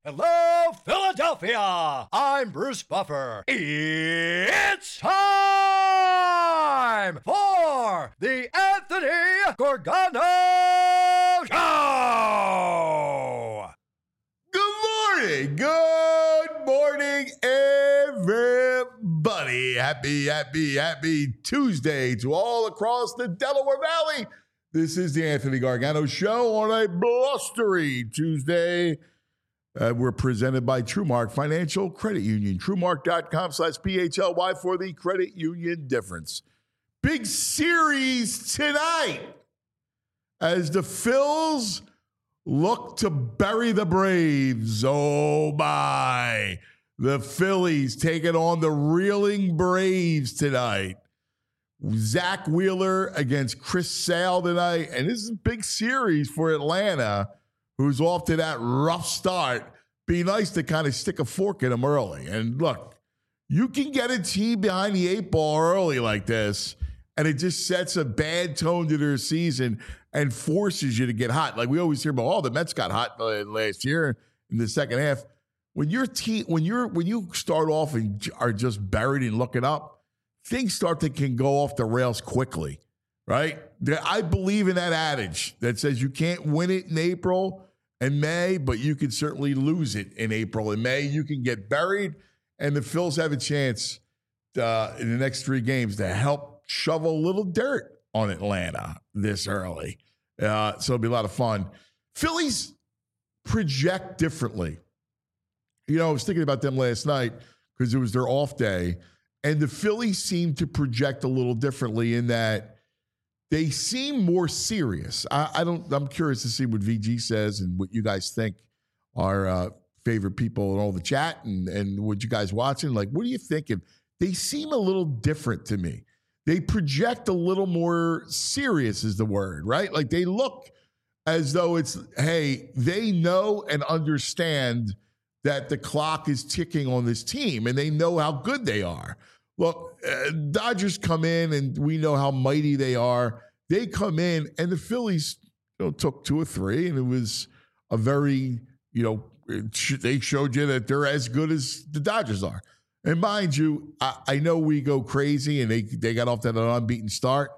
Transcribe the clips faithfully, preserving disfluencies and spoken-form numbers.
Hello, Philadelphia! I'm Bruce Buffer. It's time for the Anthony Gorgano Show! Good morning! Good morning, everybody! Happy, happy, happy Tuesday to all across the Delaware Valley. This is the Anthony Gargano Show on a blustery Tuesday. Uh, we're presented by TrueMark Financial Credit Union. TrueMark.com slash P H L Y for the credit union difference. Big series tonight as the Phils look to bury the Braves. Oh, my. The Phillies taking on the reeling Braves tonight. Zach Wheeler against Chris Sale tonight. And this is a big series for Atlanta, who's off to that rough start. Be nice to kind of stick a fork in them early. And look, you can get a team behind the eight ball early like this, and it just sets a bad tone to their season and forces you to get hot. Like we always hear about, oh, the Mets got hot last year in the second half. When your team, when you're when you start off and are just buried and looking up, things start to can go off the rails quickly, right? I believe in that adage that says you can't win it in April and May, but you can certainly lose it in April and May. You can get buried, and the Phils have a chance uh, in the next three games to help shovel a little dirt on Atlanta this early. Uh, so it'll be a lot of fun. Phillies project differently. You know, I was thinking about them last night because it was their off day, and the Phillies seem to project a little differently in that they seem more serious. I, I don't. I'm curious to see what V G says and what you guys think. Our uh, favorite people in all the chat and and what you guys watching. Like, what are you thinking? They seem a little different to me. They project a little more serious, is the word, right? Like they look as though it's, hey, they know and understand that the clock is ticking on this team, and they know how good they are. Look, uh, Dodgers come in, and we know how mighty they are. They come in, and the Phillies, you know, took two or three, and it was a very, you know, sh- they showed you that they're as good as the Dodgers are. And mind you, I, I know we go crazy, and they they got off to an unbeaten start,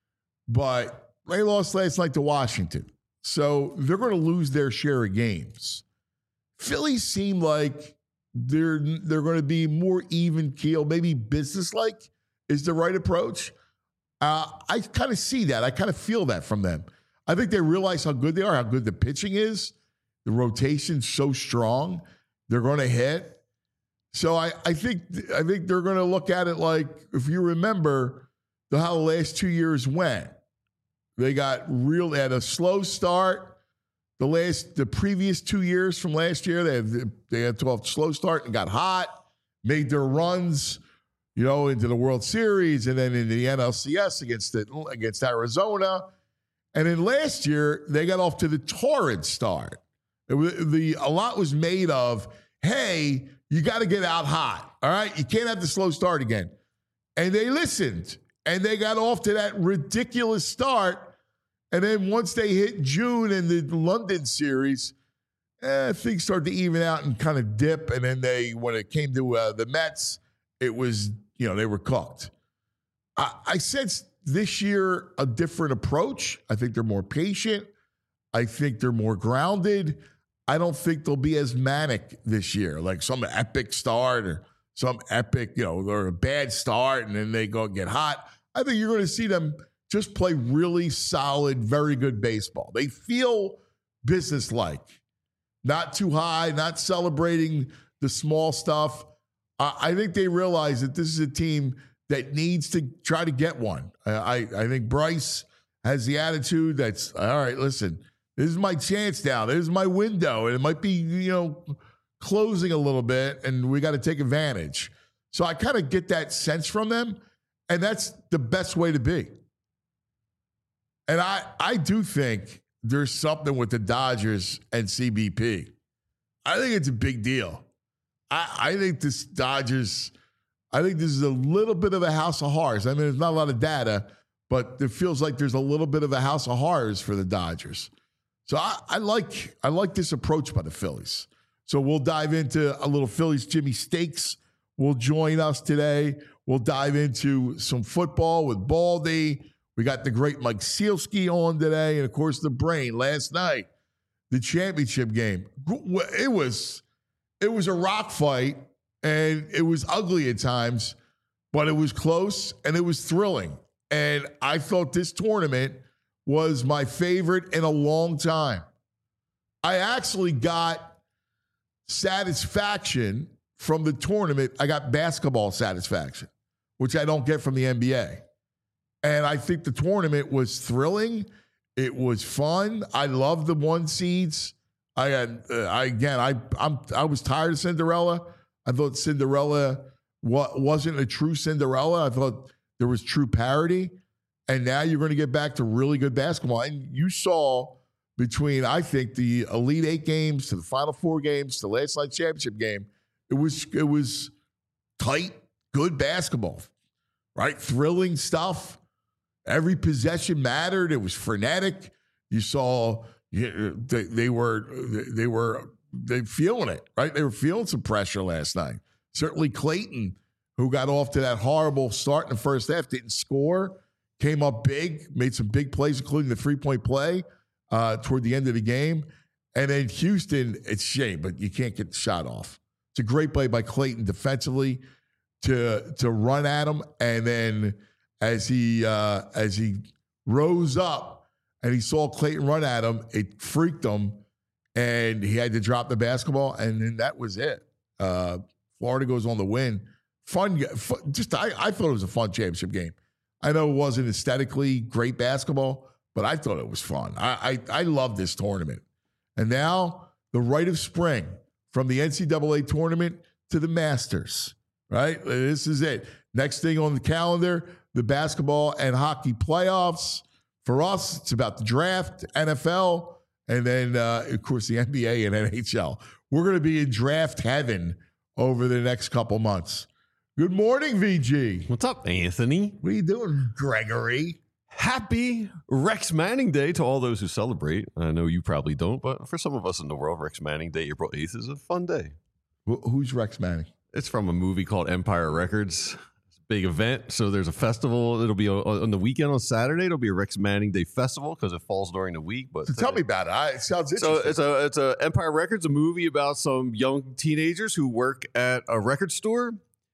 but they lost last night to Washington, so they're going to lose their share of games. Phillies seem like they're they're going to be more even keel, maybe businesslike is the right approach. Uh, I kind of see that. I kind of feel that from them. I think they realize how good they are, how good the pitching is. The rotation's so strong. They're going to hit. So I, I think I think they're going to look at it like, if you remember the, how the last two years went, they got real at a slow start. The last, the previous two years from last year, they had, they had to have a slow start and got hot, made their runs, you know, into the World Series and then in the N L C S against the, against Arizona. And then last year, they got off to the torrid start. It was, the a lot was made of, hey, you got to get out hot, all right? You can't have the slow start again. And they listened, and they got off to that ridiculous start. And then once they hit June in the London series, eh, things started to even out and kind of dip. And then they, when it came to uh, the Mets, it was, you know, they were cooked. I, I sense this year a different approach. I think they're more patient. I think they're more grounded. I don't think they'll be as manic this year, like some epic start or some epic, you know, or a bad start and then they go get hot. I think you're going to see them just play really solid, very good baseball. They feel businesslike, not too high, not celebrating the small stuff. Uh, I think they realize that this is a team that needs to try to get one. I, I, I think Bryce has the attitude that's, all right, listen, this is my chance now. This is my window, and it might be, you know, closing a little bit, and we got to take advantage. So I kind of get that sense from them, and that's the best way to be. And I, I do think there's something with the Dodgers and C B P. I think it's a big deal. I, I think this Dodgers, I think this is a little bit of a house of horrors. I mean, there's not a lot of data, but it feels like there's a little bit of a house of horrors for the Dodgers. So I, I like I like this approach by the Phillies. So we'll dive into a little Phillies. Jimmy Stakes will join us today. We'll dive into some football with Baldy. We got the great Mike Sealski on today. And, of course, the brain last night, the championship game. It was, it was a rock fight, and it was ugly at times, but it was close, and it was thrilling. And I thought this tournament was my favorite in a long time. I actually got satisfaction from the tournament. I got basketball satisfaction, which I don't get from the N B A. And I think the tournament was thrilling. It was fun. I love the one seeds. I had, uh, I again, I I'm I was tired of Cinderella. I thought Cinderella wa- wasn't a true Cinderella. I thought there was true parity. And now you're going to get back to really good basketball. And you saw between, I think, the Elite Eight games to the Final Four games to the last night championship game, it was it was tight, good basketball, right? Thrilling stuff. Every possession mattered. It was frenetic. You saw they, they were they were they feeling it, right? They were feeling some pressure last night. Certainly Clayton, who got off to that horrible start in the first half, didn't score. Came up big, made some big plays, including the three-point play uh, toward the end of the game. And then Houston, it's a shame, but you can't get the shot off. It's a great play by Clayton defensively to to run at him. And then as he uh, as he rose up and he saw Clayton run at him, it freaked him, and he had to drop the basketball. And then that was it. Uh, Florida goes on the win. Fun, fun just I, I thought it was a fun championship game. I know it wasn't aesthetically great basketball, but I thought it was fun. I, I I love this tournament. And now the rite of spring, from the N C double A tournament to the Masters, right? This is it. Next thing on the calendar, the basketball and hockey playoffs. For us, it's about the draft, N F L, and then, uh, of course, the N B A and N H L. We're going to be in draft heaven over the next couple months. Good morning, V G. What's up, Anthony? What are you doing, Gregory? Happy Rex Manning Day to all those who celebrate. I know you probably don't, but for some of us in the world, Rex Manning Day, April eighth, is a fun day. Wh- Who's Rex Manning? It's from a movie called Empire Records. It's a big event. So there's a festival. It'll be on, on the weekend on Saturday. It'll be a Rex Manning Day festival because it falls during the week. But So tell me about it. I, it sounds So interesting. it's a it's a Empire Records, a movie about some young teenagers who work at a record store.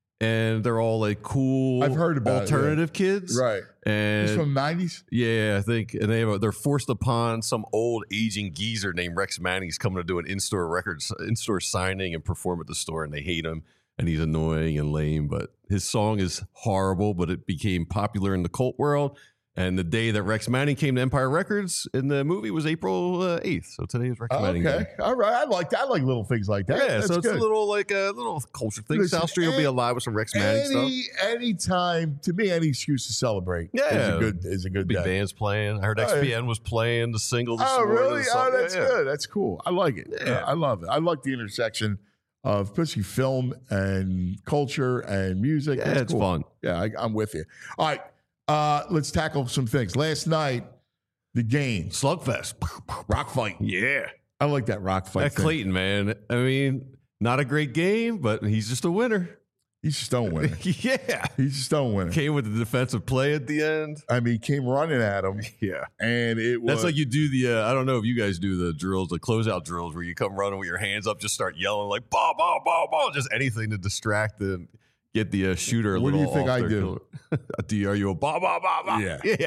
And they're all like cool, I've heard about it, alternative yeah. kids, Right. And It's from the nineties? yeah, I think, and they have a, they're forced upon some old aging geezer named Rex Manning. He's coming to do an in-store records, in-store signing and perform at the store, and they hate him, and he's annoying and lame. But his song is horrible, but it became popular in the cult world. And the day that Rex Manning came to Empire Records in the movie was April uh, eighth. So today is Rex Manning Okay. Day. All right. I like that. I like little things like that. Yeah, That's so it's good. a little like a little culture thing. Listen, South Street will be any- alive with some Rex Manning stuff. Any any time, to me, any excuse to celebrate is Yeah. a good is a good Big day. band's playing. I heard Oh, X P N was playing the single this Oh, morning. really? So- Oh, that's yeah, yeah. good. That's cool. I like it. Yeah. Uh, I love it. I like the intersection of especially film and culture and music. Yeah, That's it's cool. fun. Yeah, I, I'm with you. All right. Uh, let's tackle some things. Last night, the game. Slugfest. Rock fight. Yeah. I like that rock fight. That thing. Clayton, man. I mean, not a great game, but he's just a winner. He's just don't win. yeah. He's just don't win. Came with the defensive play at the end. I mean, he came running at him, Yeah. and it was. That's like you do the, uh, I don't know if you guys do the drills, the closeout drills where you come running with your hands up, just start yelling like, ball, ball, ball, ball, just anything to distract and get the uh, shooter a What do little you think off I their do? killer. do you, are you a ball, ball, ball, ball? Yeah. Yeah.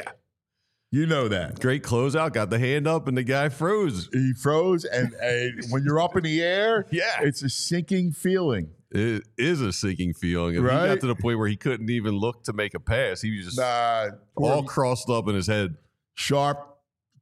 You know that. Great closeout, got the hand up, and the guy froze. He froze, and, and when you're up in the air, Yeah. it's a sinking feeling. It is a sinking feeling. And Right? he got to the point where he couldn't even look to make a pass. He was just Nah, all poor crossed up in his head. Sharp,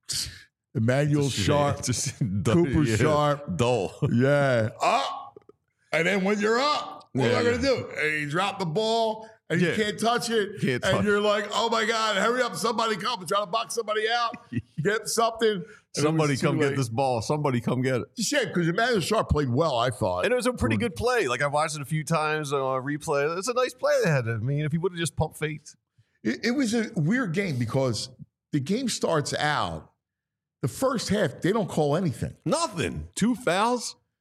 Emmanuel Just- Sharp, just dull- Cooper yeah, Sharp. Dull. yeah, up. And then when you're up, what Yeah. am I going to do? And you drop the ball, and you Yeah. can't touch it. Can't and touch you're like, oh my God, hurry up, somebody come and try to box somebody out, get something. And it Somebody was too come late. get this ball. Somebody come get it. It's a shame because Emmanuel Sharp played well, I thought. And it was a pretty good play. Like I watched it a few times on a replay. It's a nice play they had. I mean, if he would have just pumped faked. It, it was a weird game because the game starts out, the first half, they don't call anything. Nothing. Two fouls.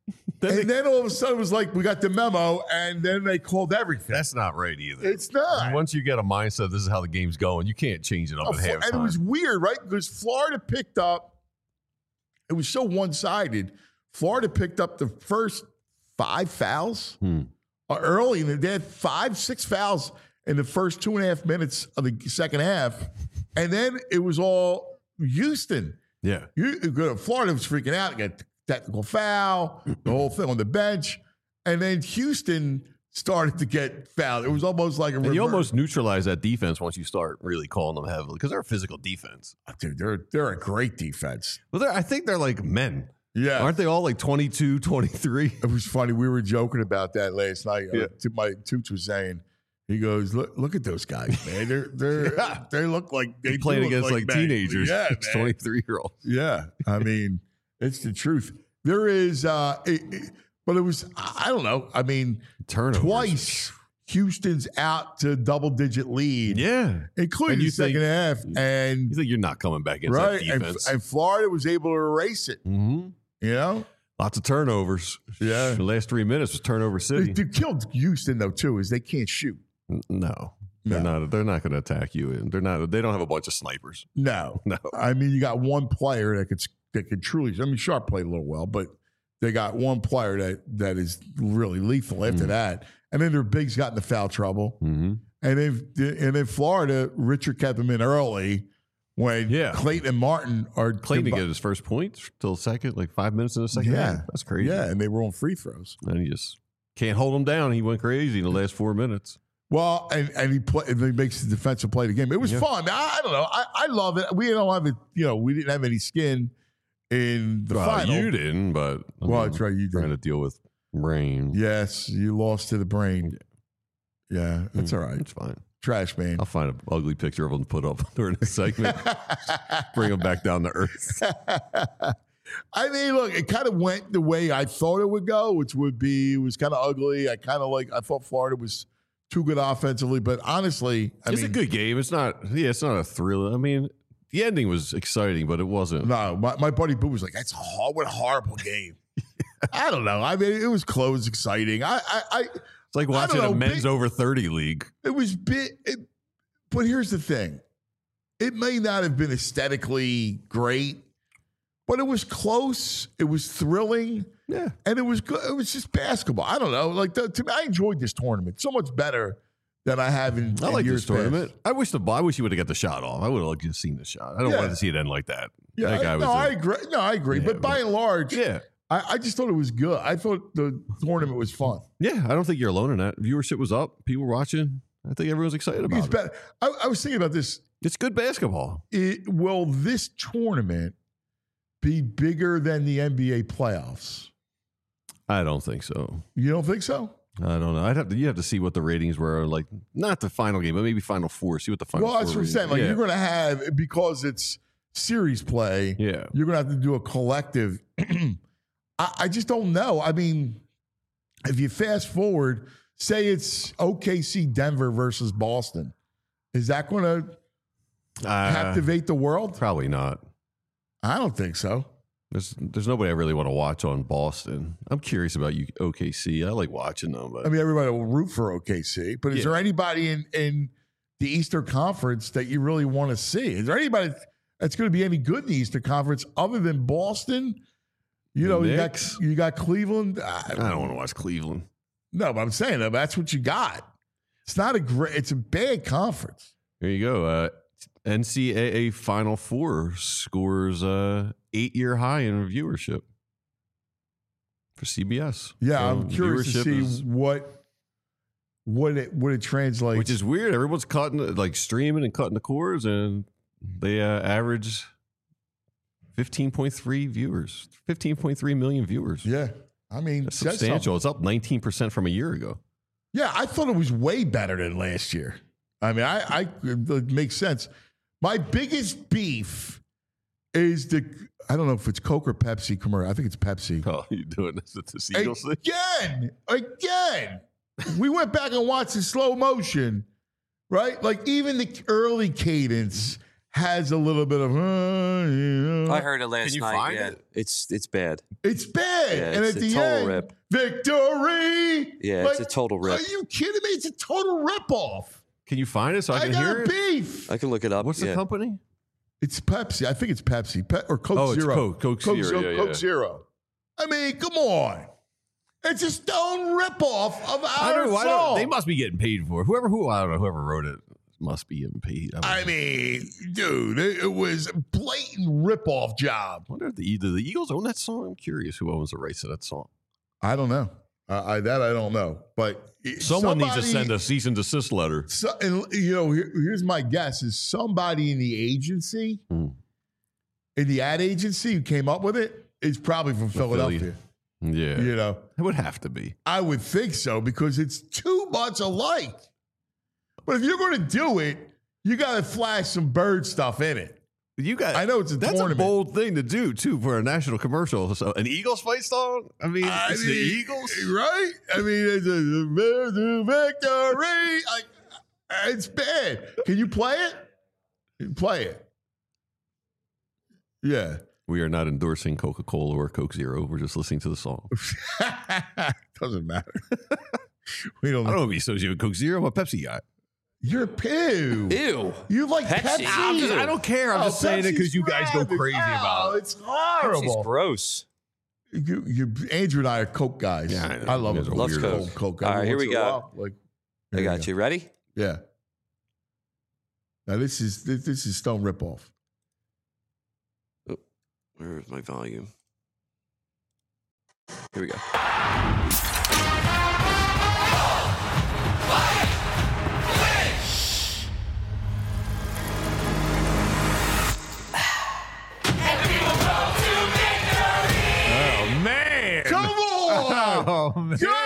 and they, then all of a sudden it was like, we got the memo, and then they called everything. That's not right either. It's not. Once you get a mindset, this is how the game's going, you can't change it up Oh, at halftime. and it was weird, right? Because Florida picked up, it was so one-sided. Florida picked up the first five fouls Hmm. early, and they had five, six fouls in the first two and a half minutes of the second half. And then it was all Houston. Yeah. You, Florida was freaking out, got technical foul, the whole thing on the bench. And then Houston started to get fouled. It was almost like a And you reverse. almost neutralize that defense once you start really calling them heavily because they're a physical defense. Dude, they're, they're a great defense. Well, they're, I think they're like men. Yeah. Aren't they all like twenty-two, twenty-three? It was funny. We were joking about that last night. Yeah. Uh, my Toots was saying, he goes, look, look at those guys, man. They're they're Yeah. they look like they They're playing do look against like, men. teenagers. Yeah, It's man. twenty-three year olds. Yeah, I mean, it's the truth. There is, uh, it, it- but it was, I don't know. I mean, Turnovers. twice Houston's out to double digit lead, Yeah. including And the you second think- half, and You think you're not coming back into right, that and, defense. and Florida was able to erase it. mm-hmm. You know, Lots of turnovers. Yeah. The last three minutes was turnover they, city. they killed Houston though too, is they can't shoot. N- No. They're No. not. They're not going to attack you. And they're not. They don't have a bunch of snipers. No, No. I mean, you got one player that could that could truly. I mean, Sharp played a little well, but they got one player that that is really lethal after Mm. that. And then their bigs got into foul trouble. Mm-hmm. And then and then Florida, Richard kept them in early when Yeah. Clayton and Martin are Clayton didn't get his first point till second, like five minutes in the second Yeah. half. That's crazy. Yeah, and they were on free throws. And he just can't hold him down. He went crazy in the last four minutes. Well, and, and he play, and he makes the defensive play of the game. It was Yeah. fun. I, I don't know. I, I love it. We don't have it. You know, we didn't have any skin in the well, final. you didn't, but I Well, mean, that's right. You trying did. to deal with rain. Yes, you lost to the brain. Yeah, that's all right. It's fine. Trash man. I'll find an ugly picture of him to put up during the segment. Bring him back down to earth. I mean, look, it kind of went the way I thought it would go, which would be it was kind of ugly. I kind of like I thought Florida was too good offensively, but honestly, I it's mean, a good game. It's not. Yeah, it's not a thriller. I mean, the ending was exciting, but it wasn't. no. My, my buddy Boo was like, "That's a hor- what a horrible game." I don't know. I mean, it was close, exciting. I, I, I It's like I watching don't a know, men's big- over thirty league. it was bit. It, but here's the thing: it may not have been aesthetically great, but it was close. It was thrilling. Yeah. And it was good. It was just basketball. I don't know. Like the, to me, I enjoyed this tournament so much better than I have in, I in like years this tournament. past. I wish the I wish he would have got the shot off. I would have liked to have seen the shot. I don't Yeah. want to see it end like that. Yeah, that guy I, was no, a- I agree. No, I agree. Yeah, but by and large, yeah, I, I just thought it was good. I thought the tournament was fun. yeah. I don't think you're alone in that. Viewership was up. People were watching. I think everyone's excited about It's it. better. I, I was thinking about this. It's good basketball. It, will this tournament be bigger than the N B A playoffs? I don't think so. You don't think so? I don't know. I'd have to. You have to see what the ratings were like. Not the final game, but maybe final four. See what the final. Well, that's four what I'm saying. Like ratings- you're going to have because it's series play. yeah. yeah. You're going to have to do a collective. I, I just don't know. I mean, if you fast forward, say it's O K C Denver versus Boston, is that going to Uh, captivate the world? Probably not. I don't think so. There's there's nobody I really want to watch on Boston. I'm curious about you, O K C. I like watching them, but I mean, everybody will root for O K C, but is Yeah. there anybody in, in the Eastern Conference that you really want to see? Is there anybody that's going to be any good in the Eastern Conference other than Boston? You know, you got, Knicks? you got Cleveland. I I don't want to watch Cleveland. No, but I'm saying that that's what you got. It's not a great. It's a bad conference. There you go. Uh, N C double A Final Four scores uh, eight year high in viewership for C B S. Yeah, So I'm curious to viewership see is- what what it what it translates. which is weird. Everyone's cutting like streaming and cutting the cords, and they uh, average fifteen point three viewers, fifteen point three million viewers. yeah. I mean, That's says substantial. something. It's up nineteen percent from a year ago. Yeah, I thought it was way better than last year. I mean, I, I it makes sense. My biggest beef is the I don't know if it's Coke or Pepsi commercial. I think it's Pepsi. Oh, you doing this with the Eagles thing? Again, again. We went back and watched in slow motion, right? Like even the early cadence has a little bit of. Uh, you know. I heard it last Can you night. find yeah. it? It's it's bad. It's bad, Yeah, and it's at a the total end, rip. victory. Yeah, it's a total rip. Are you kidding me? It's a total ripoff. Can you find it so I I can got hear a it? beef. I can look it up. What's the yeah. company? It's Pepsi. I think it's Pepsi Pe- or Coke Oh, it's Zero. Coke. Coke Zero, Zero. yeah, Coke yeah. Zero. I mean, come on. It's a stone ripoff of I our don't know. I song. don't, they must be getting paid for it. Whoever who I don't know. Whoever wrote it must be getting paid. I, I mean, dude, it, it was a blatant ripoff job. I wonder if the either the Eagles own that song. I'm curious who owns the rights to that song. I don't know. Uh, I that I don't know. But it- Someone needs to somebody- send a cease and desist letter. So, and, you know, here, here's my guess: is somebody in the agency, Hmm. in the ad agency, who came up with it is probably from Philly. Philadelphia. Yeah, You know, it would have to be. I would think so because it's too much alike. But if you're going to do it, you got to flash some bird stuff in it. You got. I know it's a That's tournament. a bold thing to do too for a national commercial. So an Eagles fight song. I mean, I it's mean, the Eagles, right? I mean, it's a, a victory. Like, it's bad. Can you play it? Play it. Yeah. We are not endorsing Coca-Cola or Coke Zero. We're just listening to the song. Doesn't matter. We don't. I don't want to be associated with Coke Zero. I'm a Pepsi guy. You're pew. Ew. You like Pepsi? Pepsi? I'm just- I don't care. I'm Oh, just saying it because Pepsi's you guys go rabid. crazy Oh, about it. It's Pepsi's horrible. gross. You, you, Andrew and I are Coke guys. Yeah, I know. I love You it. guys are Loves weirdos. Coke. Coke. All right, Every here once we in a go. while, Like, I here we got go. you. Ready? Yeah. Now this is this, this is Stone ripoff. Where's my volume? Here we go. Oh man! Come on! Oh man! Come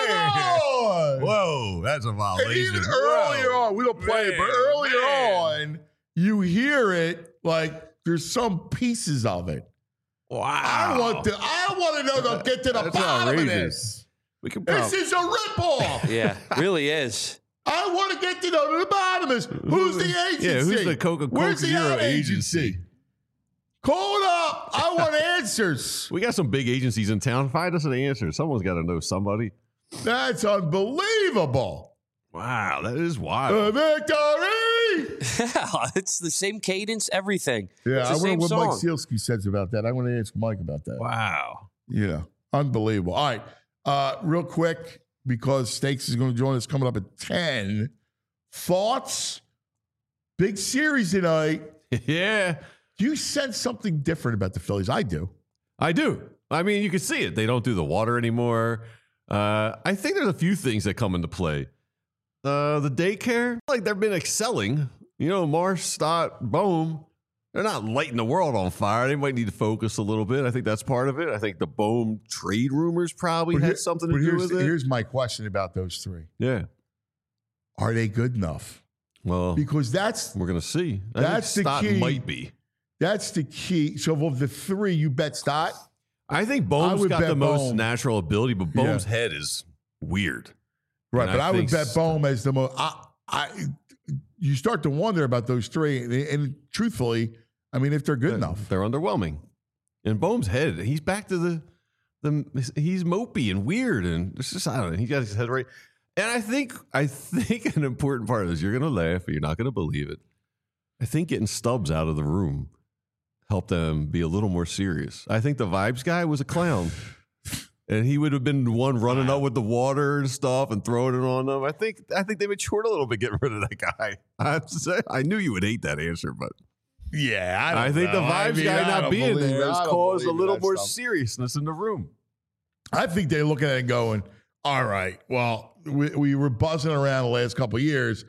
on! Whoa, that's a And violation. even earlier on, we don't play it, but Man, earlier man. on, you hear it like there's some pieces of it. Wow! I want to. I want to know. They'll get to the That's bottom of outrageous. this. We can This probably. is a ripoff. Yeah, really is. I want to get to know the bottom of this. Who's the agency? Yeah, who's the Coca- Where's Coke the Zero ad agency? Call it up. I want answers. We got some big agencies in town. Find us an answer. Someone's got to know somebody. That's unbelievable. Wow, that is wild. A victory. It's the same cadence, everything. Yeah, It's I the wonder same what Mike song. Sealski says about that. I want to ask Mike about that. Wow. Yeah, unbelievable. All right, uh, real quick, because Stakes is going to join us coming up at ten. Thoughts? Big series tonight. Yeah, Do you sense something different about the Phillies? I do. I do. I mean, you can see it. They don't do the water anymore. Uh, I think there's a few things that come into play. Uh, the daycare, like they've been excelling. You know, Marsh, Stott, Bohm, they're not lighting the world on fire. They might need to focus a little bit. I think that's part of it. I think the Bohm trade rumors probably But had here- something but to do here's, with it. here's my question about those three. Yeah. Are they good enough? Well, Because that's we're gonna see. I That's the think Stott key. might be. that's the key. So of the three, you bet Stott. I think Bohm's would got bet the most Bohm. natural ability, but Yeah. Bohm's head is weird. Right, And but I, would think bet Stott- Bohm as the most. I, I, you start to wonder about those three, and, and truthfully, I mean, if they're good enough. They're underwhelming. And Bohm's head, he's back to the the he's mopey and weird, and it's just I don't know. He got his head right. And I think I think an important part of this, you're gonna laugh, but you're not gonna believe it. I think getting Stubbs out of the room helped them be a little more serious. I think the vibes guy was a clown. And he would have been the one running up with the water and stuff and throwing it on them. I think I think they matured a little bit getting rid of that guy. I, I knew you would hate that answer, but Yeah, I, I, don't think know. the I vibes mean, guy I not don't being believe there it. has I don't caused a believe little that more stuff. seriousness in the room. I think they're looking at it going, all right, well, we, we were buzzing around the last couple of years.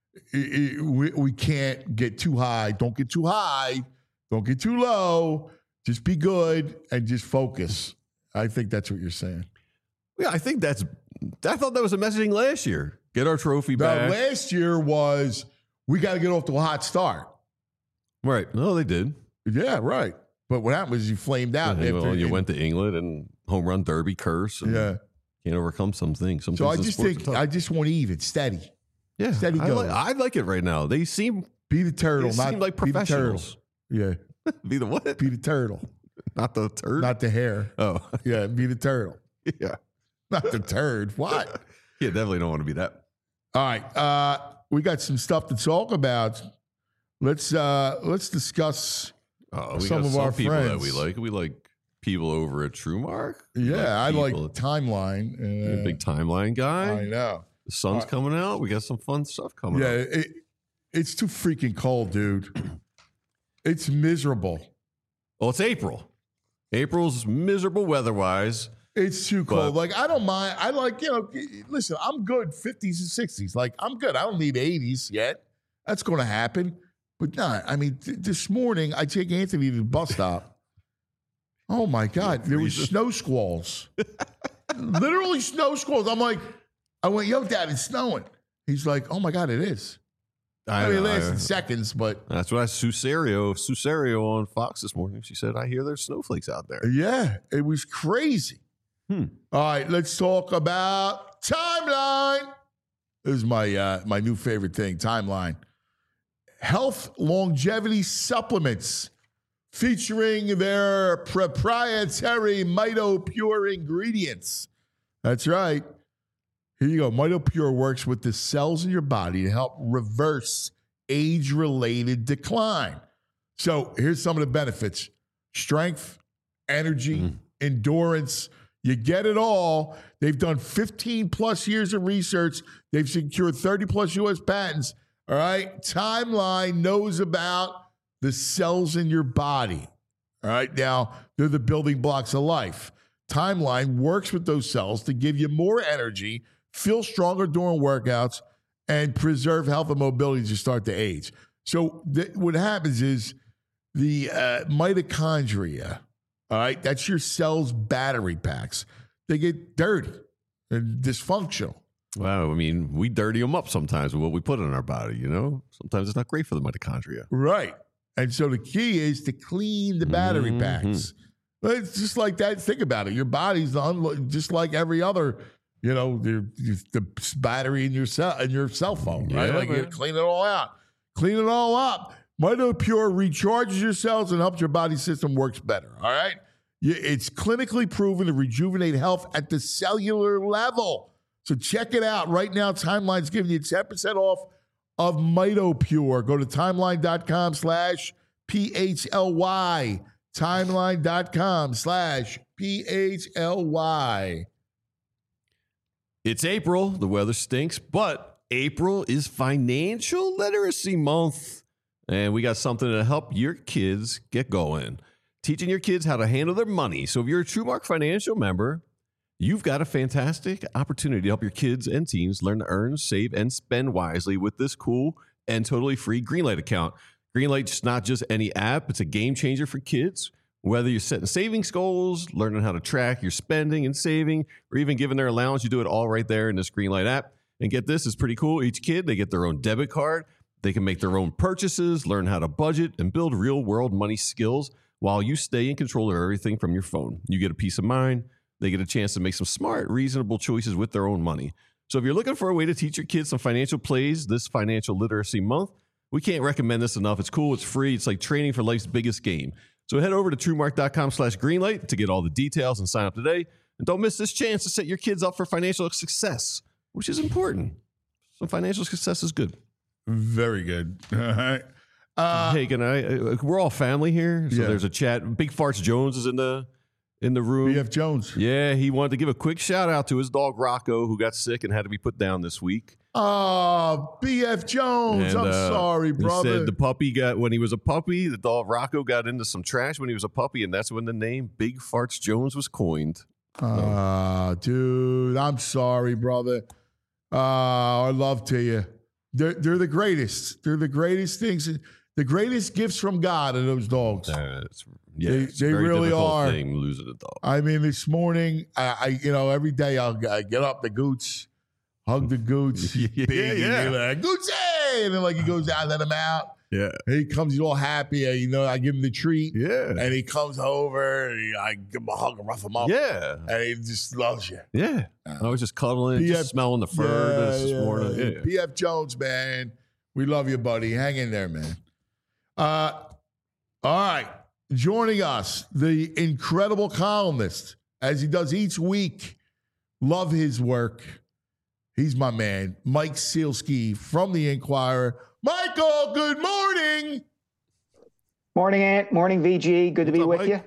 I- I- We, we can't get too high. Don't get too high. Don't get too low. Just be good and just focus. I think that's what you're saying. Yeah, I think that's. I thought that was a messaging last year. Get our trophy Now, back. last year was we got to get off to a hot start. Right. No, they did. Yeah, right. But what happened was you flamed out. Yeah, after, well, you went to England and home run derby curse. And Yeah. Can't overcome some things. Some So I things in just sports think are tough. I just want even, steady. yeah, steady I going. like, I like it right now. They seem Be the turtle, They not seem like be the turtle. professionals. Yeah, Be the what? be the turtle, Not the turd. not the hair. oh, Yeah, be the turtle, yeah. not the turd. What? Yeah, definitely don't want to be that. All right, uh, we got some stuff to talk about. Let's uh, let's discuss. Oh, we Some got of some our people that friends. we like. We like people over at TrueMark. We Yeah, I like people- timeline. You're a Uh, big timeline guy. I know. The sun's Uh, coming out. We got some fun stuff coming Yeah, up. it, it's too freaking cold, dude. It's miserable. Well, it's April. April's miserable weather-wise. It's too But- cold. Like I don't mind. I like you know. Listen, I'm good fifties and sixties. Like I'm good. I don't need eighties yet. That's going to happen. But not. I mean, th- this morning I take Anthony to the bus stop. Oh my God, there was freezing. snow squalls. Literally snow squalls. I'm like, I went, yo, Dad, it's snowing. He's like, oh my God, it is. I, mean, it know, lasted I- seconds, but That's what I Susario, Susario on Fox this morning. She said, I hear there's snowflakes out there. yeah, it was crazy. Hmm. All right, let's talk about timeline. This is my uh, my new favorite thing, timeline. Health longevity supplements featuring their proprietary MitoPure ingredients. That's right. Here you go. MitoPure works with the cells in your body to help reverse age-related decline. So here's some of the benefits: strength, energy, Mhm. endurance. You get it all. They've done fifteen plus years of research. They've secured thirty plus U S patents. All right. Timeline knows about the cells in your body. All right. Now, they're the building blocks of life. Timeline works with those cells to give you more energy, feel stronger during workouts, and preserve health and mobility as you start to age. So, th- what happens is the uh, mitochondria, all right, that's your cell's battery packs. They get dirty and dysfunctional. Wow. I mean, we dirty them up sometimes with what we put in our body, you know? Sometimes it's not great for the mitochondria. Right. And so the key is to clean the battery Mhm. packs. Well, it's just like that. Think about it. Your body's unlo- just like every other, you know, the, the battery in your cell in your cell phone, right? Yeah, like you man. clean it all out. Clean it all up. MitoPure recharges your cells and helps your body system works better. All right. You- It's clinically proven to rejuvenate health at the cellular level. So check it out right now. Timeline's giving you ten percent off of MitoPure. Go to timeline.com slash P-H-L-Y. Timeline.com slash P-H-L-Y. It's April. The weather stinks, but April is Financial Literacy Month. And we got something to help your kids get going. Teaching your kids how to handle their money. So if you're a TrueMark Financial member, you've got a fantastic opportunity to help your kids and teens learn to earn, save, and spend wisely with this cool and totally free Greenlight account. Greenlight's not just any app, it's a game changer for kids. Whether you're setting savings goals, learning how to track your spending and saving, or even giving their allowance, you do it all right there in this Greenlight app. And get this, it's pretty cool. Each kid, they get their own debit card. They can make their own purchases, learn how to budget, and build real-world money skills while you stay in control of everything from your phone. You get a peace of mind. They get a chance to make some smart, reasonable choices with their own money. So if you're looking for a way to teach your kids some financial plays this Financial Literacy Month, we can't recommend this enough. It's cool. It's free. It's like training for life's biggest game. So head over to TrueMark.com slash Greenlight to get all the details and sign up today. And don't miss this chance to set your kids up for financial success, which is important. Some financial success is good. Very good. All right. Uh, hey, can I? uh, We're all family here, so Yeah. there's a chat. Big Farts Jones is in the in the room. B F Jones. Yeah, he wanted to give a quick shout out to his dog Rocco, who got sick and had to be put down this week. Oh, B F Jones. And, I'm uh, sorry, He brother. said the puppy got when he was a puppy. The dog Rocco got into some trash when he was a puppy, and that's when the name Big Farts Jones was coined. Ah, dude, I'm sorry, brother. Uh, our love to you. They're, they're the greatest. They're the greatest things. The greatest gifts from God are those dogs. Uh, it's, yeah, They- it's a they very really difficult are. Thing, losing a dog. I mean, this morning, I, I you know, every day I'll I get up the gooch, hug the gooch, Yeah, big, and yeah. you're like, Gucci! And then like he goes out, let him out. Yeah, And he comes, he's all happy. And, you know, I give him the treat. yeah, And he comes over, and he, I give him a hug and rough him up. yeah, And he just loves you. yeah. I was just cuddling, P F just smelling the fur this, this morning. Yeah. P F Jones, man. We love you, buddy. Hang in there, man. Uh, all right. Joining us, the incredible columnist, as he does each week. Love his work. He's my man, Mike Sielski from the Inquirer. Michael, good morning. Morning, Ant. Morning, V G. Good to What's be up, with Mike? you.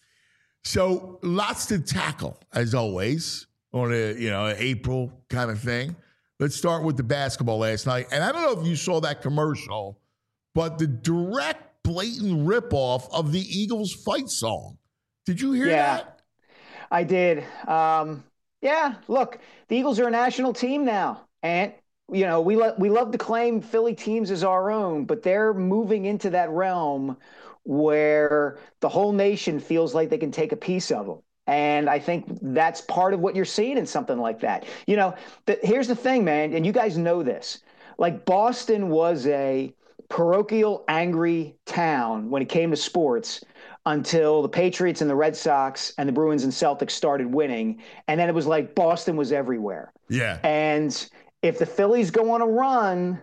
So lots to tackle, as always, on a you know April kind of thing. Let's start with the basketball last night. And I don't know if you saw that commercial, but the direct, blatant ripoff of the Eagles fight song. Did you hear Yeah. that? I did. Um, yeah, look, the Eagles are a national team now. And, you know, we, lo- we love to claim Philly teams as our own, but they're moving into that realm where the whole nation feels like they can take a piece of them. And I think that's part of what you're seeing in something like that. You know, the, here's the thing, man, and you guys know this. Like, Boston was a parochial, angry town when it came to sports until the Patriots and the Red Sox and the Bruins and Celtics started winning. And then it was like Boston was everywhere. Yeah. And if the Phillies go on a run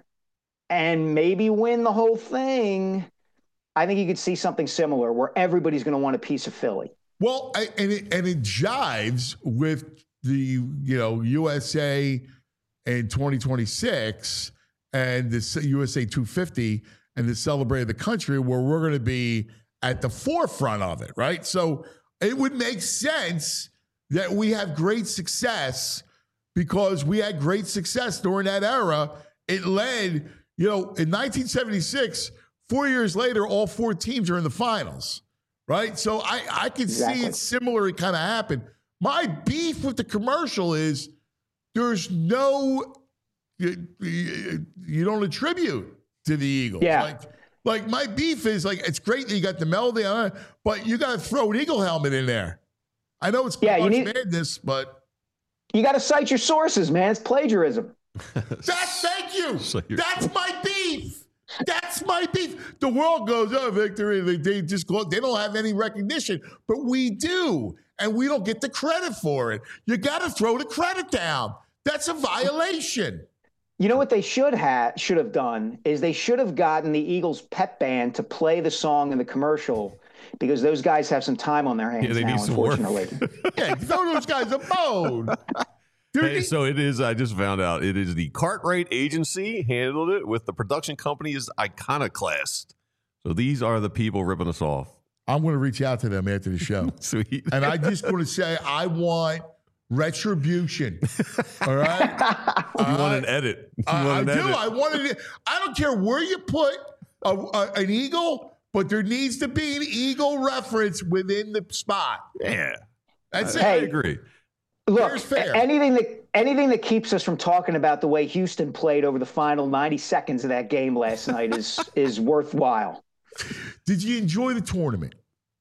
and maybe win the whole thing, I think you could see something similar where everybody's going to want a piece of Philly. Well, I, and it, and it jives with the you know U S A in twenty twenty-six and the U S A two fifty and the Celebrate of the Country, where we're going to be at the forefront of it, right? So it would make sense that we have great success because we had great success during that era. It led, you know, in nineteen seventy-six, four years later, all four teams are in the finals. Right. So I, I can Exactly. see it similar kind of happen. My beef with the commercial is there's no, you, you, you don't attribute to the Eagles. Yeah. Like, like my beef is like, it's great that you got the melody on it, but you got to throw an Eagle helmet in there. I know it's Yeah, you March need- Madness, but You got to cite your sources, man. It's plagiarism. that's, thank you. So you're- That's my beef. That's my beef. The world goes, oh, victory. They, they just go, they don't have any recognition, but we do. And we don't get the credit for it. You got to throw the credit down. That's a violation. You know what they should have should have done is they should have gotten the Eagles pep band to play the song in the commercial because those guys have some time on their hands Yeah, they now, need some work. unfortunately. Yeah, throw those guys a bone. They're Hey, the- so it is. I just found out it is the Cartwright Agency handled it with the production company is Iconoclast. So these are the people ripping us off. I'm going to reach out to them after the show. Sweet. And I just want to say, I want retribution. All right? You want an edit? You I, I want do. an edit? I wanted it. I don't care where you put a, a, an eagle, but there needs to be an eagle reference within the spot. Yeah, That's I, it. I Hey. agree. Look, Here's fair. anything that anything that keeps us from talking about the way Houston played over the final ninety seconds of that game last night is is worthwhile. Did you enjoy the tournament?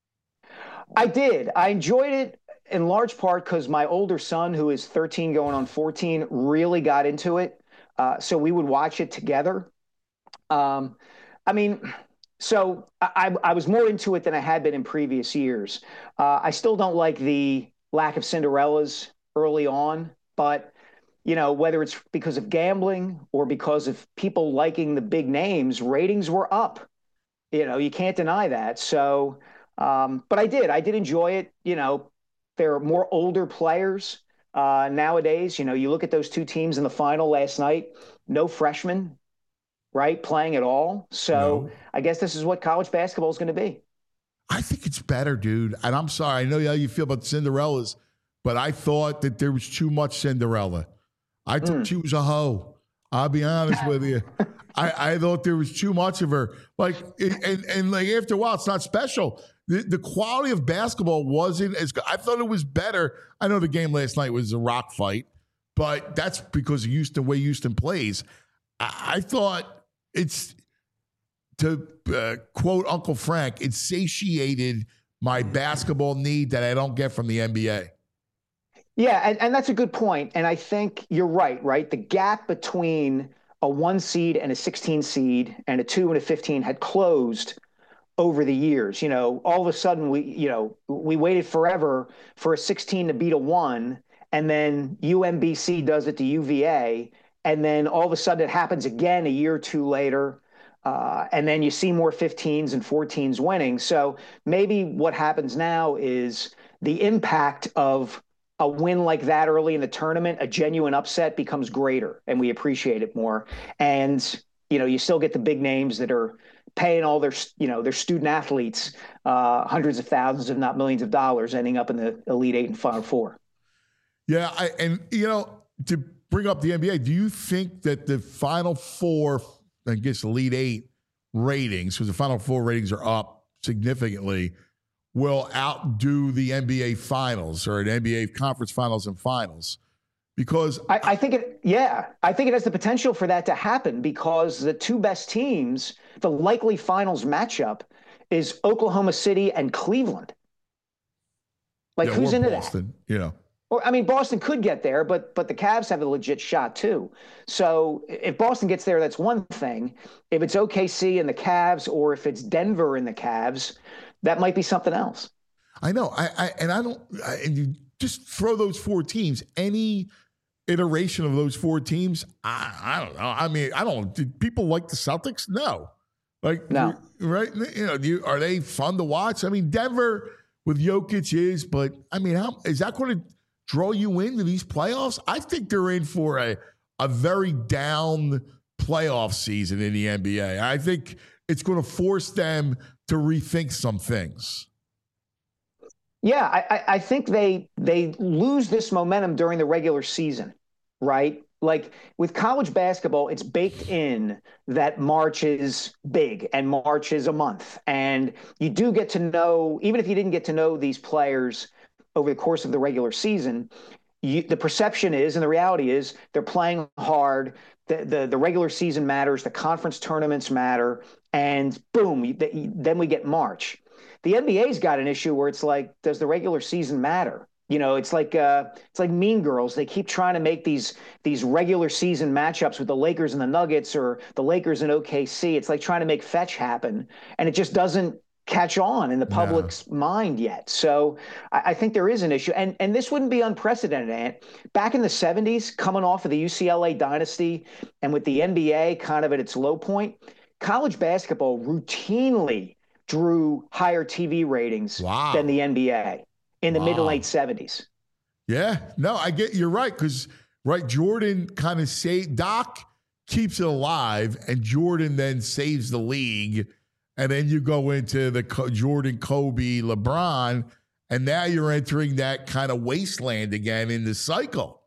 I did. I enjoyed it in large part because my older son, who is thirteen going on fourteen, really got into it. Uh, so we would watch it together. Um, I mean, so I, I was more into it than I had been in previous years. Uh, I still don't like the lack of Cinderellas early on, but you know, whether it's because of gambling or because of people liking the big names, ratings were up. You know, you can't deny that. So, um, but I did. I did enjoy it. You know, there are more older players uh, nowadays. You know, you look at those two teams in the final last night, no freshmen, right, playing at all. So No. I guess this is what college basketball is going to be. I think it's better, dude. And I'm sorry. I know how you feel about Cinderellas, but I thought that there was too much Cinderella. I thought Mm. she was a hoe. I'll be honest with you. I, I thought there was too much of her. Like, and, and, and like after a while, it's not special. The, the quality of basketball wasn't as good. I thought it was better. I know the game last night was a rock fight, but that's because of Houston, the way Houston plays. I, I thought it's, to uh, quote Uncle Frank, it satiated my basketball need that I don't get from the N B A. Yeah, and, and that's a good point. And I think you're right, right? The gap between a one seed and a sixteen seed and a two and a fifteen had closed over the years. You know, all of a sudden we, you know, we waited forever for a sixteen to beat a one, and then U M B C does it to U V A, and then all of a sudden it happens again a year or two later. Uh, and then you see more fifteens and fourteens winning. So maybe what happens now is the impact of a win like that early in the tournament, a genuine upset, becomes greater, and we appreciate it more. And, you know, you still get the big names that are paying all their, you know, their student athletes uh, hundreds of thousands, if not millions of dollars, ending up in the Elite Eight and Final Four. Yeah, I, and, you know, to bring up the N B A, do you think that the Final Four, I guess Elite Eight ratings, because the Final Four ratings are up significantly, will outdo the N B A Finals or an N B A Conference Finals and Finals? Because I, I think it, yeah, I think it has the potential for that to happen because the two best teams, the likely finals matchup is Oklahoma City and Cleveland. Like, yeah, who's or into Boston, that? you know. Or, I mean, Boston could get there, but but the Cavs have a legit shot too. So if Boston gets there, that's one thing. If it's O K C and the Cavs, or if it's Denver and the Cavs, that might be something else. I know. I, I and I don't. I, and you just throw those four teams. Any iteration of those four teams, I, I don't know. I mean, I don't. Did people like the Celtics? No. Like no. Right? You know, do you, are they fun to watch? I mean, Denver with Jokic is, but I mean, how is that going to draw you into these playoffs? I think they're in for a a very down playoff season in the N B A. I think it's going to force them to rethink some things. Yeah, I, I think they they lose this momentum during the regular season, right? Like with college basketball, it's baked in that March is big and March is a month. And you do get to know, even if you didn't get to know these players over the course of the regular season, you, the perception is, and the reality is, they're playing hard. The, the, the regular season matters. The conference tournaments matter. And boom, you, the, then we get March. The N B A's got an issue where it's like, does the regular season matter? You know, it's like uh, it's like Mean Girls. They keep trying to make these these regular season matchups with the Lakers and the Nuggets or the Lakers and O K C. It's like trying to make fetch happen, and it just doesn't catch on in the public's no. mind yet. So I, I think there is an issue, and and this wouldn't be unprecedented, Ant. Back in the seventies, coming off of the U C L A dynasty, and with the N B A kind of at its low point, college basketball routinely drew higher T V ratings wow. than the N B A. In the wow. mid to late seventies. Yeah, no, I get you're right because right, Jordan kind of saved Doc keeps it alive, and Jordan then saves the league, and then you go into the Jordan, Kobe, LeBron, and now you're entering that kind of wasteland again in the cycle.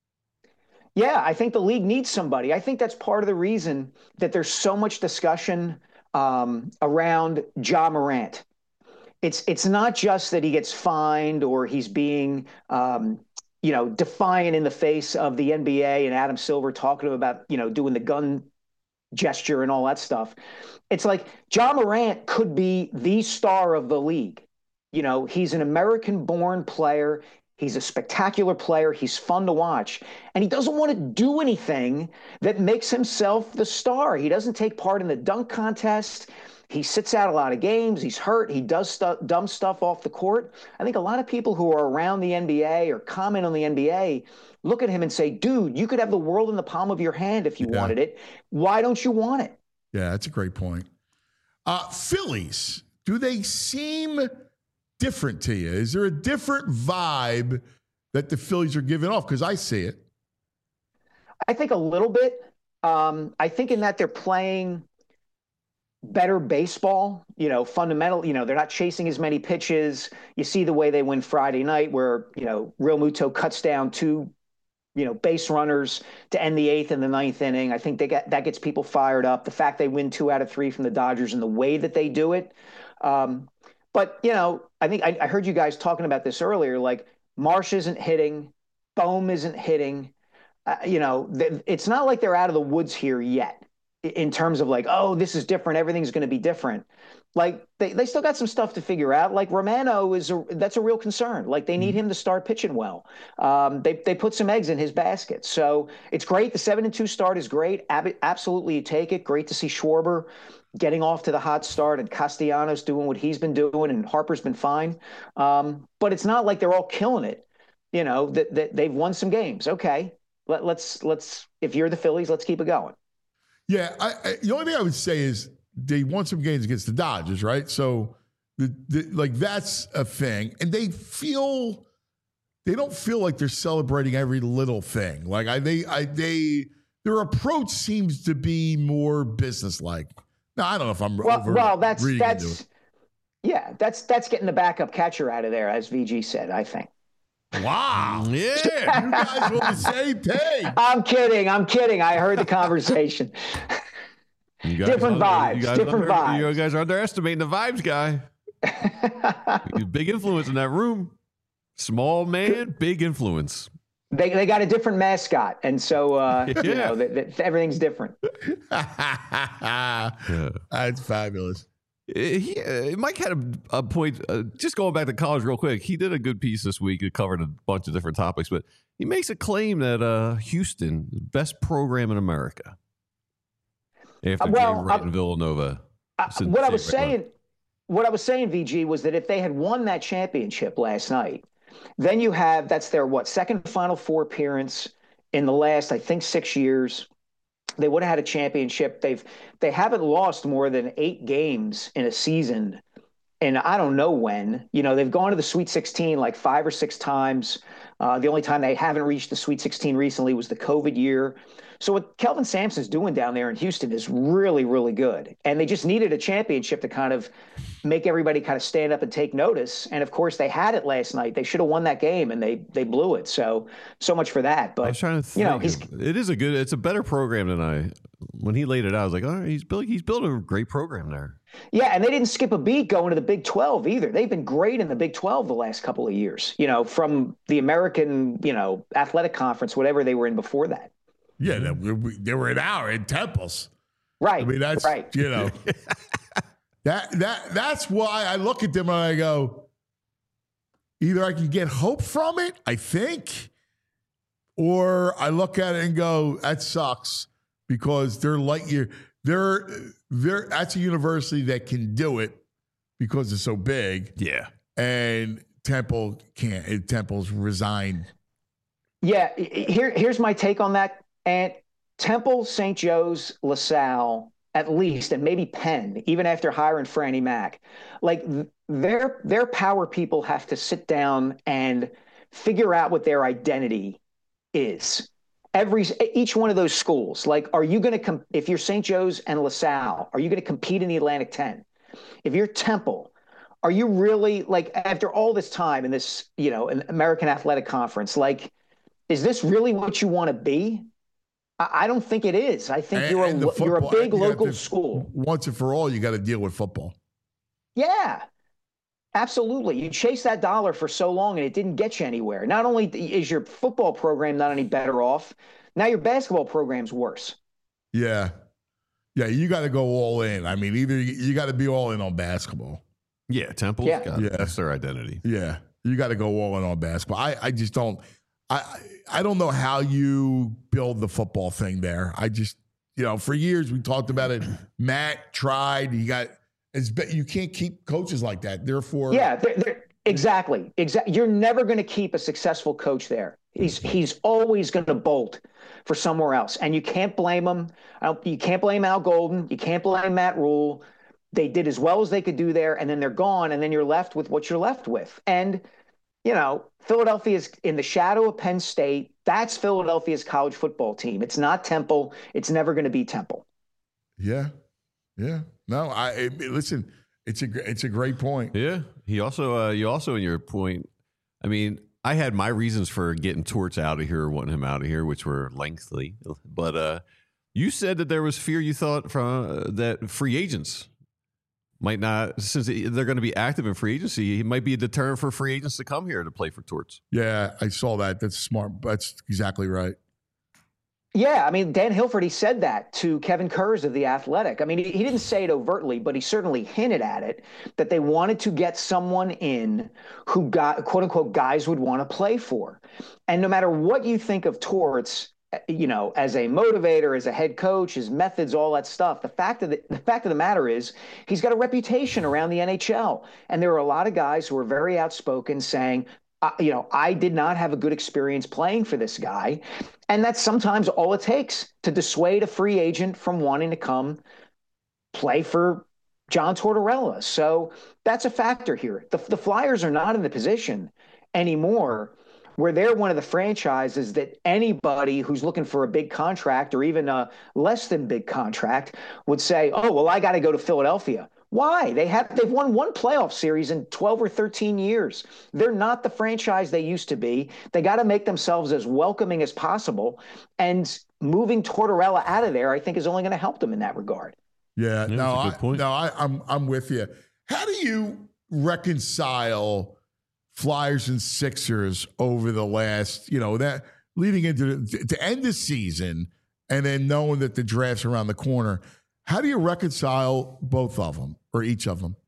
Yeah, I think the league needs somebody. I think that's part of the reason that there's so much discussion um, around Ja Morant. It's it's not just that he gets fined or he's being, um, you know, defiant in the face of the N B A and Adam Silver talking to him about, you know, doing the gun gesture and all that stuff. It's like Ja Morant could be the star of the league. You know, he's an American-born player. He's a spectacular player. He's fun to watch. And he doesn't want to do anything that makes himself the star. He doesn't take part in the dunk contest. He sits out a lot of games. He's hurt. He does stuff, dumb stuff off the court. I think a lot of people who are around the N B A or comment on the N B A look at him and say, dude, you could have the world in the palm of your hand if you yeah. wanted it. Why don't you want it? Yeah, that's a great point. Uh, Phillies, do they seem different to you? Is there a different vibe that the Phillies are giving off? Because I see it. I think a little bit. Um, I think in that they're playing better baseball, you know, fundamental, you know, they're not chasing as many pitches. You see the way they win Friday night where, you know, Real Muto cuts down two, you know, base runners to end the eighth and the ninth inning. I think they get, that gets people fired up. The fact they win two out of three from the Dodgers and the way that they do it. Um, but, you know, I think I, I heard you guys talking about this earlier, like Marsh isn't hitting, Bohm isn't hitting, uh, you know, th- it's not like they're out of the woods here yet. In terms of like, oh, this is different. Everything's going to be different. Like they, they still got some stuff to figure out. Like Romano is a, that's a real concern. Like they need him to start pitching well. Um, they they put some eggs in his basket. So it's great. The seven and two start is great. Ab- absolutely, you take it. Great to see Schwarber getting off to the hot start and Castellanos doing what he's been doing, and Harper's been fine. Um, but it's not like they're all killing it. You know that that they've won some games. Okay. let, let's let's if you're the Phillies, let's keep it going. Yeah, I, I, the only thing I would say is they won some games against the Dodgers, right? So, the, the, like that's a thing, and they feel they don't feel like they're celebrating every little thing. Like I, they, I, they, their approach seems to be more businesslike. Now, I don't know if I'm well, over well, that's reading that's into it. yeah, that's that's getting the backup catcher out of there, as V G said. I think. Wow. Yeah. You guys were on the same page. I'm kidding. I'm kidding. I heard the conversation. You guys Different under- vibes, You guys, different under- vibes. You guys are underestimating the vibes guy. He's a big influence in that room. Small man, big influence. They they got a different mascot, and so uh, you Yeah. know th- th- everything's different. That's fabulous. He, uh, Mike had a, a point. Uh, just going back to college real quick, he did a good piece this week. It covered a bunch of different topics, but he makes a claim that uh, Houston, the best program in America, after Uh, well, Jay Wright I- and Villanova. Uh, Since what I Jay was Wright left. saying, what I was saying, V G, was that if they had won that championship last night, then you have that's their what second Final Four appearance in the last, I think, six years. They would have had a championship. They've they haven't lost more than eight games in a season, and I don't know when. You know, they've gone to the Sweet sixteen like five or six times. Uh, the only time they haven't reached the Sweet sixteen recently was the COVID year. So what Kelvin Sampson's doing down there in Houston is really, really good. And they just needed a championship to kind of make everybody kind of stand up and take notice. And of course, they had it last night. They should have won that game, and they they blew it. So so much for that. But I was trying to think. you know, he's of- it is a good. It's a better program than I. When he laid it out, I was like, oh, he's building. He's building a great program there. yeah, and they didn't skip a beat going to the Big twelve either. They've been great in the Big twelve the last couple of years. You know, from the American, you know, Athletic Conference, whatever they were in before that. Yeah, they were, they were an hour in Temples. Right. I mean, that's right. you know that that that's why I look at them and I go, either I can get hope from it, I think, or I look at it and go, that sucks because they're light year. They're they're that's a university that can do it because it's so big, Yeah. and Temple can't. Temple's resigned. Yeah, here, here's my take on that. And Temple, Saint Joe's, LaSalle, at least, and maybe Penn, even after hiring Franny Mac, like their their power people have to sit down and figure out what their identity is. Every each one of those schools, like, are you going to com- if you're Saint Joe's and LaSalle, are you going to compete in the Atlantic ten? If you're Temple, are you really, like, after all this time in this, you know, an American Athletic Conference, like, is this really what you want to be? I don't think it is. I think And- you're and the a you're a football- big you have local to- school. Once and for all, you got to deal with football. Yeah, absolutely. You chase that dollar for so long and it didn't get you anywhere. Not only is your football program not any better off, now your basketball program's worse. Yeah. Yeah, you got to go all in. I mean, either you, you got to be all in on basketball. Yeah. Temple's Yeah. got Yeah. that's their identity. Yeah, you got to go all in on basketball. I, I just don't. I I don't know how you build the football thing there. I just, you know, for years we talked about it. Matt tried. You got. It's be- you can't keep coaches like that. Therefore, Yeah, they're, they're, exactly. Exactly. You're never going to keep a successful coach there. He's he's always going to bolt for somewhere else, and you can't blame him. I don't- You can't blame Al Golden. You can't blame Matt Rule. They did as well as they could do there, and then they're gone, and then you're left with what you're left with. And you know, Philadelphia's in the shadow of Penn State. That's Philadelphia's college football team. It's not Temple. It's never going to be Temple. Yeah, yeah. No, I it, listen. It's a gr- it's a great point. Yeah. He also, uh, you also in your point, I mean, I had my reasons for getting Torts out of here, wanting him out of here, which were lengthy. But uh, you said that there was fear you thought from uh, that free agents might not, since they're going to be active in free agency, it might be a deterrent for free agents to come here to play for Torts. Yeah, I saw that. That's smart. That's exactly right. Yeah, I mean, Dan Hilford, he said that to Kevin Kurz of The Athletic. I mean, he, he didn't say it overtly, but he certainly hinted at it, that they wanted to get someone in who got, quote unquote, guys would want to play for. And no matter what you think of Torts, you know, as a motivator, as a head coach, his methods, all that stuff, the fact of the, the fact of the matter is he's got a reputation around the N H L. And there are a lot of guys who are very outspoken saying, Uh, you know, I did not have a good experience playing for this guy. And that's sometimes all it takes to dissuade a free agent from wanting to come play for John Tortorella. So that's a factor here. The, the Flyers are not in the position anymore where they're one of the franchises that anybody who's looking for a big contract or even a less than big contract would say, oh, well, I got to go to Philadelphia. Why? They have, they've won one playoff series in twelve or thirteen years. They're not the franchise they used to be. They got to make themselves as welcoming as possible. And moving Tortorella out of there, I think, is only going to help them in that regard. Yeah, Yeah, no, that's a I, good point. no, I, I'm I'm with you. How do you reconcile Flyers and Sixers over the last, you know, that leading into the, to end the season, and then knowing that the draft's around the corner? How do you reconcile both of them or each of them?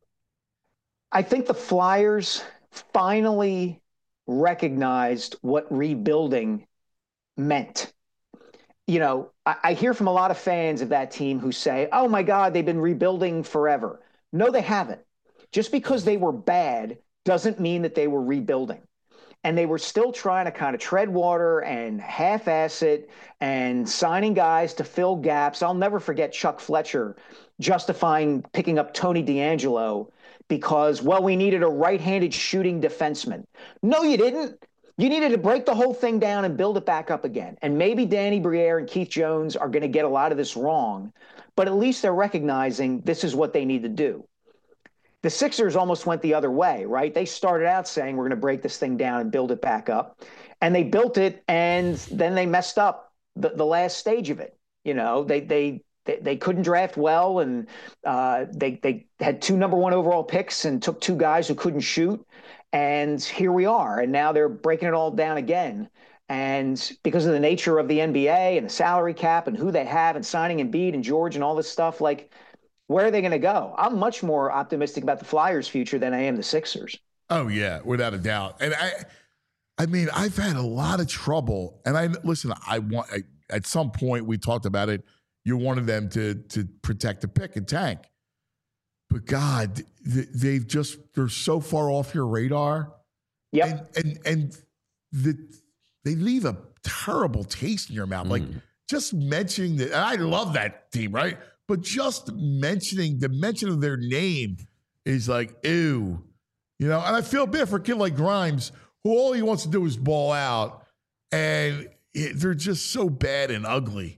I think the Flyers finally recognized what rebuilding meant. You know, I, I hear from a lot of fans of that team who say, oh my God, they've been rebuilding forever. No, they haven't. Just because they were bad doesn't mean that they were rebuilding. And they were still trying to kind of tread water and half-ass it and signing guys to fill gaps. I'll never forget Chuck Fletcher justifying picking up Tony DeAngelo because, well, we needed a right-handed shooting defenseman. No, you didn't. You needed to break the whole thing down and build it back up again. And maybe Danny Briere and Keith Jones are going to get a lot of this wrong, but at least they're recognizing this is what they need to do. The Sixers almost went the other way, right? They started out saying we're going to break this thing down and build it back up. And they built it, and then they messed up the, the last stage of it. You know, they they they, they couldn't draft well, and uh, they they had two number one overall picks and took two guys who couldn't shoot. And here we are. And now they're breaking it all down again. And because of the nature of the N B A and the salary cap and who they have and signing Embiid and George and all this stuff, like, where are they going to go? I'm much more optimistic about the Flyers' future than I am the Sixers. Oh yeah, without a doubt. And I, I mean, I've had a lot of trouble. And I listen. I want I, at some point we talked about it. You wanted them to to protect the pick and tank, but God, they've just they're so far off your radar. Yep. And and, and the, they leave a terrible taste in your mouth. Mm. Like just mentioning that. And I love that team, right? But just mentioning the mention of their name is like, ew. You know, and I feel bad for a kid like Grimes, who all he wants to do is ball out. And it, they're just so bad and ugly.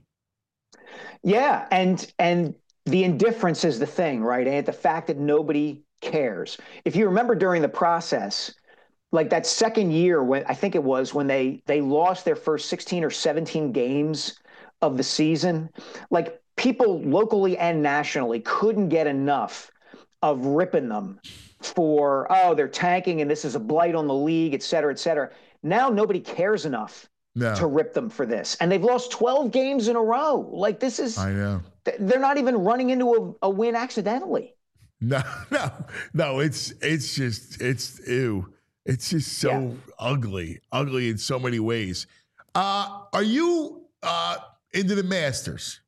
Yeah. And and the indifference is the thing, right? And the fact that nobody cares. If you remember during the process, like that second year when I think it was when they they lost their first sixteen or seventeen games of the season, like people locally and nationally couldn't get enough of ripping them for, oh, they're tanking and this is a blight on the league, et cetera, et cetera. Now nobody cares enough no. to rip them for this. And they've lost twelve games in a row. Like this is, I know. They're not even running into a, a win accidentally. No, no, no. It's, it's just, it's, ew. It's just so yeah. ugly, ugly in so many ways. Uh, are you uh, into the Masters?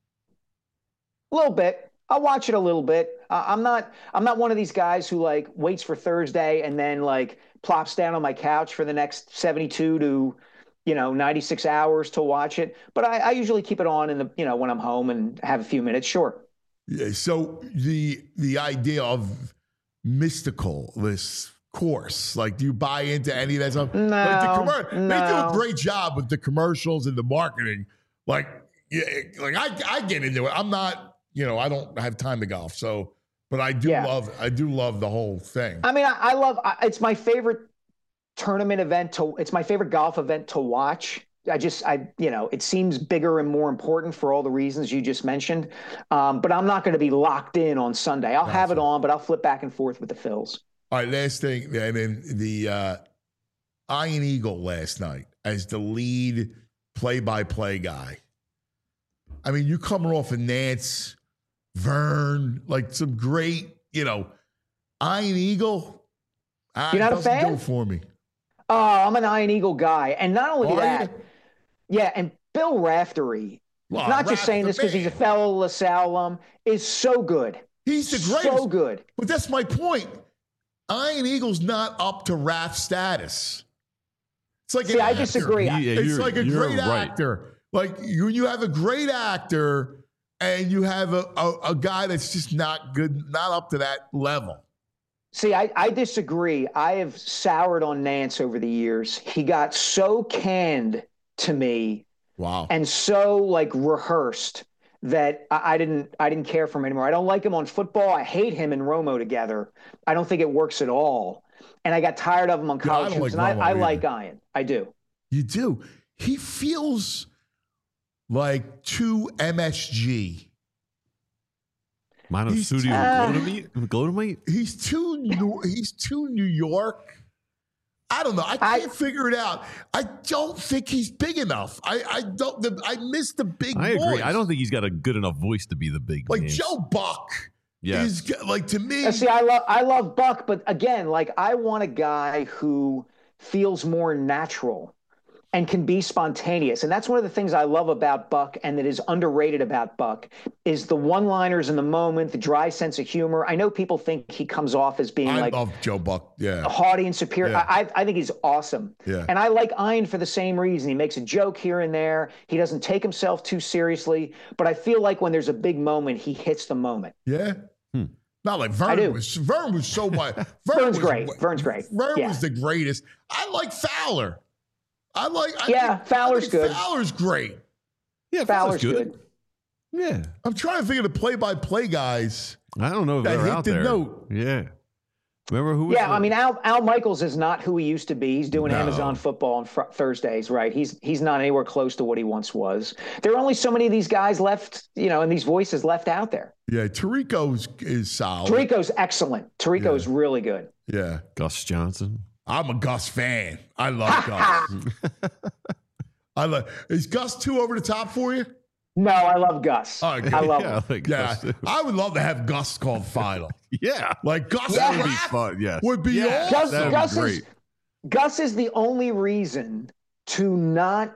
A little bit. I'll watch it a little bit. Uh, I'm not. I'm not one of these guys who like waits for Thursday and then like plops down on my couch for the next seventy-two to, you know, ninety-six hours to watch it. But I, I usually keep it on in the, you know, when I'm home and have a few minutes. Sure. Yeah. So the the idea of mystical this course, like, do you buy into any of that stuff? No. Like the commer- no. They do a great job with the commercials and the marketing. Like, yeah, like I I get into it. I'm not. You know, I don't have time to golf, so, but I do yeah. love, I do love the whole thing. I mean, I, I love, I, it's my favorite tournament event to, it's my favorite golf event to watch. I just, I, you know, it seems bigger and more important for all the reasons you just mentioned. Um, but I'm not going to be locked in on Sunday. I'll That's have it on, but I'll flip back and forth with the Phils. All right, last thing, and then the uh, Iron Eagle last night as the lead play-by-play guy. I mean, you coming off of Nance, Vern, like some great, you know, Iron Eagle. You're not a fan? Do it for me. Oh, I'm an Iron Eagle guy. And not only Are that, you? yeah, and Bill Raftery, well, not just saying this because he's a fellow LaSalle alum, is so good. He's the greatest. So good. But that's my point. Iron Eagle's not up to Raf status. It's like See, an I actor. disagree. Yeah, It's you're- like a you're great right. actor. Like you, you have a great actor, and you have a, a, a guy that's just not good, not up to that level. See, I, I disagree. I have soured on Nance over the years. He got so canned to me Wow. and so like rehearsed that I, I didn't I didn't care for him anymore. I don't like him on football. I hate him and Romo together. I don't think it works at all. And I got tired of him on Yeah, I college don't hoops. like and Romo I, I either. like Ian. I do. You do. He feels like too M S G. He's- Monosodium uh, glutamate? Glutamate? He's too. New, he's too New York. I don't know. I I- can't figure it out. I don't think he's big enough. I, I don't. The, I miss the big. I agree. boys. I don't think he's got a good enough voice to be the big like names. Joe Buck. Yeah. is like to me. Uh, See, I love I love Buck, but again, like I want a guy who feels more natural and can be spontaneous. And that's one of the things I love about Buck and that is underrated about Buck is the one-liners in the moment, the dry sense of humor. I know people think he comes off as being I like love Joe Buck. Yeah. haughty and superior. Yeah. I, I think he's awesome. Yeah. And I like Ian for the same reason. He makes a joke here and there. He doesn't take himself too seriously. But I feel like when there's a big moment, he hits the moment. Yeah. Hmm. Not like I Vern do. was. Vern was so much. Vern Vern's was, great. Vern's great. Vern Yeah. was the greatest. I like Fowler. I like. I Yeah, think, Fowler's I think good. Fowler's great. Yeah, Fowler's good. good. Yeah. I'm trying to think of the play-by-play guys. I don't know if That they're hit out the there. note. Yeah. Remember who was Yeah, the- I mean Al Al Michaels is not who he used to be. He's doing No. Amazon football on fr- Thursdays, right? He's he's not anywhere close to what he once was. There are only so many of these guys left, you know, and these voices left out there. Yeah, Tirico's is solid. Tarico's excellent. Tarico's Yeah. really good. Yeah. Gus Johnson? I'm a Gus fan. I love Gus. I love. Is Gus two over the top for you? No, I love Gus. Oh, okay. I love yeah, him. I like Yeah, Gus too. I would love to have Gus called final. Yeah. Like Gus Yeah. That would be rap fun. Yes. would be Yeah, awesome. Gus, that'd Gus be is great. Gus is the only reason to not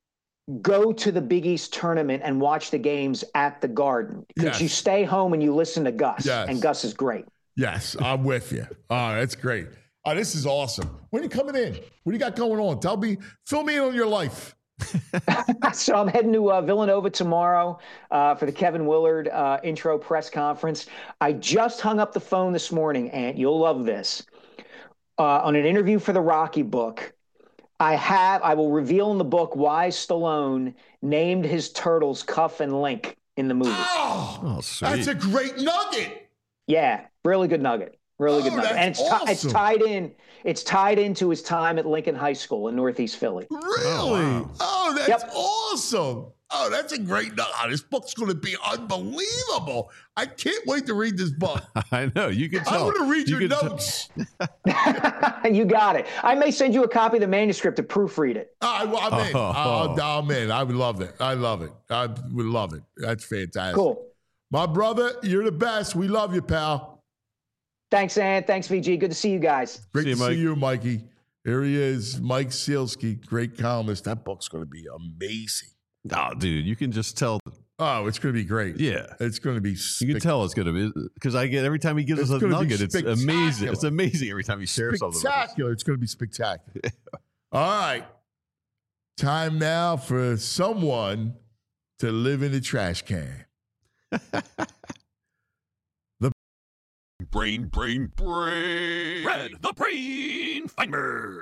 go to the Big East tournament and watch the games at the Garden because Yes. you stay home and you listen to Gus, Yes. and Gus is great. Yes, I'm with you. Oh, that's great. Oh, this is awesome. When are you coming in? What do you got going on? Tell me, fill me in on your life. So I'm heading to uh, Villanova tomorrow uh, for the Kevin Willard uh, intro press conference. I just hung up the phone this morning, Ant. You'll love this. Uh, on an interview for the Rocky book, I have I will reveal in the book why Stallone named his turtles Cuff and Link in the movie. Oh, Oh, sweet. that's a great nugget. Yeah, really good nugget. Really good Oh, nugget. And that's it's ti- it's awesome. tied in. It's tied into his time at Lincoln High School in Northeast Philly. Really? wow. Oh, that's Yep. awesome. Oh, that's a great nugget. Oh, this book's going to be unbelievable. I can't wait to read this book. I know. You can I tell. want to read You your can t- notes. You got it. I may send you a copy of the manuscript to proofread it. I, I'm in. Oh. Oh, I'm in. I would love it. I love it. I would love it. That's fantastic. Cool. My brother, you're the best. We love you, pal. Thanks, Ann. Thanks, V G. Good to see you guys. Great See you, to Mike. see you, Mikey. Here he is, Mike Sealski, great columnist. That book's going to be amazing. Oh, dude, you can just tell. Oh, it's going to be great. Yeah. It's going to be. You can spic- tell it's going to be because I get every time he gives It's us a gonna be nugget, it's amazing. spectacular. It's amazing every time he shares something. with us. spectacular. It's going to be spectacular. All right. Time now for someone to live in the trash can. Brain, brain, brain. Red, the brain finder.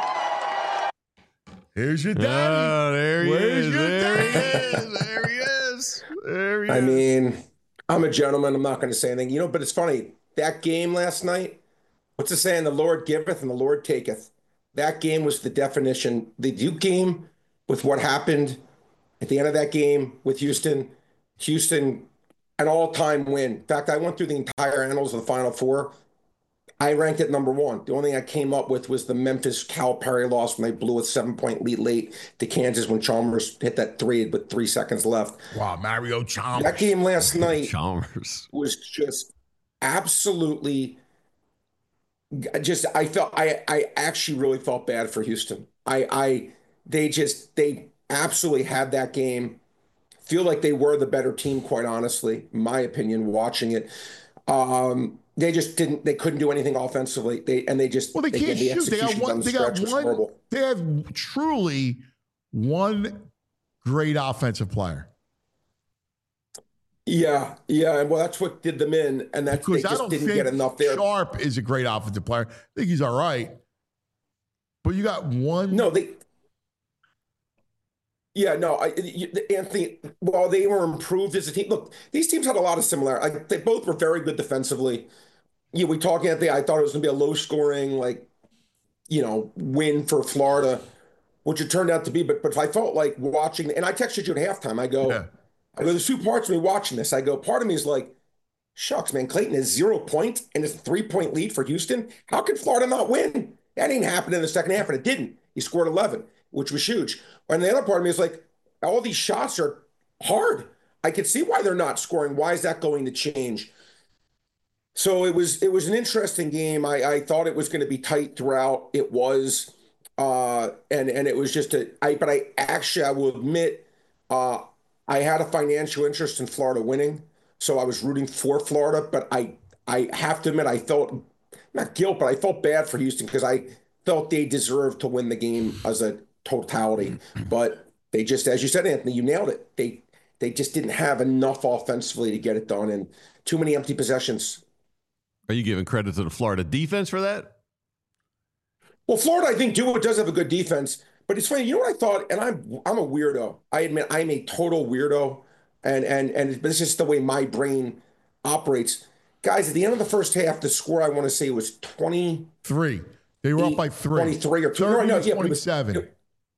Here's your daddy. Oh, there he Where's is. your There he daddy? is. There he is. There he I is. mean, I'm a gentleman. I'm not going to say anything. You know, but it's funny. That game last night, what's it saying? The Lord giveth and the Lord taketh. That game was the definition. The Duke game with what happened at the end of that game with Houston, Houston, an all-time win. In fact, I went through the entire annals of the Final Four. I ranked it number one. The only thing I came up with was the Memphis Calipari loss when they blew a seven-point lead late to Kansas when Chalmers hit that three with three seconds left. Wow, Mario Chalmers. That game last night Chalmers. was just absolutely just I felt I I actually really felt bad for Houston. I I they just they absolutely had that game. Feel like they were the better team, quite honestly, in my opinion, watching it. Um, they just didn't. They couldn't do anything offensively. They and they just Well, they, can't again, the shoot. They got execution one. down the They got stretch was one. horrible. They have truly one great offensive player. Yeah, yeah, and well, that's what did them in, and that Because they I just don't didn't think get enough there. Sharp is a great offensive player. I think he's all right. But you got one. No, they. Yeah, no, I, you, Anthony. While they were improved as a team, look, these teams had a lot of similar. Like, they both were very good defensively. Yeah, we talk, Anthony. I thought it was going to be a low-scoring, like, you know, win for Florida, which it turned out to be. But but I felt like watching, and I texted you at halftime. I go, Yeah. I go. There's two parts of me watching this. I go, part of me is like, shucks, man, Clayton has zero points and it's a three-point lead for Houston. How could Florida not win? That didn't happen in the second half, and it didn't. He scored eleven, which was huge. And the other part of me is like, all these shots are hard. I could see why they're not scoring. Why is that going to change? So it was it was an interesting game. I, I thought it was going to be tight throughout. It was, uh, and and it was just a. I but I actually I will admit, uh, I had a financial interest in Florida winning, so I was rooting for Florida. But I I have to admit I felt not guilt, but I felt bad for Houston because I felt they deserved to win the game as a totality. But they just, as you said, Anthony, you nailed it. They they just didn't have enough offensively to get it done, and too many empty possessions. Are you giving credit to the Florida defense for that? Well, Florida, I think, do does have a good defense, but it's funny. You know what I thought? And I'm I'm a weirdo. I admit I'm a total weirdo, and and and but it's just the way my brain operates. Guys, at the end of the first half, the score I want to say was twenty Three. They were up by three. twenty-three or two. thirty No, to yeah, but it was- twenty-seven.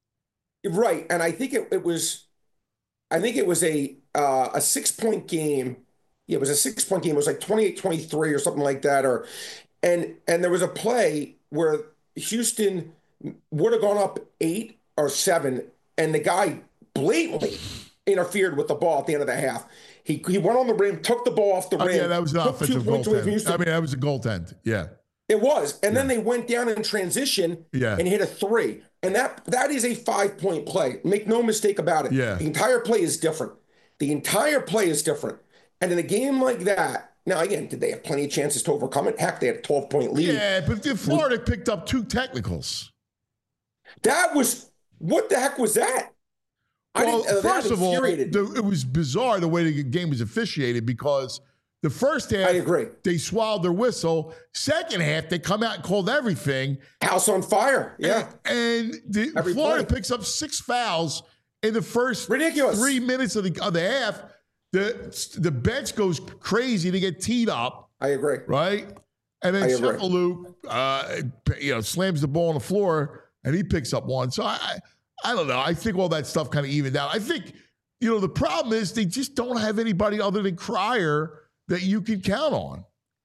Right, and I think it, it was, I think it was a uh, a six point game. Yeah, it was a six point game. It was like twenty-eight twenty-three or something like that. Or, and and there was a play where Houston would have gone up eight or seven, and the guy blatantly interfered with the ball at the end of the half. He he went on the rim, took the ball off the Oh, rim. yeah, that was an took two offensive points away from goaltend. Houston. I mean, that was a goaltend. Yeah. It was. And then they went down in transition Yeah. and hit a three. And that that is a five-point play. Make no mistake about it. Yeah. The entire play is different. The entire play is different. And in a game like that, now again, did they have plenty of chances to overcome it? Heck, they had a twelve-point lead. Yeah, but the Florida picked up two technicals. That was, what the heck was that? I Well, didn't, uh, that first of all, infuriated me. the, it was bizarre the way the game was officiated because the first half, I agree. they swallowed their whistle. Second half, they come out and called everything. House on fire. Yeah. And, and the, Every Florida play. picks up six fouls in the first Ridiculous. three minutes of the, of the half. The, the bench goes crazy to get teed up, I agree. right? And then I agree. Cephalou, uh, you know, slams the ball on the floor and he picks up one. So I, I, I don't know. I think all that stuff kind of evened out. I think, you know, the problem is they just don't have anybody other than Cryer that you can count on.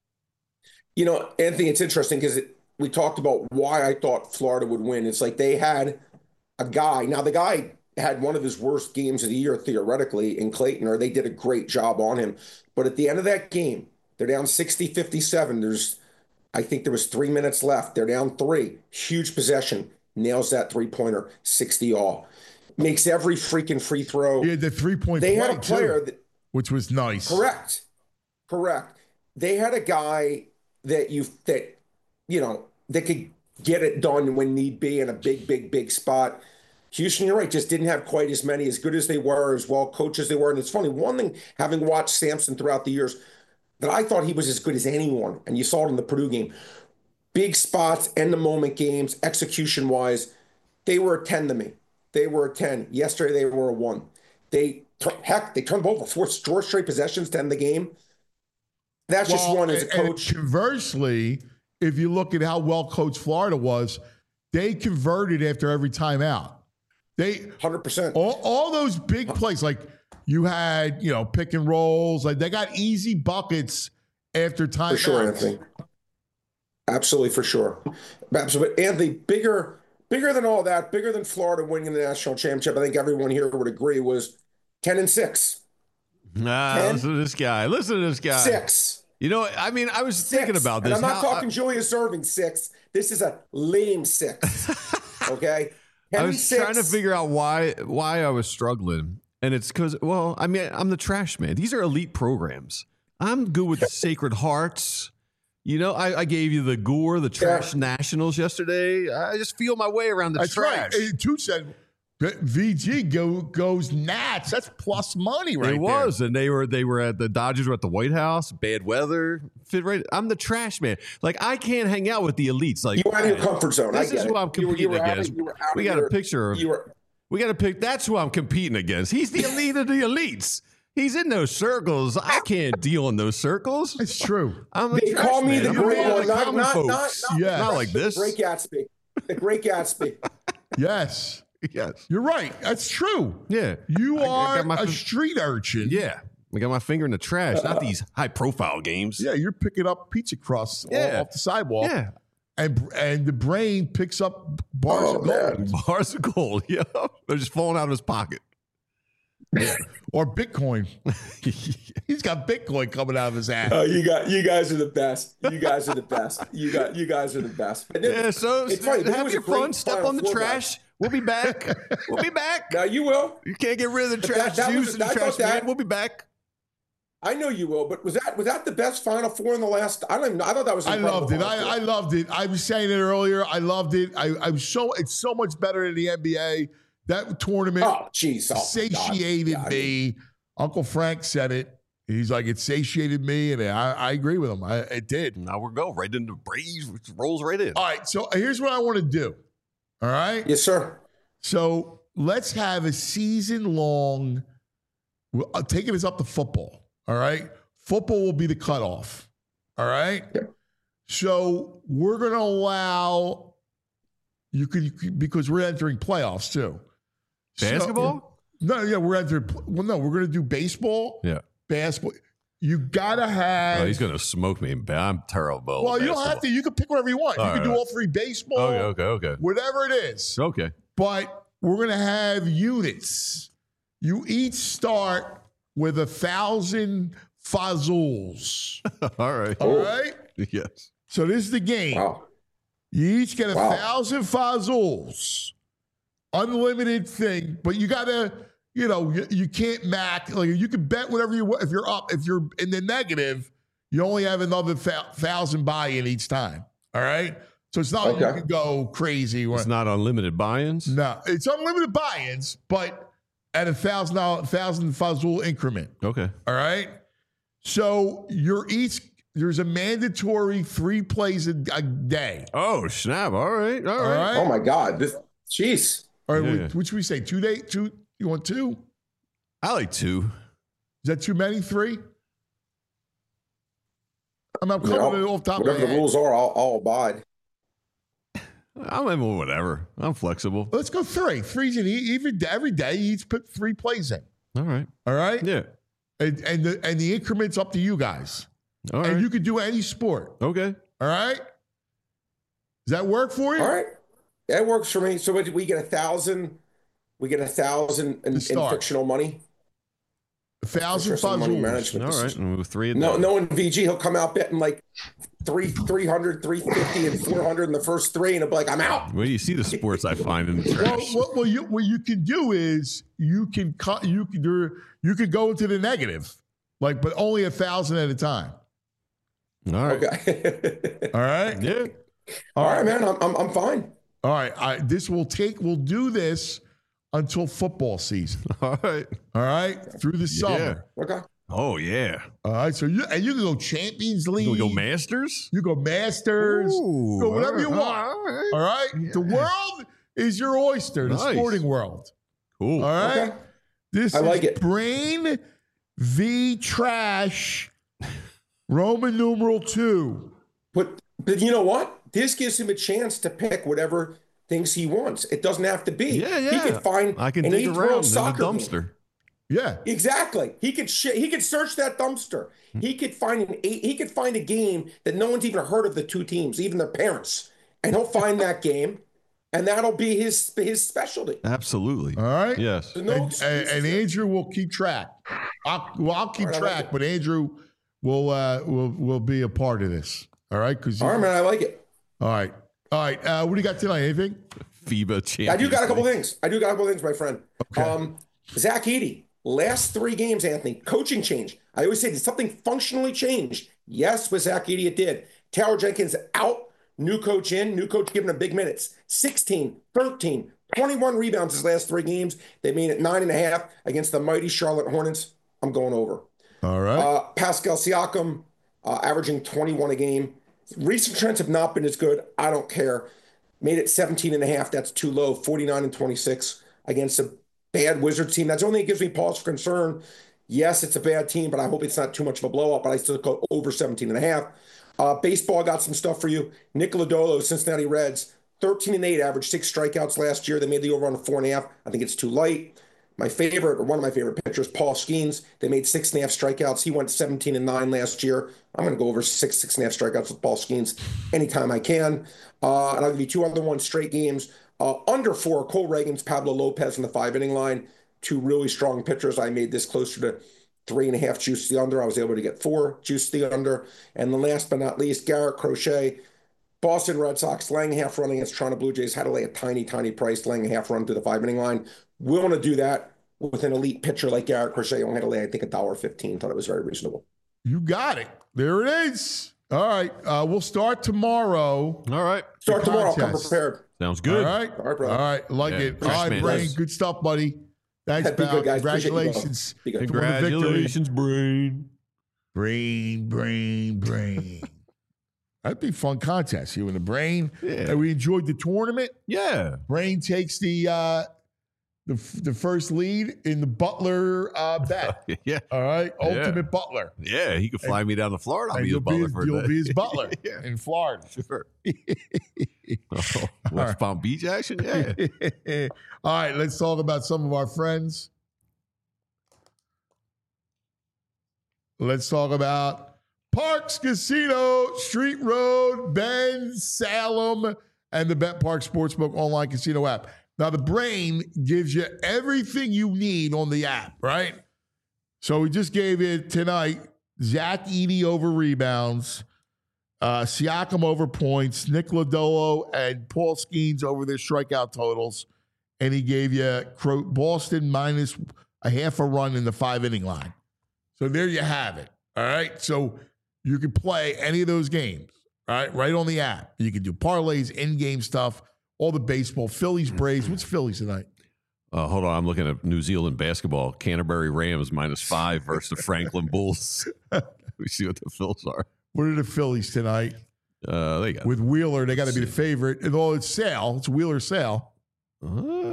You know, Anthony, it's interesting because it, we talked about why I thought Florida would win. It's like they had a guy. Now, the guy had one of his worst games of the year, theoretically, in Clayton, or they did a great job on him. But at the end of that game, they're down sixty fifty-seven. There's, I think there was three minutes left. They're down three. Huge possession. Nails that three-pointer, sixty all. Makes every freaking free throw. Yeah, the three-point They play, had a player too, that, which was nice. correct. Correct. They had a guy that you that you know that could get it done when need be in a big, big, big spot. Houston, you're right, just didn't have quite as many, as good as they were, as well coached as they were. And it's funny, one thing, having watched Sampson throughout the years, that I thought he was as good as anyone, and you saw it in the Purdue game. Big spots, end-of-moment games, execution-wise, they were a ten to me. They were a ten. Yesterday, they were a one. They, heck, they turned over four, four straight possessions to end the game. That's just Well, one as a and- and coach. conversely, if you look at how well coached Florida was, they converted after every timeout. They one hundred percent. all, all those big plays, like you had, you know, pick and rolls, like they got easy buckets after timeouts. For sure, Anthony. Absolutely, for sure. Absolutely. Anthony, bigger bigger than all that, bigger than Florida winning the national championship, I think everyone here would agree, was ten and six. Nah, Ten? listen to this guy. Listen to this guy. Six. You know, I mean, I was Six. thinking about And this. I'm not How- talking Julius Irving six. This is a lame six. Okay? ten I and was six. trying to figure out why why I was struggling. And it's because, well, I mean, I'm the trash man. These are elite programs. I'm good with the Sacred Hearts. You know, I, I gave you the Gore, the Trash Nationals yesterday. I just feel my way around the That's trash. right. And two said V G go, goes Nats. That's plus money right It was, and they were they were at the Dodgers were at the White House. Bad weather, fit right. I'm the trash man. Like I can't hang out with the elites. Like You were out of your comfort zone. This I get is it. who I'm You were- you competing were out of- against. you were out We of got your- a picture of. You were, We got to pick. That's who I'm competing against. He's the elite of the elites. He's in those circles. I can't deal in those circles. It's true. I'm a they trash call me man. the I'm great a man of one, the not, common not, not, folks. not, Yeah. Not like this. The Great Gatsby. The Great Gatsby. Yes. Yes. You're right. That's true. Yeah. You I- I are got my a f- street urchin. Yeah. I got my finger in the trash. Not these high profile games. Yeah, you're picking up pizza crusts all Yeah. off the sidewalk. Yeah. And and the brain picks up bars Oh, of gold. man. Bars of gold. Yeah. They're just falling out of his pocket. Or Bitcoin. He's got Bitcoin coming out of his ass. Oh, you got you guys are the best. You guys are the best. You got you guys are the best. But then- Yeah, so It's funny, but it have was your a great fun. Step Final on the Four trash. We'll be back. We'll be back. now you will. You can't get rid of the But that- trash that was- juice and I the thought trash that- man. We'll be back. I know you will. But was that was that the best Final Four in the last? I don't even know. I thought that was. I incredible loved it. Final I, I Four. loved it. I was saying it earlier. I loved it. I, I was so it's so much better than the N B A. That tournament Oh, jeez. Oh, satiated God. Yeah, I me. Uncle Frank said it. He's like, it satiated me, and I, I agree with him. I, it did. Now we're go right into Braves. Rolls right in. All right. So here's what I want to do. All right. Yes, sir. So let's have a season long. Well, uh, taking us up to football. All right. Football will be the cutoff. All right. Yeah. So we're going to allow you could, you could- because we're entering playoffs too. So- Basketball? no, yeah, we're entering. Well, no, we're going to do baseball, Yeah. basketball. You got to have. Oh, he's gonna smoke me. I'm terrible. well, at you don't have to. You can pick whatever you want. All you can right, do all all three baseball, Okay, okay, okay. whatever it is. Okay. But we're going to have units. You each start with a thousand fazuls. All right. All right. Yes. So this is the game. Wow. You each get a Wow. thousand fazuls, unlimited thing. But you got to, you know, you, you can't max. Like you can bet whatever you want. If you're up, if you're in the negative, you only have another th- thousand buy-in each time. All right. So it's not like Okay. you can go crazy. It's not unlimited buy-ins. No, it's unlimited buy-ins, but at a thousand dollar, thousand fazul increment. Okay. All right. So you're each there's a mandatory three plays a, a day. Oh snap! All right. All All right. right. Oh my God. This. Jeez. All right. Yeah, we- yeah. Which we say two day two. You want two? I like two. Is that too many? Three? I'm not You know, coming off the top of my Whatever the head. rules are, I'll, I'll abide. I'm in whatever. I'm flexible. Let's go three. Three's in e- every day. Every day, you each put three plays in. All right. All right. Yeah. And and the and the increments up to you guys. All and right. you can do any sport. Okay. All right. Does that work for you? All right. That works for me. So what, we get a thousand. We get a thousand in, in start. fictional money. A thousand Interesting money fazuls. management All right. decision. And with three. a No, day. no, in V G, he'll come out betting like three, three hundred, three fifty, and four hundred in the first three, and he'll be like, I'm out. Well, you see the sports I find in the Well, trash. what, what you what you can do is you can cut you can do you can go into the negative, like but only a thousand at a time. All right. Okay. All right. Yeah. All right, man. I'm, I'm, I'm fine. All right. I, this will take. We'll do this until football season. All right. All right, through the summer. Okay. Oh yeah. All right. So you and you can go Champions League. We go Masters. You go Masters. Ooh, go whatever you all want. right, all right. All right. The world is your oyster. The Nice. sporting world. Cool. All right. Okay. This I is like it. Brain v Trash, Roman numeral two. But but you know what? This gives him a chance to pick whatever things he wants. It doesn't have to be. Yeah, yeah. He could find I can an dig eighth around world in the soccer game. dumpster. Yeah. Exactly. He could sh- he could search that dumpster. He could find an eight, he could find a game that no one's even heard of the two teams, even their parents, and he'll find that game, and that'll be his his specialty. Absolutely. All right. Yes. There's no And, and, excuses and there. Andrew will keep track. I'll, well, I'll keep All right, I like track, it. but Andrew will uh, will will be a part of this. All right. Because All right, man. I like it. all right. All right. Uh, what do you got tonight? Anything? FIBA champion. I do got a couple things. I do got a couple things, my friend. Okay. Um, Zach Edey, last three games, Anthony, coaching change. I always say, did something functionally change? Yes, with Zach Edey, it did. Taylor Jenkins out, new coach in, new coach giving him big minutes. sixteen, thirteen, twenty-one rebounds his last three games. They made it nine and a half against the mighty Charlotte Hornets. I'm going over. All right. Uh, Pascal Siakam, uh, averaging twenty-one a game. Recent trends have not been as good. I don't care. Made it seventeen and a half. That's too low. forty-nine and twenty-six against a bad Wizards team. That's the only thing that gives me pause for concern. Yes, it's a bad team, but I hope it's not too much of a blowout, but I still go over seventeen and a half. Uh, baseball, got some stuff for you. Nick Lodolo, Cincinnati Reds, thirteen and eight, averaged six strikeouts last year. They made the over on four and a half. I think it's too light. My favorite, or one of my favorite pitchers, Paul Skeens. They made six and a half strikeouts. He went seventeen and nine last year. I'm going to go over six, six and a half strikeouts with Paul Skeens anytime I can. Uh, and I'll give you two other ones, straight games. Uh, under four, Cole Reagans, Pablo Lopez in the five inning line. Two really strong pitchers. I made this closer to three and a half juice the under. I was able to get four juice the under. And the last but not least, Garrett Crochet, Boston Red Sox, laying a half run against Toronto Blue Jays, had to lay a tiny, tiny price, laying a half run through the five inning line. We want to do that with an elite pitcher like Garrett Crochet. Only had to lay, I think, one dollar fifteen. Thought it was very reasonable. You got it. There it is. All right. Uh, we'll start tomorrow. All right. Start tomorrow. Come contest. prepared. Sounds good. All right. All right, brother. All right. Like Yeah, it. All fresh right, man. Brain. Yes. Good stuff, buddy. Thanks, Be good, pal. guys. Appreciate you both. Congratulations. Be good. to win the victory. Congratulations, Brain. Brain, brain, brain. That'd be a fun contest. You and the Brain. Yeah. And we enjoyed the tournament. Yeah. Brain takes the uh, the the first lead in the Butler uh, bet. Yeah. All right, Yeah. Ultimate Butler. Yeah. He could fly me down to Florida. I'll And be you'll his butler be, for a you'll day. be his butler Yeah. in Florida. Sure. Oh, West Palm Beach action? Yeah. All right, let's talk about some of our friends. Let's talk about Parks Casino, Street Road, Bend, Salem, and the Bet Park Sportsbook online casino app. Now, the Brain gives you everything you need on the app, right? So we just gave it tonight, Zach Edey over rebounds, uh, Siakam over points, Nick Lodolo and Paul Skeens over their strikeout totals. And he gave you Boston minus a half a run in the five inning line. So there you have it. All right. So you can play any of those games, all right, right on the app. You can do parlays, in-game stuff, all the baseball, Phillies, Braves. What's Phillies tonight? Uh, hold on. I'm looking at New Zealand basketball. Canterbury Rams minus five versus the Franklin Bulls. We see what the Phils are. What are the Phillies tonight? Uh, they got With Wheeler, they got to be the favorite. And although it's Sale, it's Wheeler Sale. Uh,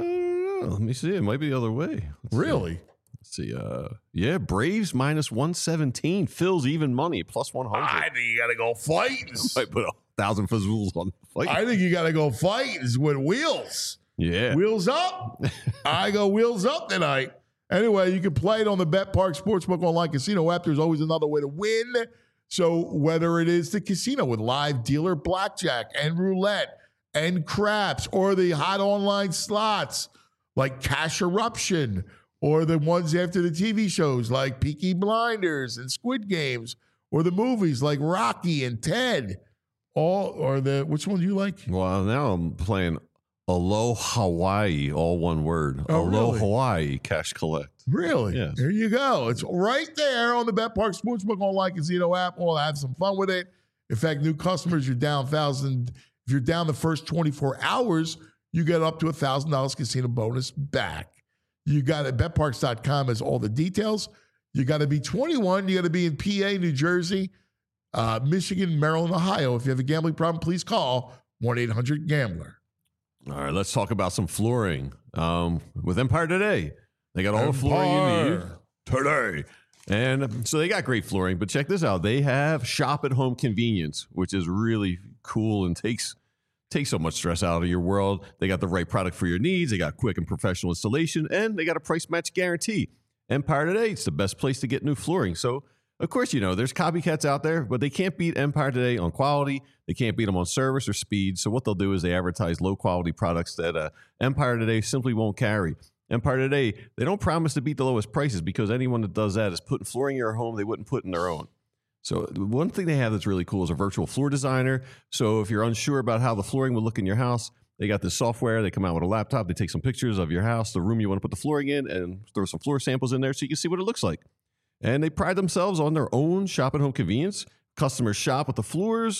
let me see. It might be the other way. Let's Really? See. Let's see. Uh, yeah, Braves minus one seventeen. Phil's even money plus one hundred. I think you got to go fight. I put a thousand fazools on the fight. I think you got to go fight is with Wheels. yeah. Wheels up. I go wheels up tonight. Anyway, you can play it on the Bet Park Sportsbook online casino app. There's always another way to win. So whether it is the casino with live dealer blackjack and roulette and craps, or the hot online slots like Cash Eruption, or the ones after the T V shows like Peaky Blinders and Squid Games, or the movies like Rocky and Ted, all or the which one do you like? Well, now I'm playing Alo Hawaii, all one word. Oh, Alo really? Hawaii Cash Collect. Really? Yes. There you go. It's right there on the Bet Park Sportsbook online casino app. We'll have some fun with it. In fact, new customers, you're down thousand. If you're down the first twenty-four hours, you get up to a thousand dollars casino bonus back. You got it. bet parks dot com has all the details. You got to be twenty-one. You got to be in P A, New Jersey, uh, Michigan, Maryland, Ohio. If you have a gambling problem, please call one eight hundred gambler. All right, let's talk about some flooring. Um, with Empire Today, they got all the flooring you need today. And so they got great flooring, but check this out. They have shop at home convenience, which is really cool and takes takes so much stress out of your world. They got the right product for your needs. They got quick and professional installation, and they got a price match guarantee. Empire Today, it's the best place to get new flooring. So, of course, you know, there's copycats out there, but they can't beat Empire Today on quality. They can't beat them on service or speed. So what they'll do is they advertise low-quality products that uh, Empire Today simply won't carry. Empire Today, they don't promise to beat the lowest prices because anyone that does that is putting flooring in your home they wouldn't put in their own. So one thing they have that's really cool is a virtual floor designer. So if you're unsure about how the flooring would look in your house, they got this software. They come out with a laptop. They take some pictures of your house, the room you want to put the flooring in, and throw some floor samples in there so you can see what it looks like. And they pride themselves on their own shop at home convenience. Customers shop with the floors.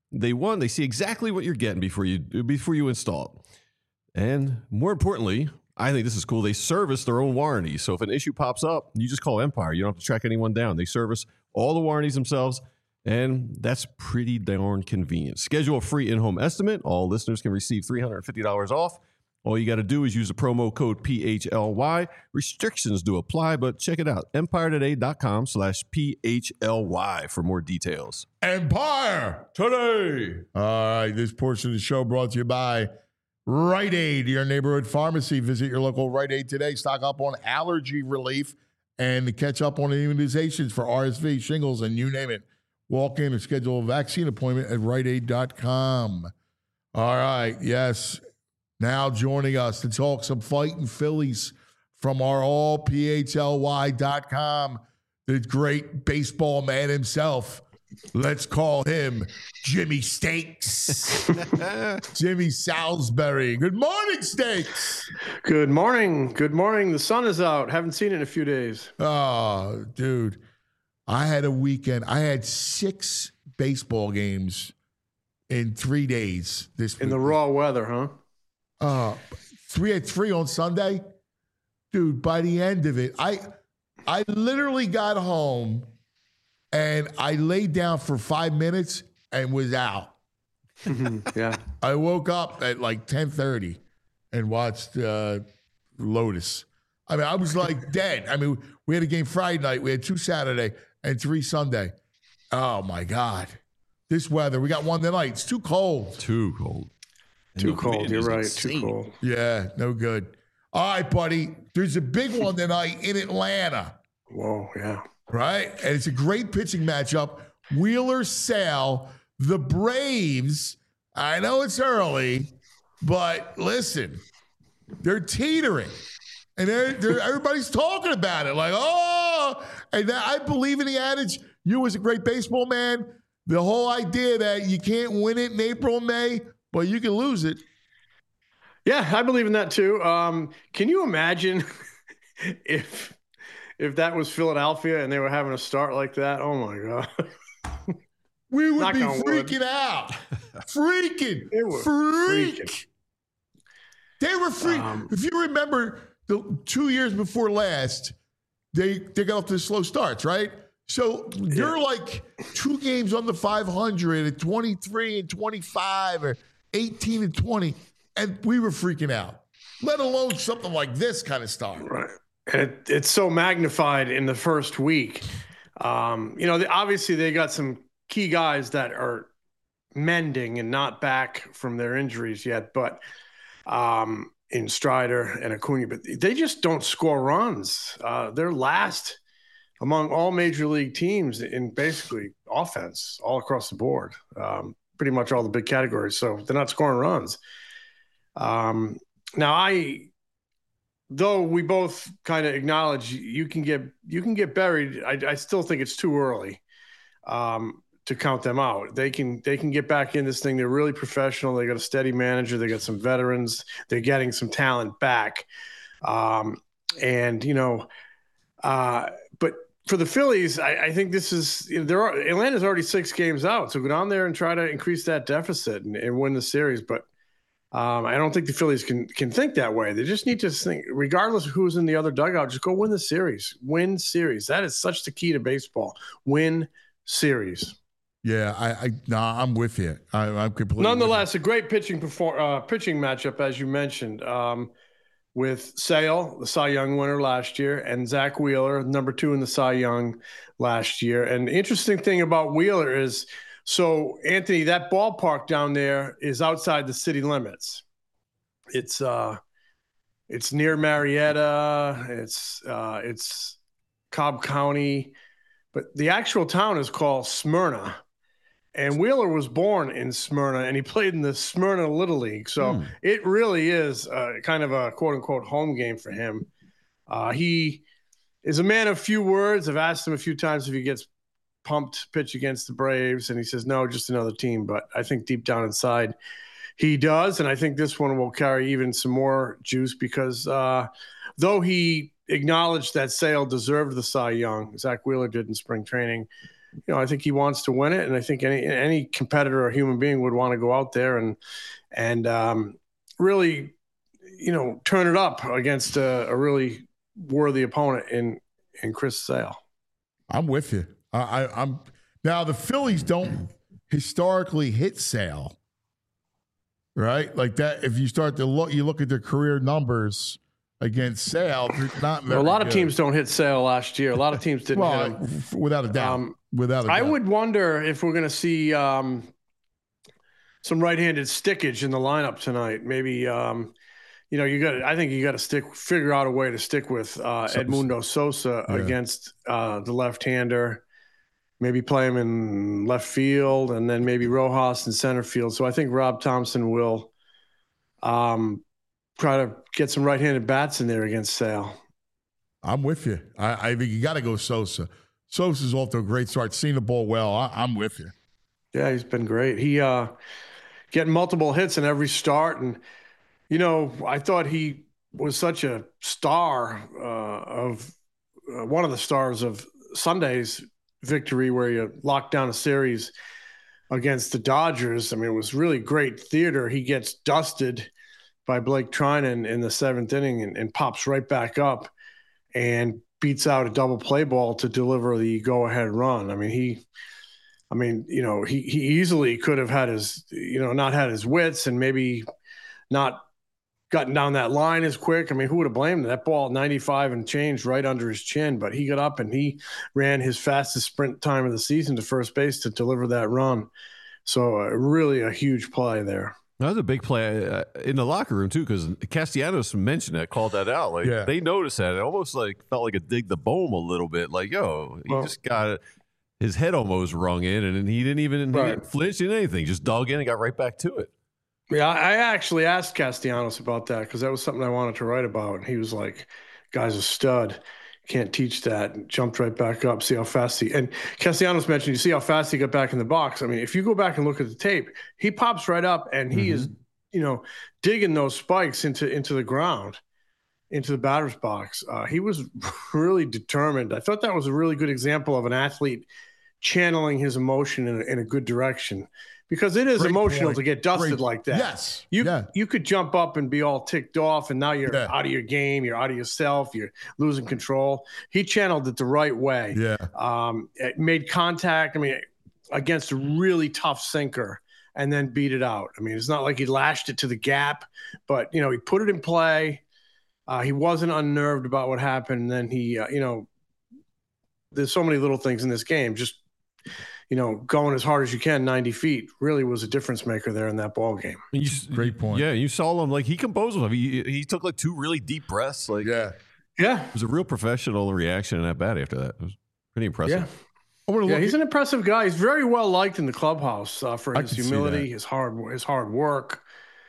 They one, they see exactly what you're getting before you before you install it. And more importantly, I think this is cool. They service their own warranty. So if an issue pops up, you just call Empire. You don't have to track anyone down. They service all the warranties themselves, and that's pretty darn convenient. Schedule a free in-home estimate. All listeners can receive three hundred fifty dollars off. All you got to do is use the promo code P H L Y. Restrictions do apply, but check it out. EmpireToday.com slash P H L Y for more details. Empire Today. All right, this portion of the show brought to you by Rite Aid, your neighborhood pharmacy. Visit your local Rite Aid today. Stock up on allergy relief and catch up on immunizations for R S V, shingles, and you name it. Walk in and schedule a vaccine appointment at Rite Aid dot com. All right, yes. Now joining us to talk some fighting Phillies from our all P H L Y dot com, the great baseball man himself. Let's call him Jimmy Stakes. Jimmy Salisbury. Good morning, Stakes. Good morning. Good morning. The sun is out. Haven't seen it in a few days. Oh, dude. I had a weekend. I had six baseball games in three days this week. In the raw weather, huh? Uh, three at three on Sunday. Dude, by the end of it, I I literally got home and I laid down for five minutes and was out. Yeah. I woke up at like ten thirty and watched uh, Lotus. I mean, I was like dead. I mean, we had a game Friday night. We had two Saturday and three Sunday. Oh, my God. This weather. We got one tonight. It's too cold. Too cold. Too No, cold. man, You're it's right. insane. Too cold. Yeah, no good. All right, buddy. There's a big one tonight in Atlanta, Whoa. Yeah. right? And it's a great pitching matchup. Wheeler Sale, the Braves. I know it's early, but listen, they're teetering. And they're, they're, everybody's talking about it. Like, oh, and I believe in the adage, you as a great baseball man, the whole idea that you can't win it in April and May, but you can lose it. Yeah, I believe in that too. Um, can you imagine if if that was Philadelphia and they were having a start like that? Oh my God. We would Knock be on wood. freaking out. freaking. They were Freak. freaking. They were freak. Um, if you remember the two years before last, they they got off to slow starts, right? So you're like two games on the five hundred at twenty-three and twenty-five or eighteen and twenty, and we were freaking out, let alone something like this kind of start. Right. And it, it's so magnified in the first week. Um, you know, they, obviously they got some key guys that are mending and not back from their injuries yet, but um, in Strider and Acuna, but they just don't score runs. Uh, they're last among all major league teams in basically offense all across the board, um, pretty much all the big categories. So they're not scoring runs. Um, now I, though we both kind of acknowledge you can get, you can get buried. I, I still think it's too early um, to count them out. They can, they can get back in this thing. They're really professional. They got a steady manager. They got some veterans. They're getting some talent back. Um, and, you know, uh, but for the Phillies, I, I think this is, you know, there are, Atlanta's already six games out. So go down there and try to increase that deficit and, and win the series. But um, I don't think the Phillies can can think that way. They just need to think, regardless of who's in the other dugout, just go win the series. Win series. That is such the key to baseball. Win series. Yeah, I, I nah, I'm with you. I, I'm completely. Nonetheless, a great pitching perform uh, pitching matchup, as you mentioned, um, with Sale, the Cy Young winner last year, and Zach Wheeler, number two in the Cy Young last year. And the interesting thing about Wheeler is, so Anthony, that ballpark down there is outside the city limits. It's uh, it's near Marietta. It's uh, it's Cobb County, but the actual town is called Smyrna. And Wheeler was born in Smyrna, and he played in the Smyrna Little League. So hmm. it really is uh, kind of a quote-unquote home game for him. Uh, he is a man of few words. I've asked him a few times if he gets pumped to pitch against the Braves, and he says, no, just another team. But I think deep down inside he does, and I think this one will carry even some more juice because uh, though he acknowledged that Sale deserved the Cy Young, Zach Wheeler did in spring training, you know, I think he wants to win it, and I think any any competitor or human being would want to go out there and and um, really, you know, turn it up against a, a really worthy opponent in in Chris Sale. I'm with you. I, I, I'm now the Phillies don't historically hit Sale, right? Like that. If you start to look, you look at their career numbers against Sale. They're not very Well, a lot good. of teams don't hit Sale last year. A lot of teams didn't Well, hit him. f- without a doubt. Um, without a doubt. I would wonder if we're going to see um, some right-handed stickage in the lineup tonight. Maybe, um, you know, you got. I think you got to stick, figure out a way to stick with uh, Sosa. Edmundo Sosa Yeah. against uh, the left-hander. Maybe play him in left field, and then maybe Rojas in center field. So I think Rob Thompson will um, try to get some right-handed bats in there against Sale. I'm with you. I, I think you got to go Sosa. Sosa's off to a great start. Seen the ball well. I, I'm with you. Yeah, he's been great. He uh, getting multiple hits in every start, and you know, I thought he was such a star uh, of uh, one of the stars of Sunday's victory, where you locked down a series against the Dodgers. I mean, it was really great theater. He gets dusted by Blake Trinan in the seventh inning and, and pops right back up and beats out a double play ball to deliver the go-ahead run. I mean, he, I mean, you know, he he easily could have had his, you know, not had his wits and maybe not gotten down that line as quick. I mean, who would have blamed him? That ball ninety-five and change right under his chin, but he got up and he ran his fastest sprint time of the season to first base to deliver that run. So uh, really a huge play there. That was a big play uh, in the locker room, too, because Castellanos mentioned that, called that out. Like, Yeah. they noticed that. It almost like felt like a dig the boom a little bit. Like, yo, he Well- just got his head almost rung in, and then he didn't even he Right. didn't flinch in anything. Just dug in and got right back to it. Yeah, I actually asked Castellanos about that because that was something I wanted to write about. And he was like, guy's a stud. Can't teach that. And jumped right back up, see how fast he – and Castellanos mentioned, you see how fast he got back in the box. I mean, if you go back and look at the tape, he pops right up and he is, you know, digging those spikes into into the ground, into the batter's box. Uh, he was really determined. I thought that was a really good example of an athlete channeling his emotion in a, in a good direction. Because it is Great emotional point. to get dusted Great- like that. Yes. You yeah. you could jump up and be all ticked off, and now you're Yeah. out of your game, you're out of yourself, you're losing control. He channeled it the right way. Yeah. Um, it made contact, I mean, against a really tough sinker and then beat it out. I mean, it's not like he lashed it to the gap, but, you know, he put it in play. Uh, he wasn't unnerved about what happened. And then he, uh, you know, there's so many little things in this game. Just, you know, going as hard as you can, ninety feet, really was a difference maker there in that ball game. You, Great point. Yeah, you saw him. Like, he composed himself. He, he took, like, two really deep breaths. Like, Yeah. Yeah. it was a real professional reaction in that bat after that. It was pretty impressive. Yeah. I want to Yeah, look he's at, an impressive guy. He's very well liked in the clubhouse uh, for I his can see humility, that. his hard, his hard work.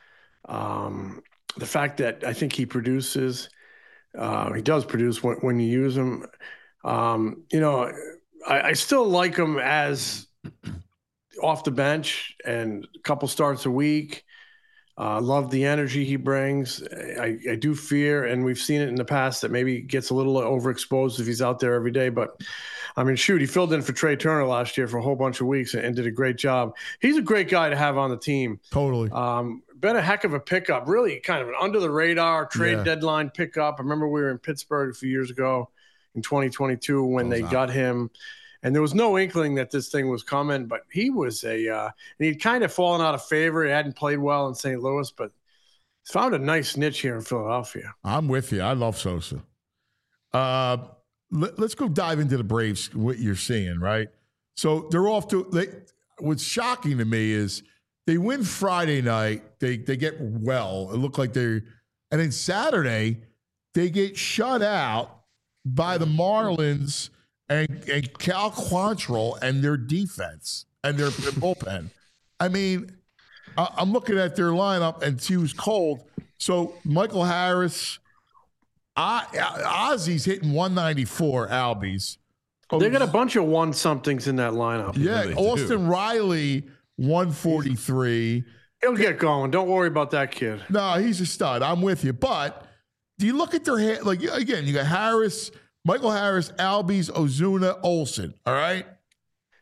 Um, the fact that I think he produces, uh, he does produce when, when you use him. Um, you know, I, I still like him as off the bench and a couple starts a week. Uh, love the energy he brings. I, I do fear, and we've seen it in the past, that maybe he gets a little overexposed if he's out there every day. But, I mean, shoot, he filled in for Trey Turner last year for a whole bunch of weeks and, and did a great job. He's a great guy to have on the team. totally. Um, been a heck of a pickup, really kind of an under-the-radar trade Yeah. deadline pickup. I remember we were in Pittsburgh a few years ago in twenty twenty-two when Goes they out. got him. And there was no inkling that this thing was coming, but he was a uh, – and he'd kind of fallen out of favor. He hadn't played well in Saint Louis, but he's found a nice niche here in Philadelphia. I'm with you. I love Sosa. Uh, let, let's go dive into the Braves, what you're seeing, right? So they're off to they, – what's shocking to me is they win Friday night. They they get well. It looked like they're – and then Saturday, they get shut out by the Marlins – And, and Cal Quantrill and their defense and their bullpen. I mean, I, I'm looking at their lineup and she was cold. So Michael Harris, I, Ozzy's hitting one ninety-four, Albies. They got a bunch of one-somethings in that lineup. Yeah, really do. Austin Riley, one forty-three. He'll get going. Don't worry about that kid. No, he's a stud. I'm with you. But do you look at their head? Like, again, you got Harris, Michael Harris, Albies, Ozuna, Olsen. All right.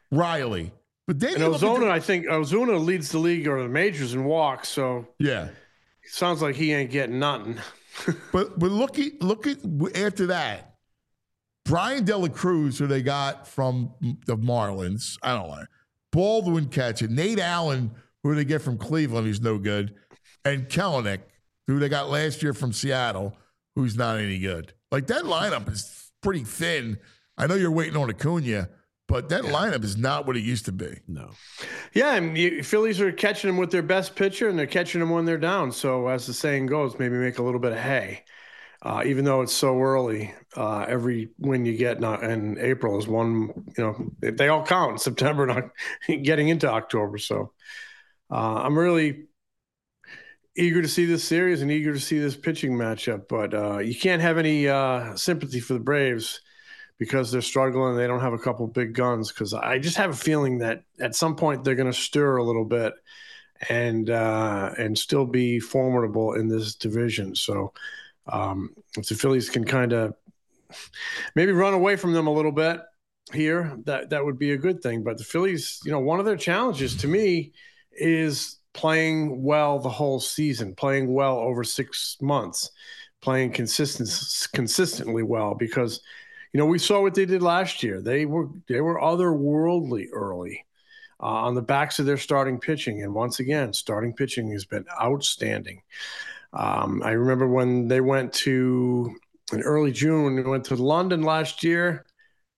Riley. But then And you look at Ozuna, the- I think Ozuna leads the league or the majors in walks, so yeah. it sounds like he ain't getting nothing. But but look at look at after that, Brian Dela Cruz, who they got from the Marlins. I don't know. Baldwin catching. Nate Allen, who they get from Cleveland, who's no good, and Kelenic, who they got last year from Seattle, who's not any good. Like that lineup is pretty thin. I know you're waiting on Acuna, but that lineup is not what it used to be. No. Yeah, and you, Phillies are catching them with their best pitcher, and they're catching them when they're down. So, as the saying goes, maybe make a little bit of hay. Uh, even though it's so early, uh, every win you get in, in April is one. You know, they all count in September, not getting into October. So, uh, I'm really eager to see this series and eager to see this pitching matchup. But uh, you can't have any uh, sympathy for the Braves because they're struggling. They don't have a couple big guns, because I just have a feeling that at some point they're going to stir a little bit and uh, and still be formidable in this division. So um, if the Phillies can kind of maybe run away from them a little bit here, that, that would be a good thing. But the Phillies, you know, one of their challenges to me is playing well the whole season, playing well over six months, playing consistent, consistently well, because – you know, we saw what they did last year. They were they were otherworldly early uh, on the backs of their starting pitching. And once again, starting pitching has been outstanding. Um, I remember when they went to, in early June, when they went to London last year,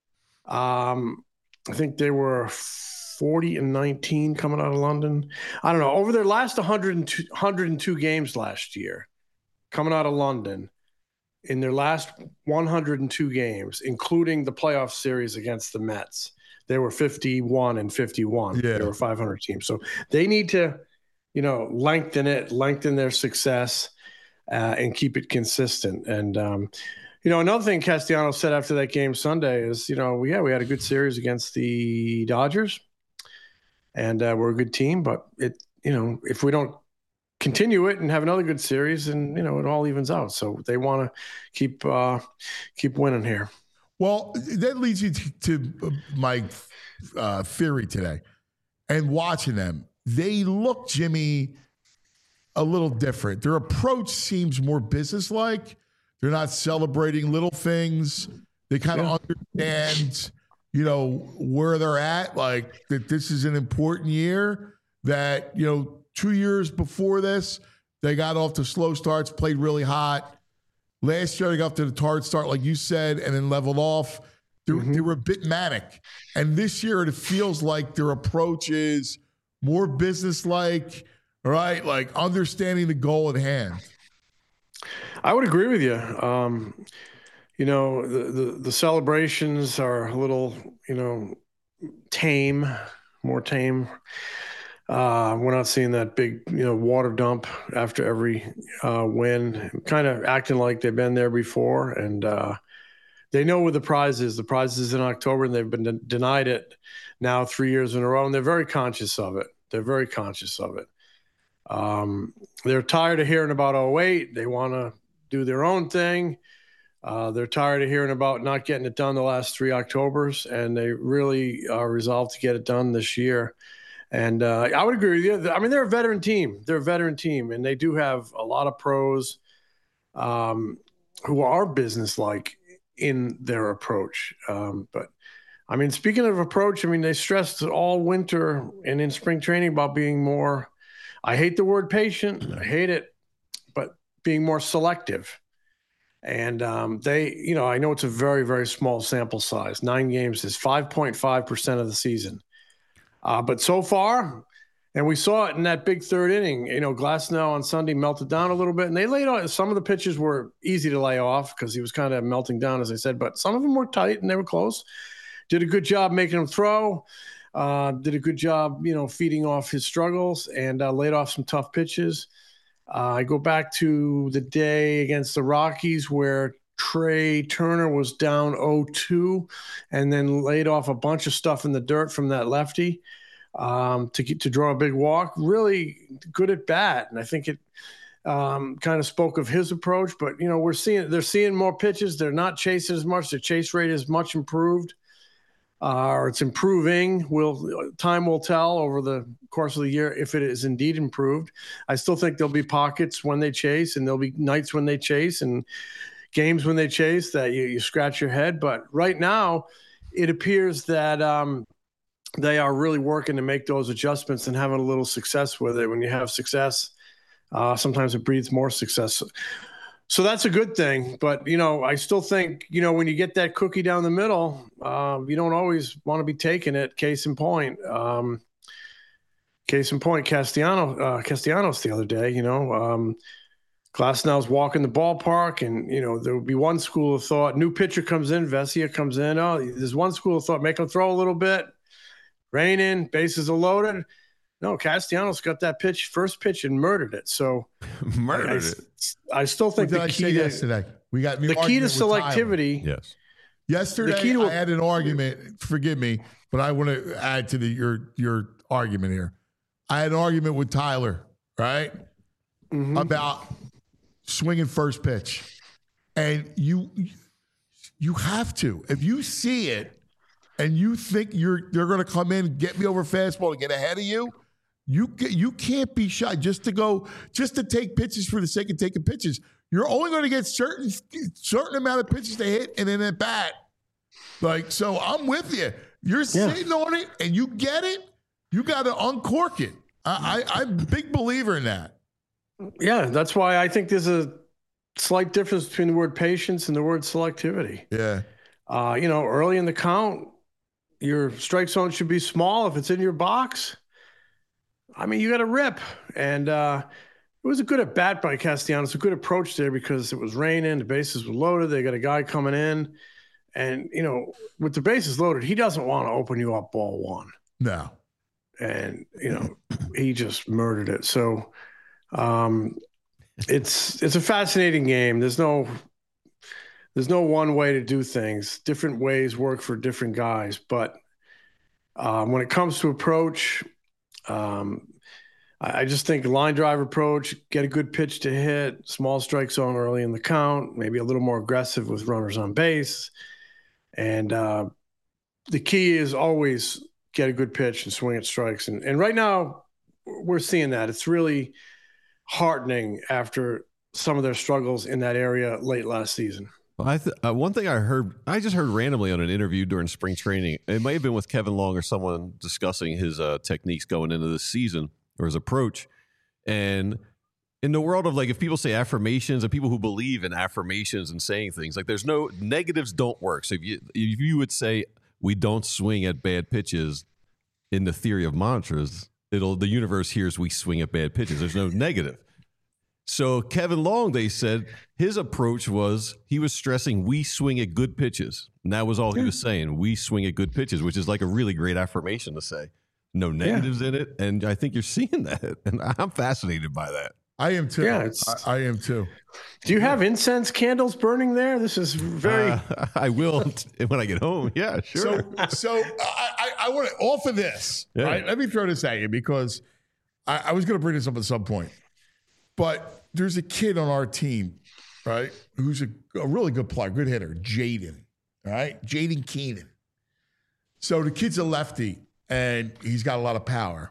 um, I think they were forty and nineteen coming out of London. I don't know. Over their last one hundred two, one hundred two games last year, coming out of London, in their last one hundred two games, including the playoff series against the Mets, they were fifty-one and fifty-one. Yeah. They were five hundred teams. So they need to, you know, lengthen it, lengthen their success, uh, and keep it consistent. And, um, you know, another thing Castellanos said after that game Sunday is, you know, yeah, we had a good series against the Dodgers, and uh, we're a good team. But, it, you know, if we don't continue it and have another good series, and you know it all evens out. So they want to keep uh, keep winning here. Well, that leads you to, to my uh, theory today. And watching them, they look, Jimmy, a little different. Their approach seems more businesslike. They're not celebrating little things. They kind of yeah. understand, you know, where they're at. Like that, this is an important year. That you know. Two years before this, they got off to slow starts, played really hot. Last year, they got off to the hard start, like you said, and then leveled off. They, mm-hmm. they were a bit manic. And this year, it feels like their approach is more businesslike, right? Like understanding the goal at hand. I would agree with you. Um, you know, the, the, the celebrations are a little, you know, tame, more tame. Uh, we're not seeing that big, you know, water dump after every uh, win, kind of acting like they've been there before. And uh, they know where the prize is. The prize is in October, and they've been de- denied it now three years in a row, and they're very conscious of it. They're very conscious of it. Um, they're tired of hearing about oh eight. They want to do their own thing. Uh, they're tired of hearing about not getting it done the last three Octobers, and they really are resolved to get it done this year. And uh, I would agree with you. I mean, they're a veteran team. They're a veteran team, and they do have a lot of pros um, who are businesslike in their approach. Um, but, I mean, speaking of approach, I mean, they stressed all winter and in spring training about being more – I hate the word patient. I hate it, but being more selective. And um, they – you know, I know it's a very, very small sample size. Nine games is five point five percent of the season. Uh, but so far, and we saw it in that big third inning, you know, Glasnow on Sunday melted down a little bit, and they laid off. Some of the pitches were easy to lay off because he was kind of melting down, as I said, but some of them were tight and they were close. Did a good job making him throw, uh, did a good job, you know, feeding off his struggles, and uh, laid off some tough pitches. Uh, I go back to the day against the Rockies where Trey Turner was down oh two and then laid off a bunch of stuff in the dirt from that lefty um, to get, to draw a big walk. Really good at bat, and I think it um, kind of spoke of his approach. But you know, we're seeing they're seeing more pitches. They're not chasing as much. Their chase rate is much improved. uh, or it's improving. Will time will tell over the course of the year if it is indeed improved. I still think there'll be pockets when they chase, and there'll be nights when they chase, and games when they chase that you, you scratch your head. But right now, it appears that um, they are really working to make those adjustments and having a little success with it. When you have success, uh, sometimes it breeds more success. So that's a good thing. But, you know, I still think, you know, when you get that cookie down the middle, um, you don't always want to be taking it. Case in point, um, case in point, Castellanos, uh, Castellanos the other day, you know, um, Glasnow's walking the ballpark, and, you know, there would be one school of thought, new pitcher comes in, Vesia comes in. Oh, there's one school of thought, make him throw a little bit, rain in, bases are loaded. No, Castellanos got that pitch, first pitch, and murdered it. So murdered I, it. I still think What did the I key say to, yesterday? We got the key to selectivity. Yes. Yesterday, The key to a- I had an argument. Forgive me, but I want to add to the, your your argument here. I had an argument with Tyler, right, Mhm. about swinging first pitch, and you you have to. If you see it, and you think you're they're going to come in, get me over fastball to get ahead of you, you you can't be shy just to go just to take pitches for the sake of taking pitches. You're only going to get certain certain amount of pitches to hit and then at bat. Like, so I'm with you. You're Yeah. sitting on it and you get it. You got to uncork it. I, I, I'm a big believer in that. Yeah, that's why I think there's a slight difference between the word patience and the word selectivity. Yeah. Uh, you know, early in the count, your strike zone should be small. If it's in your box, I mean, you got to rip. And uh, it was a good at bat by Castellanos, a good approach there because it was raining, the bases were loaded. They got a guy coming in. And, you know, with the bases loaded, he doesn't want to open you up ball one. No. And, you know, he just murdered it. So um, it's it's a fascinating game. There's no there's no one way to do things. Different ways work for different guys. But um, when it comes to approach, um, I, I just think line drive approach, get a good pitch to hit, small strike zone early in the count, maybe a little more aggressive with runners on base. And uh, the key is always get a good pitch and swing at strikes. And, and right now we're seeing that. It's really heartening after some of their struggles in that area late last season. Well, I th- uh, one thing I heard, I just heard randomly on an interview during spring training. It may have been with Kevin Long or someone discussing his uh, techniques going into this season or his approach. And in the world of, like, if people say affirmations and people who believe in affirmations and saying things, like, there's no negatives don't work. So if you if you would say we don't swing at bad pitches in the theory of mantras, it'll the universe hears we swing at bad pitches. There's no negative. So Kevin Long, they said, his approach was he was stressing we swing at good pitches. And that was all he was saying. We swing at good pitches, which is like a really great affirmation to say. No negatives yeah. in it. And I think you're seeing that. And I'm fascinated by that. I am too. Yeah, it's, I, I am too. Do you have incense candles burning there? This is very. Uh, I will when I get home. Yeah, sure. So, so I, I, I want to off of this. Yeah. Right. Let me throw this at you because I, I was going to bring this up at some point. But there's a kid on our team, right, who's a, a really good player, good hitter, Jaden. All right, Jaden Keenan. So the kid's a lefty and he's got a lot of power.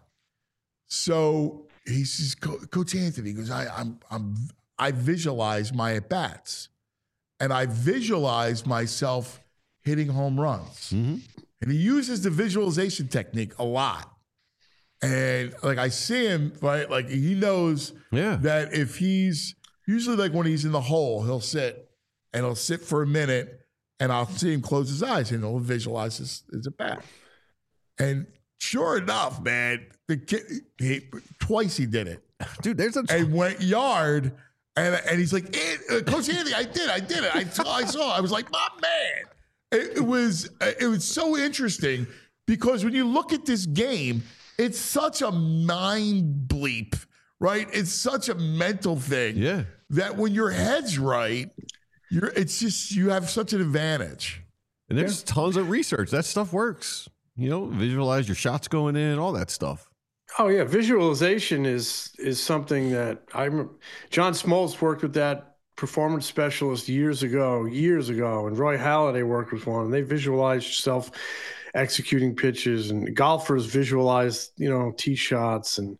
So he says, Coach Anthony, he goes, I, I'm, I'm, I visualize my at bats, and I visualize myself hitting home runs. Mm-hmm. And he uses the visualization technique a lot. And like I see him, right? Like he knows yeah. that if he's usually like when he's in the hole, he'll sit and he'll sit for a minute, and I'll see him close his eyes and he'll visualize his, his at bat. And sure enough, man, the kid he, twice he did it, dude. There's a t- and went yard, and and he's like, eh, Coach Anthony, I did, I did it. I saw, I saw. I was like, my man. It, it was it was so interesting because when you look at this game, it's such a mind bleep, right? It's such a mental thing. Yeah. That when your head's right, you're it's just you have such an advantage. And there's yeah. tons of research. That stuff works. You know, visualize your shots going in, all that stuff. Oh yeah, visualization is is something that I'm. John Smoltz worked with that performance specialist years ago, years ago, and Roy Halladay worked with one, and they visualized yourself executing pitches, and golfers visualize, you know, tee shots, and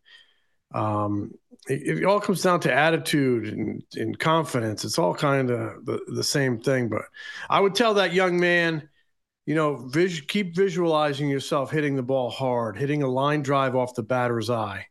um, it, it all comes down to attitude and, and confidence. It's all kind of the, the same thing. But I would tell that young man, you know, vis- keep visualizing yourself hitting the ball hard, hitting a line drive off the batter's eye,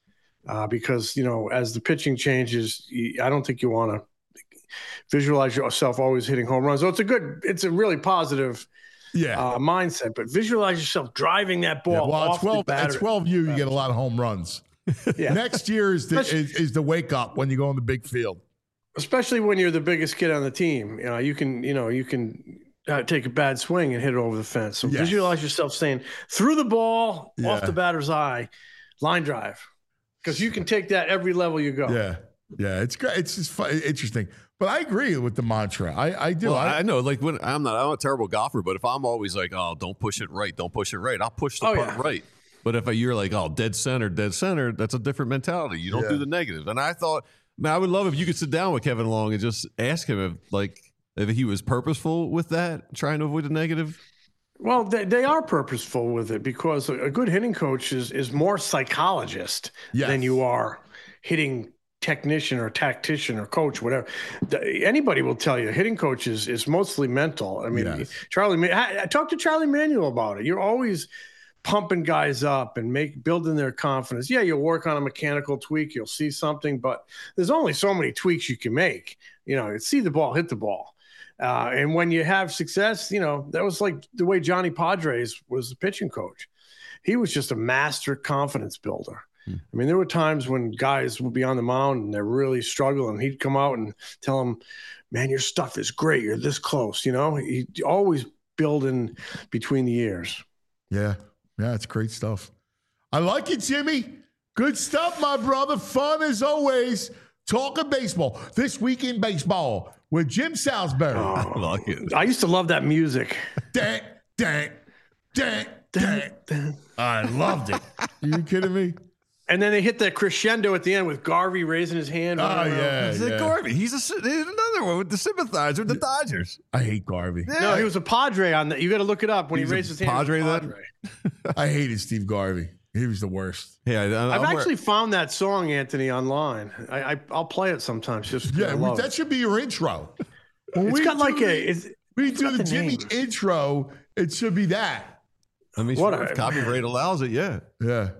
uh, because, you know, as the pitching changes, you, I don't think you want to visualize yourself always hitting home runs. So it's a good, it's a really positive Yeah. uh, mindset, but visualize yourself driving that ball Yeah, well, off at twelve, the batter. at twelve U, you get a lot of home runs. Yeah. Next year is the, Especially- is, is the wake up when you go on the big field. Especially when you're the biggest kid on the team. You know, you can, you know, you can uh, take a bad swing and hit it over the fence. So Yes. visualize yourself saying through the ball, Yeah. off the batter's eye, line drive, because you can take that every level you go. Yeah. Yeah. It's great. It's just fun, interesting. But I agree with the mantra. I, I do. Well, I, I know, like when I'm not, I'm a terrible golfer, but if I'm always like, oh, don't push it right, don't push it right, I'll push the Oh, putt yeah. right. But if you're like, oh, dead center, dead center, that's a different mentality. You don't Yeah. do the negative. And I thought, man, I would love if you could sit down with Kevin Long and just ask him if, like, if he was purposeful with that, trying to avoid the negative. Well, they, they are purposeful with it, because a, a good hitting coach is is more psychologist Yes. than you are hitting technician or tactician or coach, whatever. The- anybody will tell you hitting coach is, is mostly mental. I mean, Yes. Charlie, Ma- I, I talked to Charlie Manuel about it. You're always pumping guys up and make building their confidence. Yeah, you'll work on a mechanical tweak, you'll see something, but there's only so many tweaks you can make. You know, see the ball, hit the ball. Uh, and when you have success, you know, that was like the way Johnny Padres was the pitching coach. He was just a master confidence builder. I mean, there were times when guys would be on the mound and they're really struggling. He'd come out and tell them, man, your stuff is great. You're this close. You know, he always building between the ears. yeah. Yeah. It's great stuff. I like it, Jimmy. Good stuff, my brother. Fun as always. Talking baseball. This week in baseball with Jim Salisbury. I like it. I used to love that music. Dang, dang, dang, dang. I loved it. Are you kidding me? And then they hit the crescendo at the end with Garvey raising his hand. Oh, running around. yeah. It's like Garvey. He's, a, he's another one with the sympathizer with the Dodgers. I hate Garvey. No, he was a Padre on that. You got to look it up when He was he a raised his hand. Padre he was a then? Padre. I hated Steve Garvey. He was the worst. Hey, I, I, I've I'm actually found that song, Anthony, online. I, I I'll play it sometimes. Just 'cause I Yeah, love that it. should be your intro. When It's we got do like the- a. It's, we do got the, the Jimmy name. intro. It should be that. I mean, What sure, a- if copyright allows it, yeah. Yeah.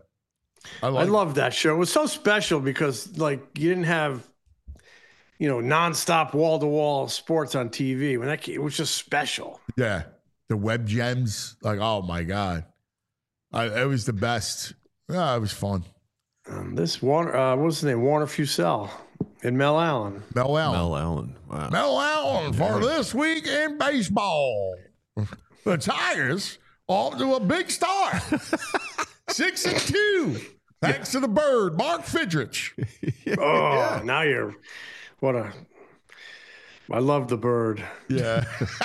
I I like love that show. It was so special because like you didn't have, you know, nonstop wall to wall sports on T V. When that it was just special. Yeah. The web gems. Like, oh my God. I, it was the best. Yeah, it was fun. Um, this Warner, uh, what's his name? Warner Fusel and Mel Allen. Mel Allen. Mel Allen. Wow. Mel Allen for this week in baseball. The Tigers off to a big start. Six and two. Thanks to the bird, Mark Fidrich. Oh, now you're what a. I love the bird. Yeah.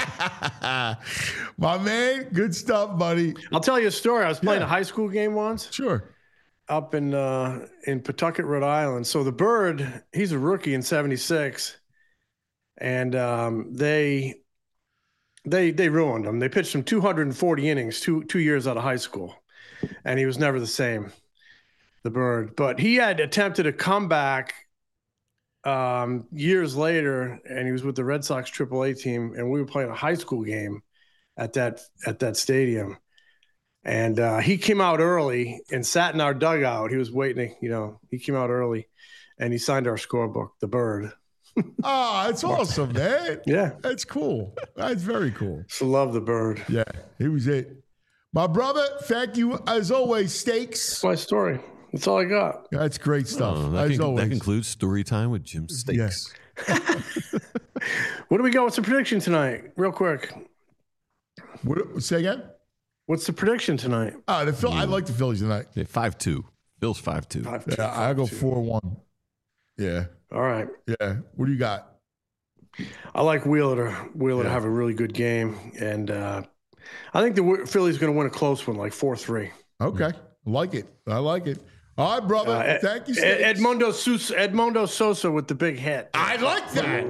My man, good stuff, buddy. I'll tell you a story. I was playing Yeah. a high school game once Sure. up in uh, in Pawtucket, Rhode Island. So the bird, he's a rookie in seventy-six, and um, they they they ruined him. They pitched him two hundred forty innings, two two years out of high school, and he was never the same. The bird, but he had attempted a comeback um, years later, and he was with the Red Sox triple A team, and we were playing a high school game at that at that stadium. And uh, he came out early and sat in our dugout. He was waiting, you know, he came out early and he signed our scorebook, the bird. Oh, that's awesome, man. Yeah. That's cool. That's very cool. So love the bird. Yeah, he was it. My brother, thank you as always, Steaks. That's my story. That's all I got. That's great stuff. Oh, that, as con- always. that concludes story time with Jim Steaks. What do we got? What's the prediction tonight? Real quick. What, say again? What's the prediction tonight? Uh, the Phil, I like the Phillies tonight. Yeah, five two. Bill's five two. Five, Yeah, I go four one. Yeah, All right. yeah. What do you got? I like Wheeler to Wheeler to Yeah. have a really good game, and uh, I think the Wh- Phillies going to win a close one, like four three. Okay, I like it. I like it. All right, brother. Uh, Thank you, Ed- Steaks. Edmundo Sosa, Edmundo Sosa with the big hit. I like that.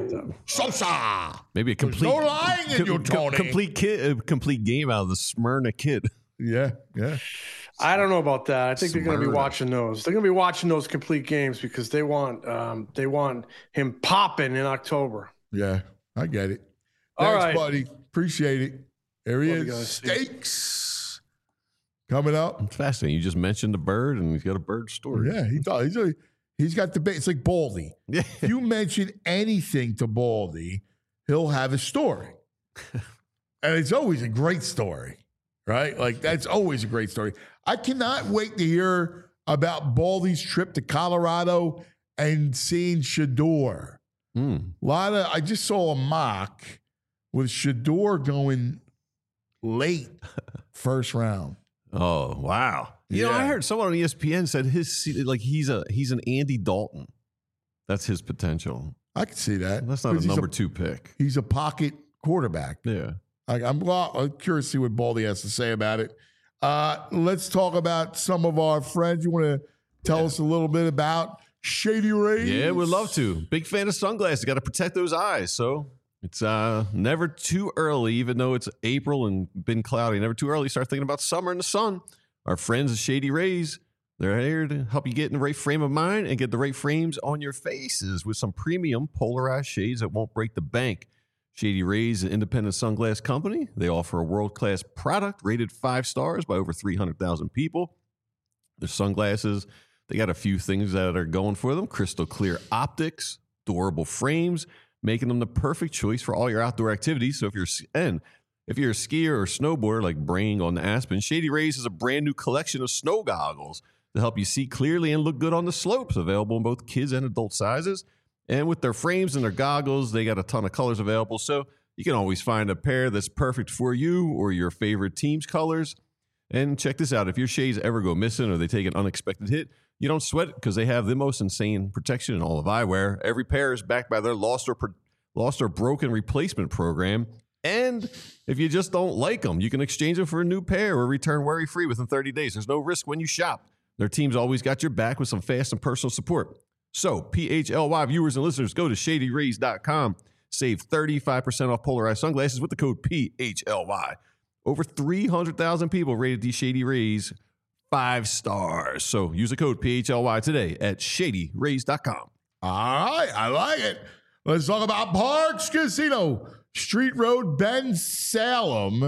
Sosa. Maybe a complete, no lying in you, Tony. complete kid, a complete game out of the Smyrna Kid. Yeah, yeah. I don't know about that. I think they're going to be Smyrna. watching those. They're going to be watching those complete games because they want um, they want him popping in October. Yeah, I get it. All Thanks, right. buddy. Appreciate it. There he Love you is. guys. Steaks. Coming up. It's fascinating. You just mentioned the bird, and he's got a bird story. Yeah, he does. He's, a, he's got the bait. It's like Baldy. Yeah. If you mention anything to Baldy, he'll have a story. And it's always a great story, right? Like, that's always a great story. I cannot wait to hear about Baldy's trip to Colorado and seeing Shador. Mm. A lot of, I just saw a mock with Shador going late first round. Oh wow! You know, Yeah. I heard someone on E S P N said his like he's a he's an Andy Dalton. That's his potential. I can see that. That's not 'Cause a he's number two pick. He's a pocket quarterback. Yeah. I, I'm, well, I'm curious to see what Baldy has to say about it. Uh, let's talk about some of our friends. You want to tell Yeah. us a little bit about Shady Rays? Yeah, we'd love to. Big fan of sunglasses. Got to protect those eyes. So it's uh, never too early, even though it's April and been cloudy. Never too early. Start thinking about summer and the sun. Our friends at Shady Rays, they're here to help you get in the right frame of mind and get the right frames on your faces with some premium polarized shades that won't break the bank. Shady Rays, an independent sunglass company. They offer a world-class product rated five stars by over three hundred thousand people. Their sunglasses, they got a few things that are going for them. Crystal clear optics, durable frames, making them the perfect choice for all your outdoor activities. So if you're and if you're a skier or snowboarder like Brain on the Aspen, Shady Rays has a brand new collection of snow goggles to help you see clearly and look good on the slopes, available in both kids and adult sizes. And with their frames and their goggles, they got a ton of colors available. So you can always find a pair that's perfect for you or your favorite team's colors. And check this out. If your shades ever go missing or they take an unexpected hit, you don't sweat it because they have the most insane protection in all of eyewear. Every pair is backed by their lost or, pro- lost or broken replacement program. And if you just don't like them, you can exchange them for a new pair or return worry-free within thirty days. There's no risk when you shop. Their team's always got your back with some fast and personal support. So, P H L Y viewers and listeners, go to shady rays dot com. Save thirty-five percent off polarized sunglasses with the code P H L Y. Over three hundred thousand people rated these Shady Rays five stars. So, use the code P H L Y today at shady rays dot com. All right, I like it. Let's talk about Parks Casino, Street Road, Ben Salem.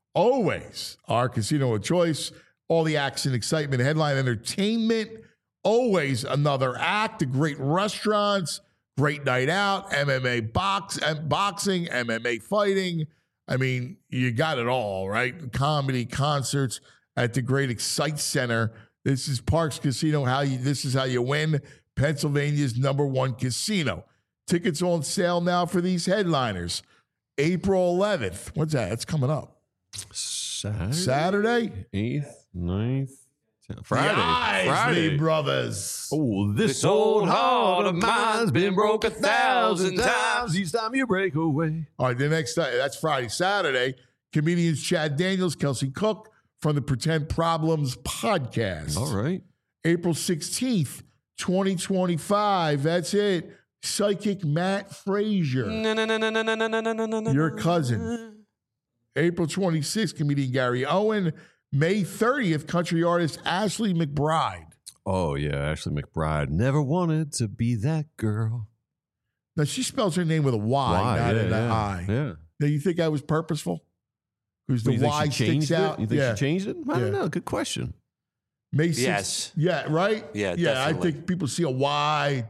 Always our casino of choice. All the action, excitement, headline entertainment. Always another act. The great restaurants, great night out, M M A box, boxing, M M A fighting. I mean, you got it all, right? Comedy, concerts at the Great Excite Center. This is Parks Casino. How you? This is how you win. Pennsylvania's number one casino. Tickets on sale now for these headliners. April eleventh. What's that? That's coming up. Saturday? Saturday? eighth, ninth, tenth, Friday. The Isley Friday. Brothers. Oh, this, This old heart of mine's been broke a thousand times. Each time you break away. All right, the next uh, that's Friday. Saturday, comedians Chad Daniels, Kelsey Cook from the Pretend Problems podcast. All right. April sixteenth, twenty twenty-five. That's it. Psychic Matt Frazier, No, no, no, no, no, no, no, no, no, no, no. your cousin. April twenty-sixth, comedian Gary Owen. May thirtieth, country artist Ashley McBride. Oh, yeah. Ashley McBride never wanted to be that girl. Now, she spells her name with a Y, Why? not yeah, an yeah. I. Yeah. Now, you think that was purposeful? Because the You think Y she sticks changed out? it? You think yeah. she changed it? I Yeah. don't know. Good question. May sixth. Yes. Yeah, right? Yeah, Yeah, definitely. I think people see a Y.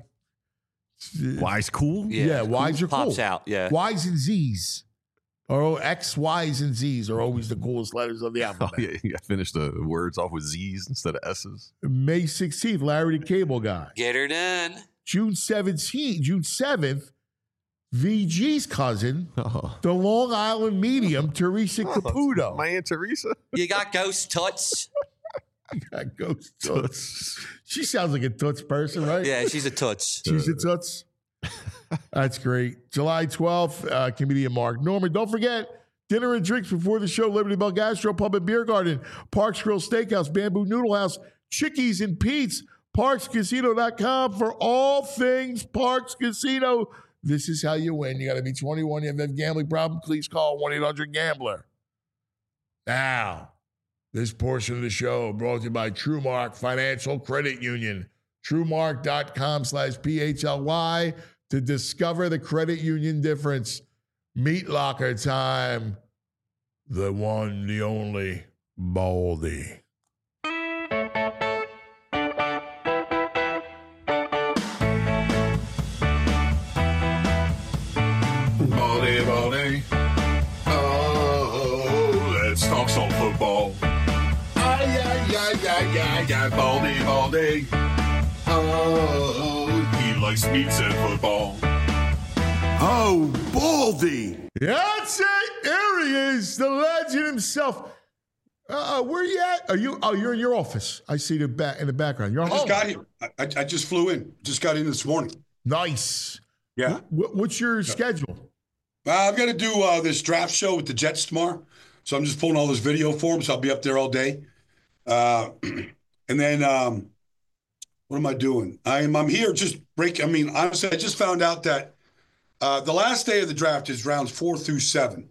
Why's cool? Yeah, Y's are Pops cool. out, yeah. Y's and Z's. Or X, Y's, and Z's are always the coolest letters of the Oh, alphabet. yeah. You got to finish the words off with Z's instead of S's. May sixteenth, Larry the Cable Guy. Get her done. June seventeenth, June seventh, V G's cousin, Oh. the Long Island medium, Teresa Caputo. My Aunt Teresa. You got ghost toots. Got ghost toots. She sounds like a toots person, right? Yeah, she's a toots. She's a toots. That's great. July twelfth, uh, comedian Mark Norman. Don't forget, dinner and drinks before the show, Liberty Bell Gastro Pub and Beer Garden, Parks Grill Steakhouse, Bamboo Noodle House, Chickies and Pete's, parks casino dot com for all things Parks Casino. This is how you win. You got to be twenty-one. You have a gambling problem, please call one eight hundred gambler. Now, this portion of the show brought to you by TrueMark Financial Credit Union. TrueMark.com slash P H L Y to discover the credit union difference. Meat locker time. The one, the only, Baldy. Baldy, Baldy. Oh, let's talk some football. Ay, ay, ay, ay, ay, ay, Baldy, Baldy. Oh, he likes meats and football. Oh, Baldy. That's it. There he is, the legend himself. Uh, where you at? Are you? Oh, you're in your office. I see the back in the background. You're I just home. got here. I, I just flew in. Just got in this morning. Nice. Yeah. What, what's your schedule? Uh, I've got to do uh, this draft show with the Jets tomorrow. So I'm just pulling all this video for them. So I'll be up there all day. Uh, and then um, what am I doing? I'm I'm here just break. I mean, honestly, I just found out that uh, the last day of the draft is rounds four through seven.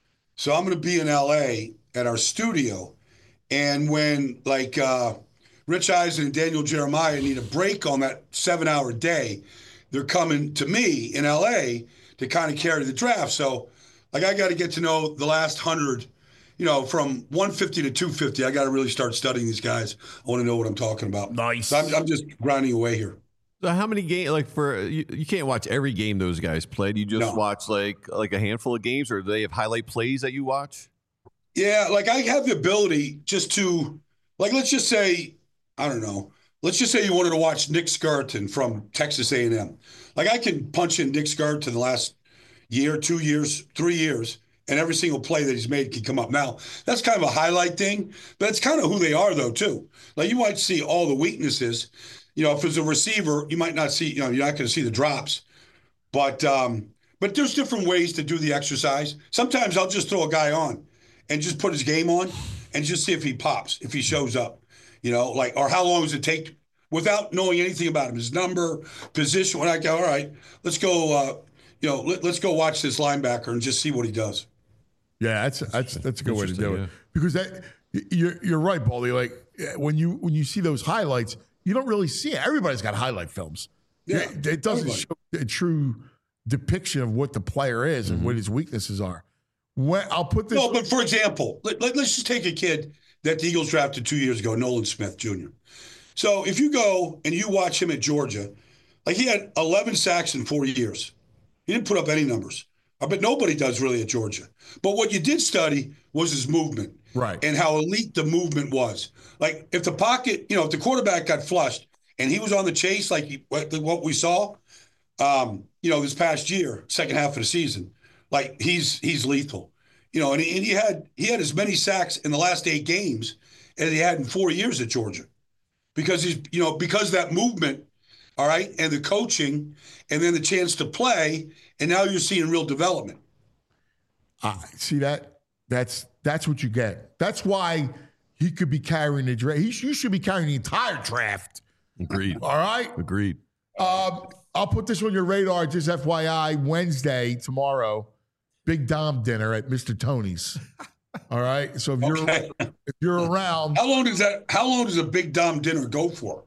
So I'm going to be in L A at our studio. And when like uh, Rich Eisen and Daniel Jeremiah need a break on that seven hour day, they're coming to me in L A to kind of carry the draft. So like I got to get to know the last hundred, you know, from one fifty to two fifty. I got to really start studying these guys. I want to know what I'm talking about. Nice. So I'm, I'm just grinding away here. So how many games? Like for you, you can't watch every game those guys played. You just No. watch like like a handful of games, or do they have highlight plays that you watch? Yeah, like I have the ability just to, like, let's just say, I don't know, let's just say you wanted to watch Nick Skirton from Texas A and M. Like I can punch in Nick Skirton the last year, two years, three years, and every single play that he's made can come up. Now, that's kind of a highlight thing, but it's kind of who they are, though, too. Like you might see all the weaknesses. You know, if it's a receiver, you might not see, you know, you're not going to see the drops. But um, but there's different ways to do the exercise. Sometimes I'll just throw a guy on and just put his game on and just see if he pops, if he shows up, you know, like, or how long does it take without knowing anything about him, his number, position. When I go, all right, let's go, uh, you know, let, let's go watch this linebacker and just see what he does. Yeah, that's that's that's a good way to do Interesting, it because that you're you're right, Baldy. Like when you when you see those highlights, you don't really see it. Everybody's got highlight films. Yeah, it, it doesn't everybody. show a true depiction of what the player is and what his weaknesses are. When I'll put this. No, but for example, let, let, let's just take a kid that the Eagles drafted two years ago, Nolan Smith Junior So if you go and you watch him at Georgia, like he had eleven sacks in four years. He didn't put up any numbers. I bet nobody does really at Georgia. But what you did study was his movement. Right. And how elite the movement was. Like if the pocket, you know, if the quarterback got flushed and he was on the chase like he, what, what we saw, um, you know, this past year, second half of the season, like he's he's lethal. You know, and he, and he had he had as many sacks in the last eight games as he had in four years at Georgia. Because he's, you know, because of that movement, all right, and the coaching, and then the chance to play, and now you're seeing real development. Uh, see that? That's that's what you get. That's why he could be carrying the draft. He, you should be carrying the entire draft. Agreed. All right. Agreed. Um, I'll put this on your radar. Just F Y I. Wednesday tomorrow, Big Dom dinner at Mister Tony's. All right. So if you're Okay. if you're around, How long does that? How long does a big Dom dinner go for?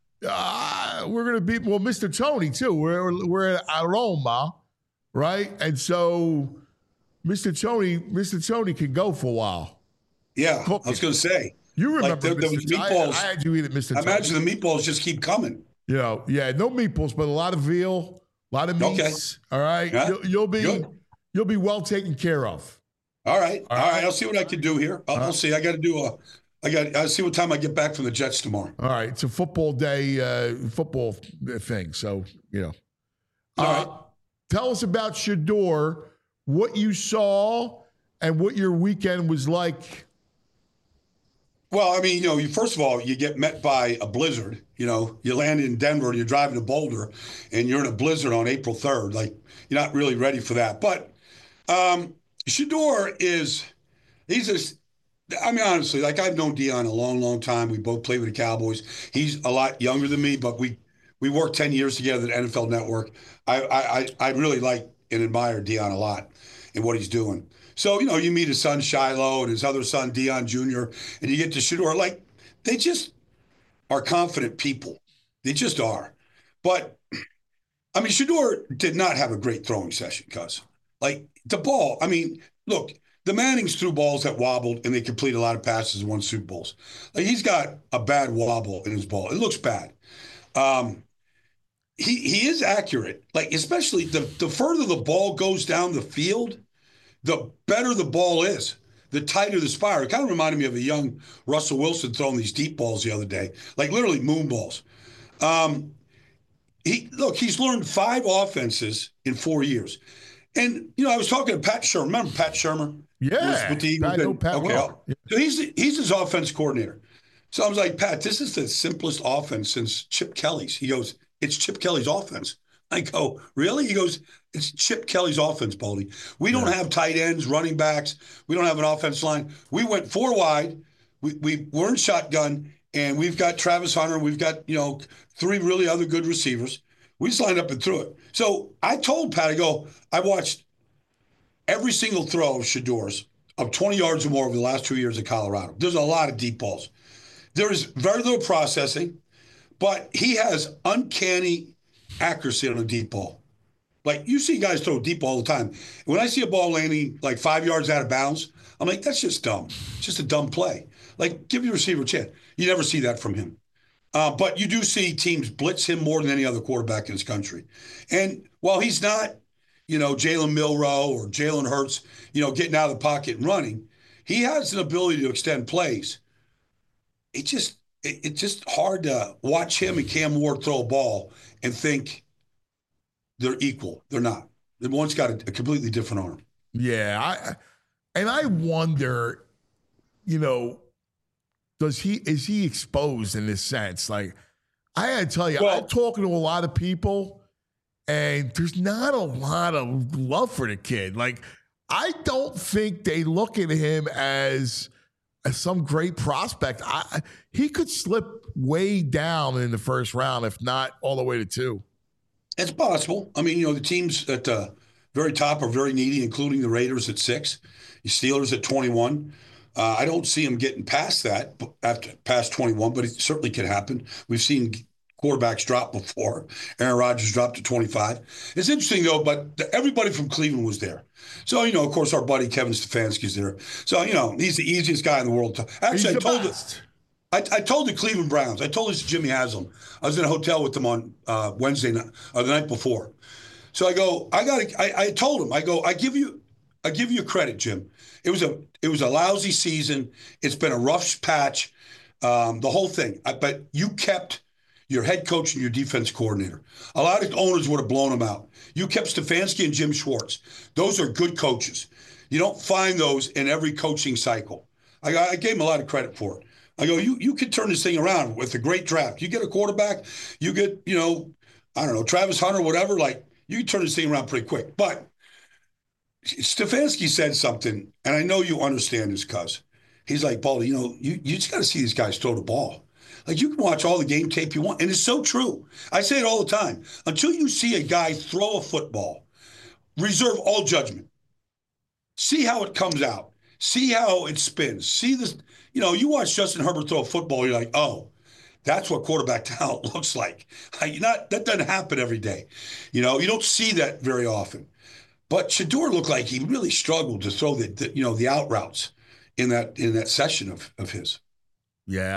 uh, we're gonna be well, Mister Tony too. We're we're at Aroma, right? And so Mister Tony, Mister Tony can go for a while. Yeah, Cool. I was going to say. You remember Like, there- there Mister was Tony? meatballs. I, I had you eat at Mister I Tony. imagine the meatballs just keep coming. You know, yeah, no meatballs, but a lot of veal, a lot of Okay. meats. All right, Yeah. you'll, you'll be Good. you'll be well taken care of. All right, All all right. right. I'll see what I can do here. I'll, I'll see. I got to do a. I got. I'll see what time I get back from the Jets tomorrow. All right, it's a football day, uh, football thing. So you know, All uh, right. tell us about Shador, what you saw, and what your weekend was like. Well, I mean, you know, you first of all, you get met by a blizzard. You know, you land in Denver and you're driving to Boulder, and you're in a blizzard on April third. Like, you're not really ready for that. But um, Shador is, he's a, I mean, honestly, like I've known Dion a long, long time. We both played with the Cowboys. He's a lot younger than me, but we we worked ten years together at N F L Network. I I I really like and admire Dion a lot and what he's doing. So, you know, you meet his son Shiloh and his other son Dion Junior, and you get to Shedeur. Like, they just are confident people. They just are. But I mean, Shedeur did not have a great throwing session, cuz like the ball. I mean, look. The Mannings threw balls that wobbled, and they completed a lot of passes and won Super Bowls. Like, he's got a bad wobble in his ball. It looks bad. Um, he he is accurate. Like, especially the, the further the ball goes down the field, the better the ball is, the tighter the spiral. It kind of reminded me of a young Russell Wilson throwing these deep balls the other day, like literally moon balls. Um, he look, he's learned five offenses in four years. And, you know, I was talking to Pat Shermer. Remember Pat Shermer? Yeah, with the I know Pat okay, well. Yeah. So he's he's his offense coordinator. So I was like, Pat, this is the simplest offense since Chip Kelly's. He goes, it's Chip Kelly's offense. I go, really? He goes, it's Chip Kelly's offense, Baldy. We don't yeah. have tight ends, running backs. We don't have an offense line. We went four wide. We we were in shotgun, and we've got Travis Hunter. We've got, you know, three really other good receivers. We just lined up and threw it. So I told Pat, I go, I watched every single throw of Shedeur's of twenty yards or more over the last two years at Colorado. There's a lot of deep balls. There is very little processing, but he has uncanny accuracy on a deep ball. Like, you see guys throw deep all the time. When I see a ball landing like five yards out of bounds, I'm like, that's just dumb. It's just a dumb play. Like, give your receiver a chance. You never see that from him. Uh, but you do see teams blitz him more than any other quarterback in this country. And while he's not, you know, Jalen Milroe or Jalen Hurts, you know, getting out of the pocket and running, he has an ability to extend plays. It just, it, it's just hard to watch him and Cam Ward throw a ball and think they're equal. They're not. One's got a, a completely different arm. Yeah, I, and I wonder, you know, does he is he exposed in this sense? Like, I had to tell you, well, I'm talking to a lot of people, and there's not a lot of love for the kid. Like, I don't think they look at him as, as some great prospect. I, he could slip way down in the first round, if not all the way to two. It's possible. I mean, you know, the teams at the very top are very needy, including the Raiders at six, the Steelers at twenty-one. Uh, I don't see him getting past that, after past twenty-one, but it certainly could happen. We've seen quarterbacks drop before. Aaron Rodgers dropped to twenty-five. It's interesting, though, but the, everybody from Cleveland was there. So, you know, of course, our buddy Kevin Stefanski's there. So, you know, he's the easiest guy in the world. To, actually, I told it. I, I told the Cleveland Browns. I told this to Jimmy Haslam. I was in a hotel with them on uh, Wednesday night, or the night before. So I go, I got. I, I told him, I go, I give you, I give you credit, Jim. It was a, it was a lousy season. It's been a rough patch, um, the whole thing. I, but you kept your head coach and your defense coordinator. A lot of owners would have blown them out. You kept Stefanski and Jim Schwartz. Those are good coaches. You don't find those in every coaching cycle. I, I gave him a lot of credit for it. I go, you you could turn this thing around with a great draft. You get a quarterback, you get, you know, I don't know, Travis Hunter, whatever, like, you can turn this thing around pretty quick. But Stefanski said something, and I know you understand this, cuz. He's like, Baldy, you know, you, you just got to see these guys throw the ball. Like, you can watch all the game tape you want, and it's so true. I say it all the time. Until you see a guy throw a football, reserve all judgment. See how it comes out. See how it spins. See this. You know, you watch Justin Herbert throw a football, you're like, oh, that's what quarterback talent looks like. Not, that doesn't happen every day. You know, you don't see that very often. But Shedeur looked like he really struggled to throw the, the you know, the out routes in that in that session of, of his. Yeah,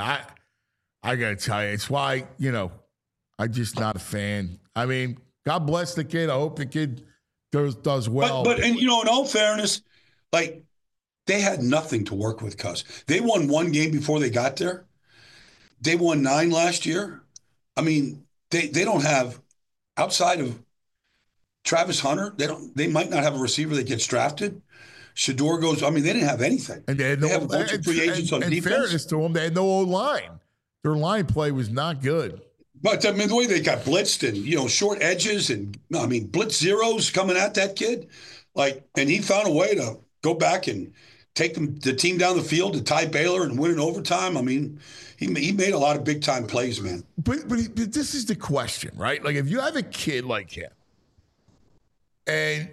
I I gotta tell you, it's why, you know, I'm just not a fan. I mean, God bless the kid. I hope the kid does does well. But, but and you know, in all fairness, like, they had nothing to work with, cuz. They won one game before they got there. They won nine last year. I mean, they they don't have, outside of Travis Hunter, they don't. They might not have a receiver that gets drafted. Shedeur goes, I mean, they didn't have anything. And they, had they no, have a bunch and, of free agents and, on and defense. fairness to them, they had no O-line. Their line play was not good. But, I mean, the way they got blitzed and, you know, short edges and, I mean, blitz zeros coming at that kid. Like, and he found a way to go back and take them, the team down the field to tie Baylor and win in overtime. I mean, he he made a lot of big time plays, man. But, but but this is the question, right? Like if you have a kid like him, and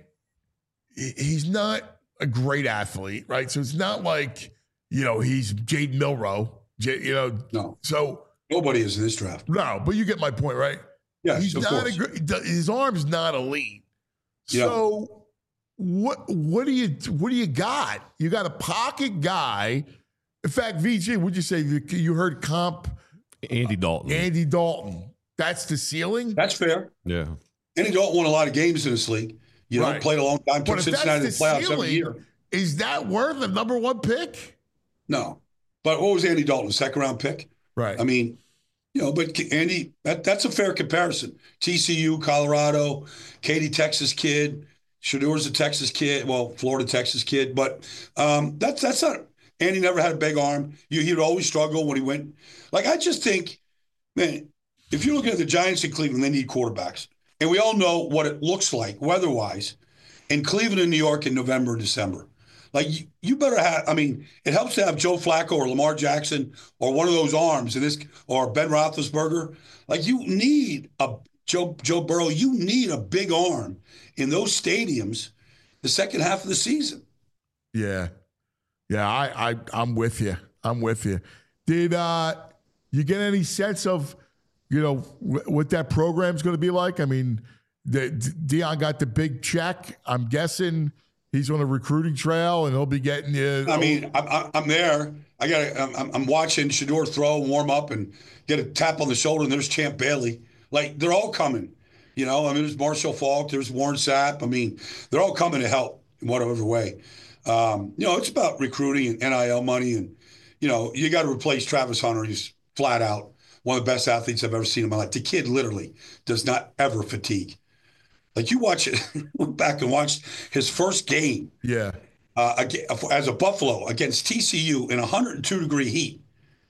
he's not a great athlete, right? So it's not like, you know, he's Jade Milroe, you know. No. So nobody is in this draft. No, but you get my point, right? Yes, he's of not course. a great, his arm's not elite. Yeah. So what what do you what do you got? You got a pocket guy. In fact, V G, would you say you heard comp Andy Dalton? Andy Dalton. That's the ceiling? That's fair. Yeah. Andy Dalton won a lot of games in this league. You know, Right. played a long time, But took if Cincinnati to that's the the playoffs every ceiling, year. is that worth a number one pick? No. But what was Andy Dalton, second round pick? Right. I mean, you know, but Andy, that, that's a fair comparison. T C U, Colorado, Katy, Texas kid. Shadour's a Texas kid. Well, Florida, Texas kid. But um, that's that's not. Andy never had a big arm. You, he would always struggle when he went. Like, I just think, man, if you're looking at the Giants in Cleveland, they need quarterbacks. And we all know what it looks like weather-wise in Cleveland and New York in November and December. Like, you, you better have, I mean, it helps to have Joe Flacco or Lamar Jackson or one of those arms in this, or Ben Roethlisberger. Like, you need a Joe, Joe Burrow, you need a big arm in those stadiums the second half of the season. Yeah. Yeah, I, I, I'm with you. I'm with you. Did uh, you get any sense of, you know, w- what that program's going to be like? I mean, the, Deion got the big check. I'm guessing he's on a recruiting trail, and he'll be getting you. I mean, I'm, I'm there. I got. I'm, I'm watching Shador throw, warm up, and get a tap on the shoulder. And there's Champ Bailey. Like, they're all coming. You know, I mean, there's Marshall Falk. There's Warren Sapp. I mean, they're all coming to help in whatever way. Um, you know, it's about recruiting and N I L money, and you know, you got to replace Travis Hunter. He's flat out one of the best athletes I've ever seen in my life. The kid literally does not ever fatigue. Like, you watch it, went back and watched his first game. Yeah. Uh, as a Buffalo against T C U in one hundred two degree heat.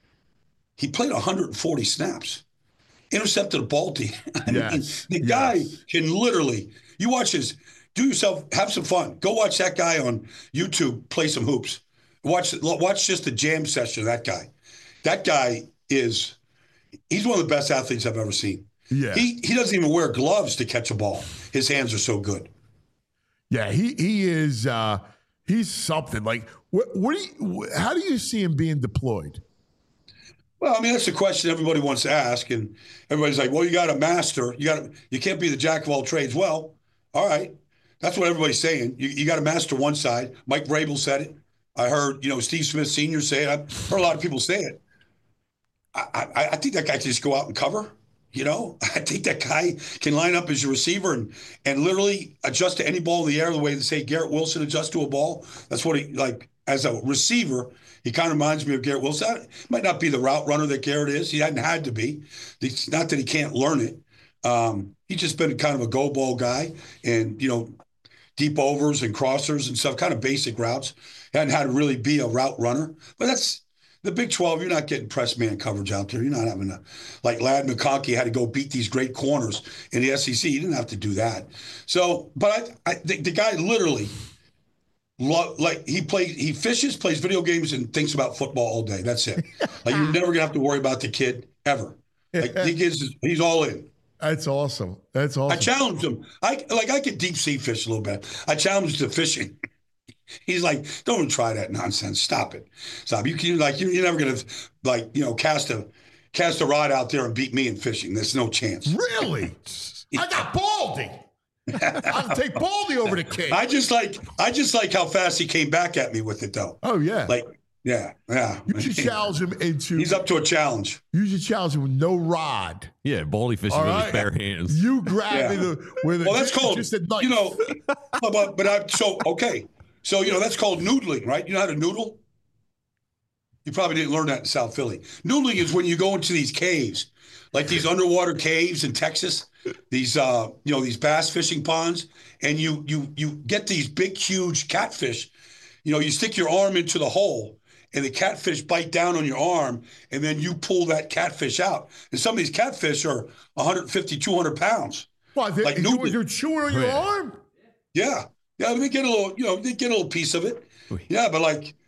He played one hundred forty snaps, intercepted a ball team. I Yes. mean, the guy Yes. can literally, you watch his, do yourself, have some fun. Go watch that guy on YouTube play some hoops. Watch, watch just the jam session of that guy. That guy is, he's one of the best athletes I've ever seen. Yeah. He he doesn't even wear gloves to catch a ball. His hands are so good. Yeah, he he is. Uh, he's something. Like, what? What do you? How do you see him being deployed? Well, I mean, that's the question everybody wants to ask, and everybody's like, "Well, you got a master. You got you can't be the jack of all trades." Well, all right, that's what everybody's saying. You you got to master one side. Mike Vrabel said it. I heard, you know, Steve Smith Senior say it. I've heard a lot of people say it. I I, I think that guy can just go out and cover. You know, I think that guy can line up as your receiver and and literally adjust to any ball in the air the way they say Garrett Wilson adjusts to a ball. That's what he, like, as a receiver, he kind of reminds me of Garrett Wilson. He might not be the route runner that Garrett is. He hadn't had to be. It's not that he can't learn it. Um, he's just been kind of a go ball guy and, you know, deep overs and crossers and stuff, kind of basic routes. He hadn't had to really be a route runner. But that's the Big twelve. You're not getting press man coverage out there. You're not having to, like Lad McConkey had to go beat these great corners in the S E C. He didn't have to do that. So, but I, I the, the guy literally, lo, like he plays, he fishes, plays video games, and thinks about football all day. That's it. Like, you're never gonna have to worry about the kid ever. Like, he gets, he's all in. That's awesome. That's awesome. I challenged him. I like I could deep sea fish a little bit. I challenged him to fishing. He's like, don't even try that nonsense. Stop it. Stop. You can like you're, you're never gonna like you know cast a cast a rod out there and beat me in fishing. There's no chance. Really? I got Baldy. I'll take Baldy over to King. I just like I just like how fast he came back at me with it though. Oh yeah. Like yeah yeah. You should challenge him into. He's up to a challenge. You should challenge him with no rod. Yeah, baldy fishing All with right. his bare hands. You grab Yeah. it uh, with a, Well, that's called just a knife. you know. But but I so okay. So you know that's called noodling, right? You know how to noodle? You probably didn't learn that in South Philly. Noodling is when you go into these caves, like these underwater caves in Texas, these uh, you know, these bass fishing ponds, and you you you get these big, huge catfish. You know, you stick your arm into the hole, and the catfish bite down on your arm, and then you pull that catfish out. And some of these catfish are one fifty, two hundred pounds. What, they, like you, noodling. you're chewing on your Yeah. arm? Yeah. Yeah, they get a little, you know, they get a little piece of it. Yeah, but like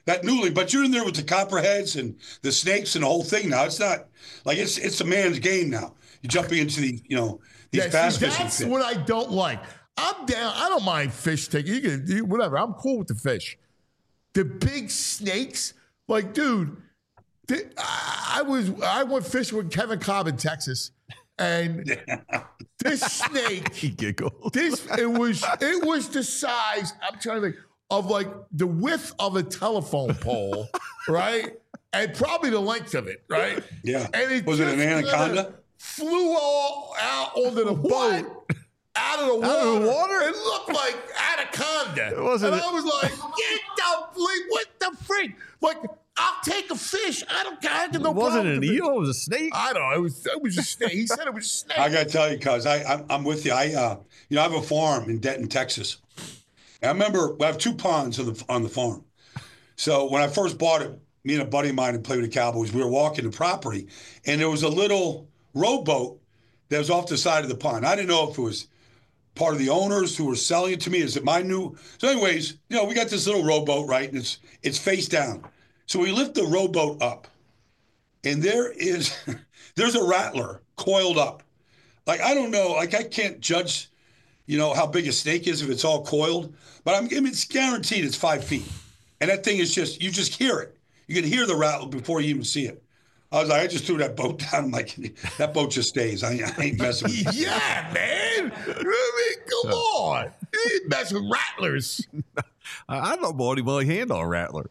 that newly, but you're in there with the copperheads and the snakes and the whole thing now. It's not like it's it's a man's game now. You're jumping into the, you know, these Yeah, bass see, fishing that's pits. what I don't like. I'm down. I don't mind fish taking. You can you, whatever. I'm cool with the fish. The big snakes, like, dude. The, I, I was I went fishing with Kevin Cobb in Texas, and this snake. He giggled. This it was it was the size. I'm trying to think of like the width of a telephone pole, right? And probably the length of it, right? Yeah. And it Was it an just kinda anaconda? Flew all out onto the What? boat, out of the water. Out of the water? It looked like anaconda. It wasn't- And I was like, get the freak! What the freak? Like, I'll take a fish. I don't care. I have no It wasn't problem an with the eel. It was a snake. I don't know. It was it was a snake. He said it was a snake. I got to tell you, cuz I I'm, I'm with you. I uh, you know, I have a farm in Denton, Texas. And I remember I have two ponds on the on the farm. So when I first bought it, me and a buddy of mine who played with the Cowboys, we were walking the property, and there was a little rowboat that was off the side of the pond. I didn't know if it was part of the owners who were selling it to me. Is it my new? So, anyways, you know, we got this little rowboat, right? And it's it's face down. So we lift the rowboat up, and there is there's a rattler coiled up. Like, I don't know, like I can't judge, you know, how big a snake is if it's all coiled, but I'm I mean, it's guaranteed it's five feet. And that thing is just, you just hear it. You can hear the rattle before you even see it. I was like, I just threw that boat down. I'm like, that boat just stays. I, I ain't messing with it. Yeah, man. I mean, come on. You ain't mess with rattlers. I, I don't know anybody handle a rattler.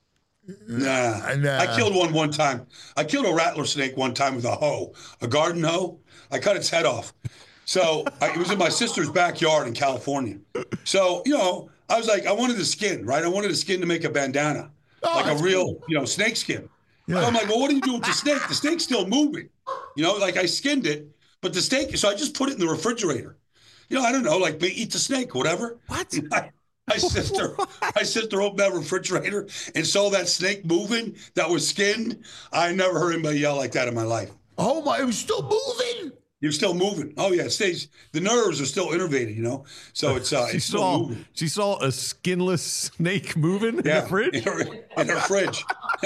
Nah. Nah. I killed one one time. I killed a rattler snake one time with a hoe, a garden hoe. I cut its head off. So I, it was in my sister's backyard in California. So, you know, I was like, I wanted the skin, right? I wanted the skin to make a bandana, Oh, like a that's real, cool. you know, snake skin. Yeah. So I'm like, well, what do you do with the snake? The snake's still moving. You know, like I skinned it, but the snake, so I just put it in the refrigerator. You know, I don't know, like eat the snake, whatever. What? My, my sister, my sister opened that refrigerator and saw that snake moving that was skinned. I never heard anybody yell like that in my life. Oh, my. It was still moving. You're still moving. Oh yeah, it stays. The nerves are still innervated, you know. So it's uh, She it's still saw moving. she saw a skinless snake moving in Yeah, the fridge. in her, in her fridge.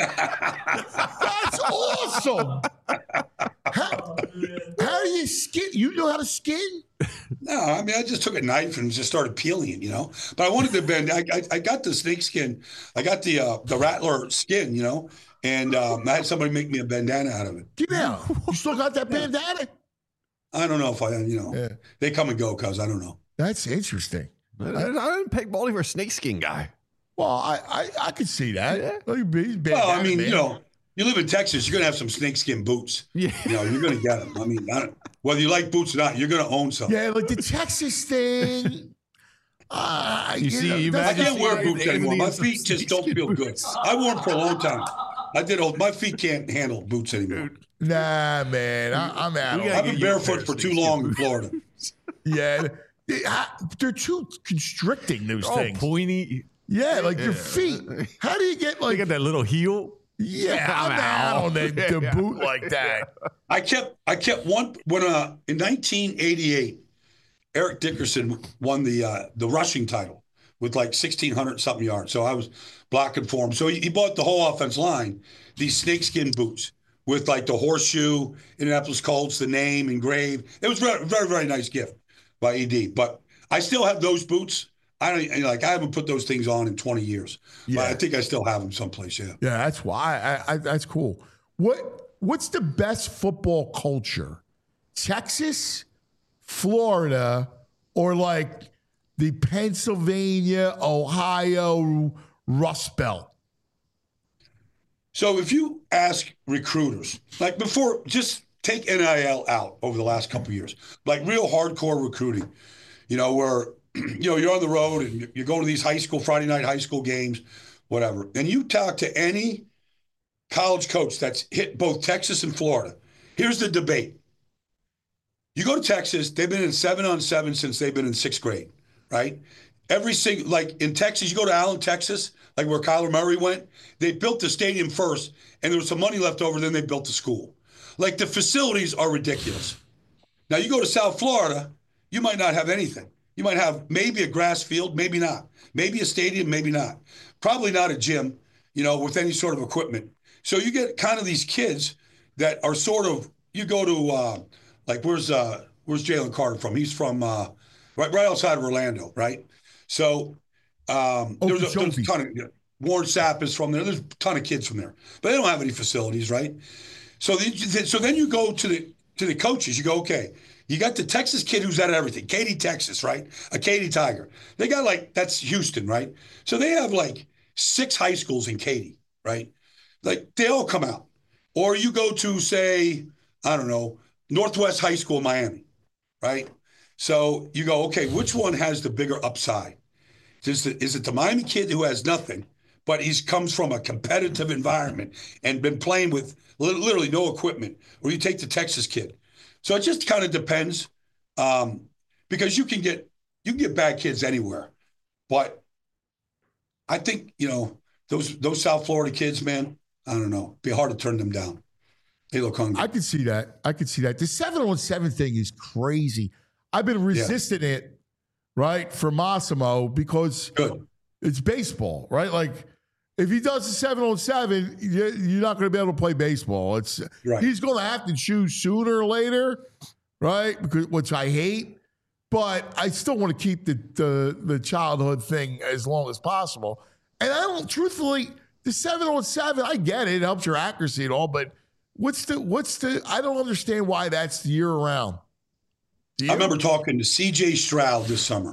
That's awesome. How, how do you skin? You know how to skin? No, I mean, I just took a knife and just started peeling it, you know. But I wanted to bend. I, I, I got the snake skin. I got the uh, the rattler skin, you know, and um, I had somebody make me a bandana out of it. Yeah. You still got that bandana? I don't know if I, you know, Yeah. they come and go, cuz I don't know. That's interesting. I, I didn't peg Baldy for a snakeskin guy. Well, I I, I could see that. Yeah. Well, he's Well, I bandana mean, man. you know, you live in Texas, you're gonna have some snakeskin boots. Yeah. You know, you're gonna get them. I mean, I don't, whether you like boots or not, you're gonna own some. Yeah, like the Texas thing. Uh, You see, you I imagine- can't wear Anthony boots anymore. My and some feet just don't snakeskin feel good. boots. I wore them for a long time. I did. Old, my feet can't handle boots anymore. Nah, man, I, I'm out. We on gotta I've it. been get you a pair barefoot of for too snakeskin long in boots. Florida. Yeah, they, I- they're too constricting. Those Oh, things. pointy. Yeah, like your Yeah. feet. How do you get They like? got that little heel. Yeah, I'm I'm out out. on the, the Yeah. boot like that. I kept. I kept one when uh in nineteen eighty-eight, Eric Dickerson won the uh, the rushing title with like sixteen hundred something yards. So I was blocking for him. So he, he bought the whole offense line these snakeskin boots with like the horseshoe, Indianapolis Colts, the name engraved. It was very, very, very nice gift by E D. But I still have those boots. I don't you know, like. I haven't put those things on in twenty years. Yeah. But I think I still have them someplace. Yeah. Yeah, that's why. I, I, that's cool. What What's the best football culture? Texas, Florida, or like the Pennsylvania, Ohio Rust Belt? So if you ask recruiters, like before, just take N I L out over the last couple of years, like real hardcore recruiting, you know, where, you know, you're on the road and you're going to these high school, Friday night high school games, whatever. And you talk to any college coach that's hit both Texas and Florida. Here's the debate. You go to Texas, they've been in seven on seven since they've been in sixth grade, right? Every single, like in Texas, you go to Allen, Texas, like where Kyler Murray went, they built the stadium first and there was some money left over, then they built the school. Like the facilities are ridiculous. Now you go to South Florida, you might not have anything. You might have maybe a grass field, maybe not. Maybe a stadium, maybe not. Probably not a gym. you know, with any sort of equipment. So you get kind of these kids that are sort of, you go to, uh, like, where's uh, where's Jalen Carter from? He's from uh, right right outside of Orlando, right? So um, there's, a, there's a ton of, you know, Warren Sapp is from there. There's a ton of kids from there, but they don't have any facilities, right? So, the, so then you go to the to the coaches. You go, okay, you got the Texas kid who's at everything, Katy, Texas, right? A Katy Tiger. They got like, that's Houston, right? So they have like six high schools in Katy, right? Like they all come out. Or you go to, say, I don't know, Northwest High School in Miami, right? So you go, okay, which one has the bigger upside? Is it, is it the Miami kid who has nothing, but he comes from a competitive environment and been playing with literally no equipment? Or you take the Texas kid. So it just kind of depends, um, because you can get you can get bad kids anywhere. But I think, you know, those those South Florida kids, man, I don't know. It'd be hard to turn them down. They look hungry. I could see that. I could see that. The seven on seven thing is crazy. I've been resisting yeah. it, right, for Massimo because Good. It's baseball, right? Like, if he does the seven on seven, you're not going to be able to play baseball. It's right. He's going to have to choose sooner or later, right? Because which I hate, but I still want to keep the, the the childhood thing as long as possible. And I don't, truthfully, the seven on seven, I get it. It helps your accuracy and all, but what's the what's the? I don't understand why that's year round. I remember talking to C J Stroud this summer.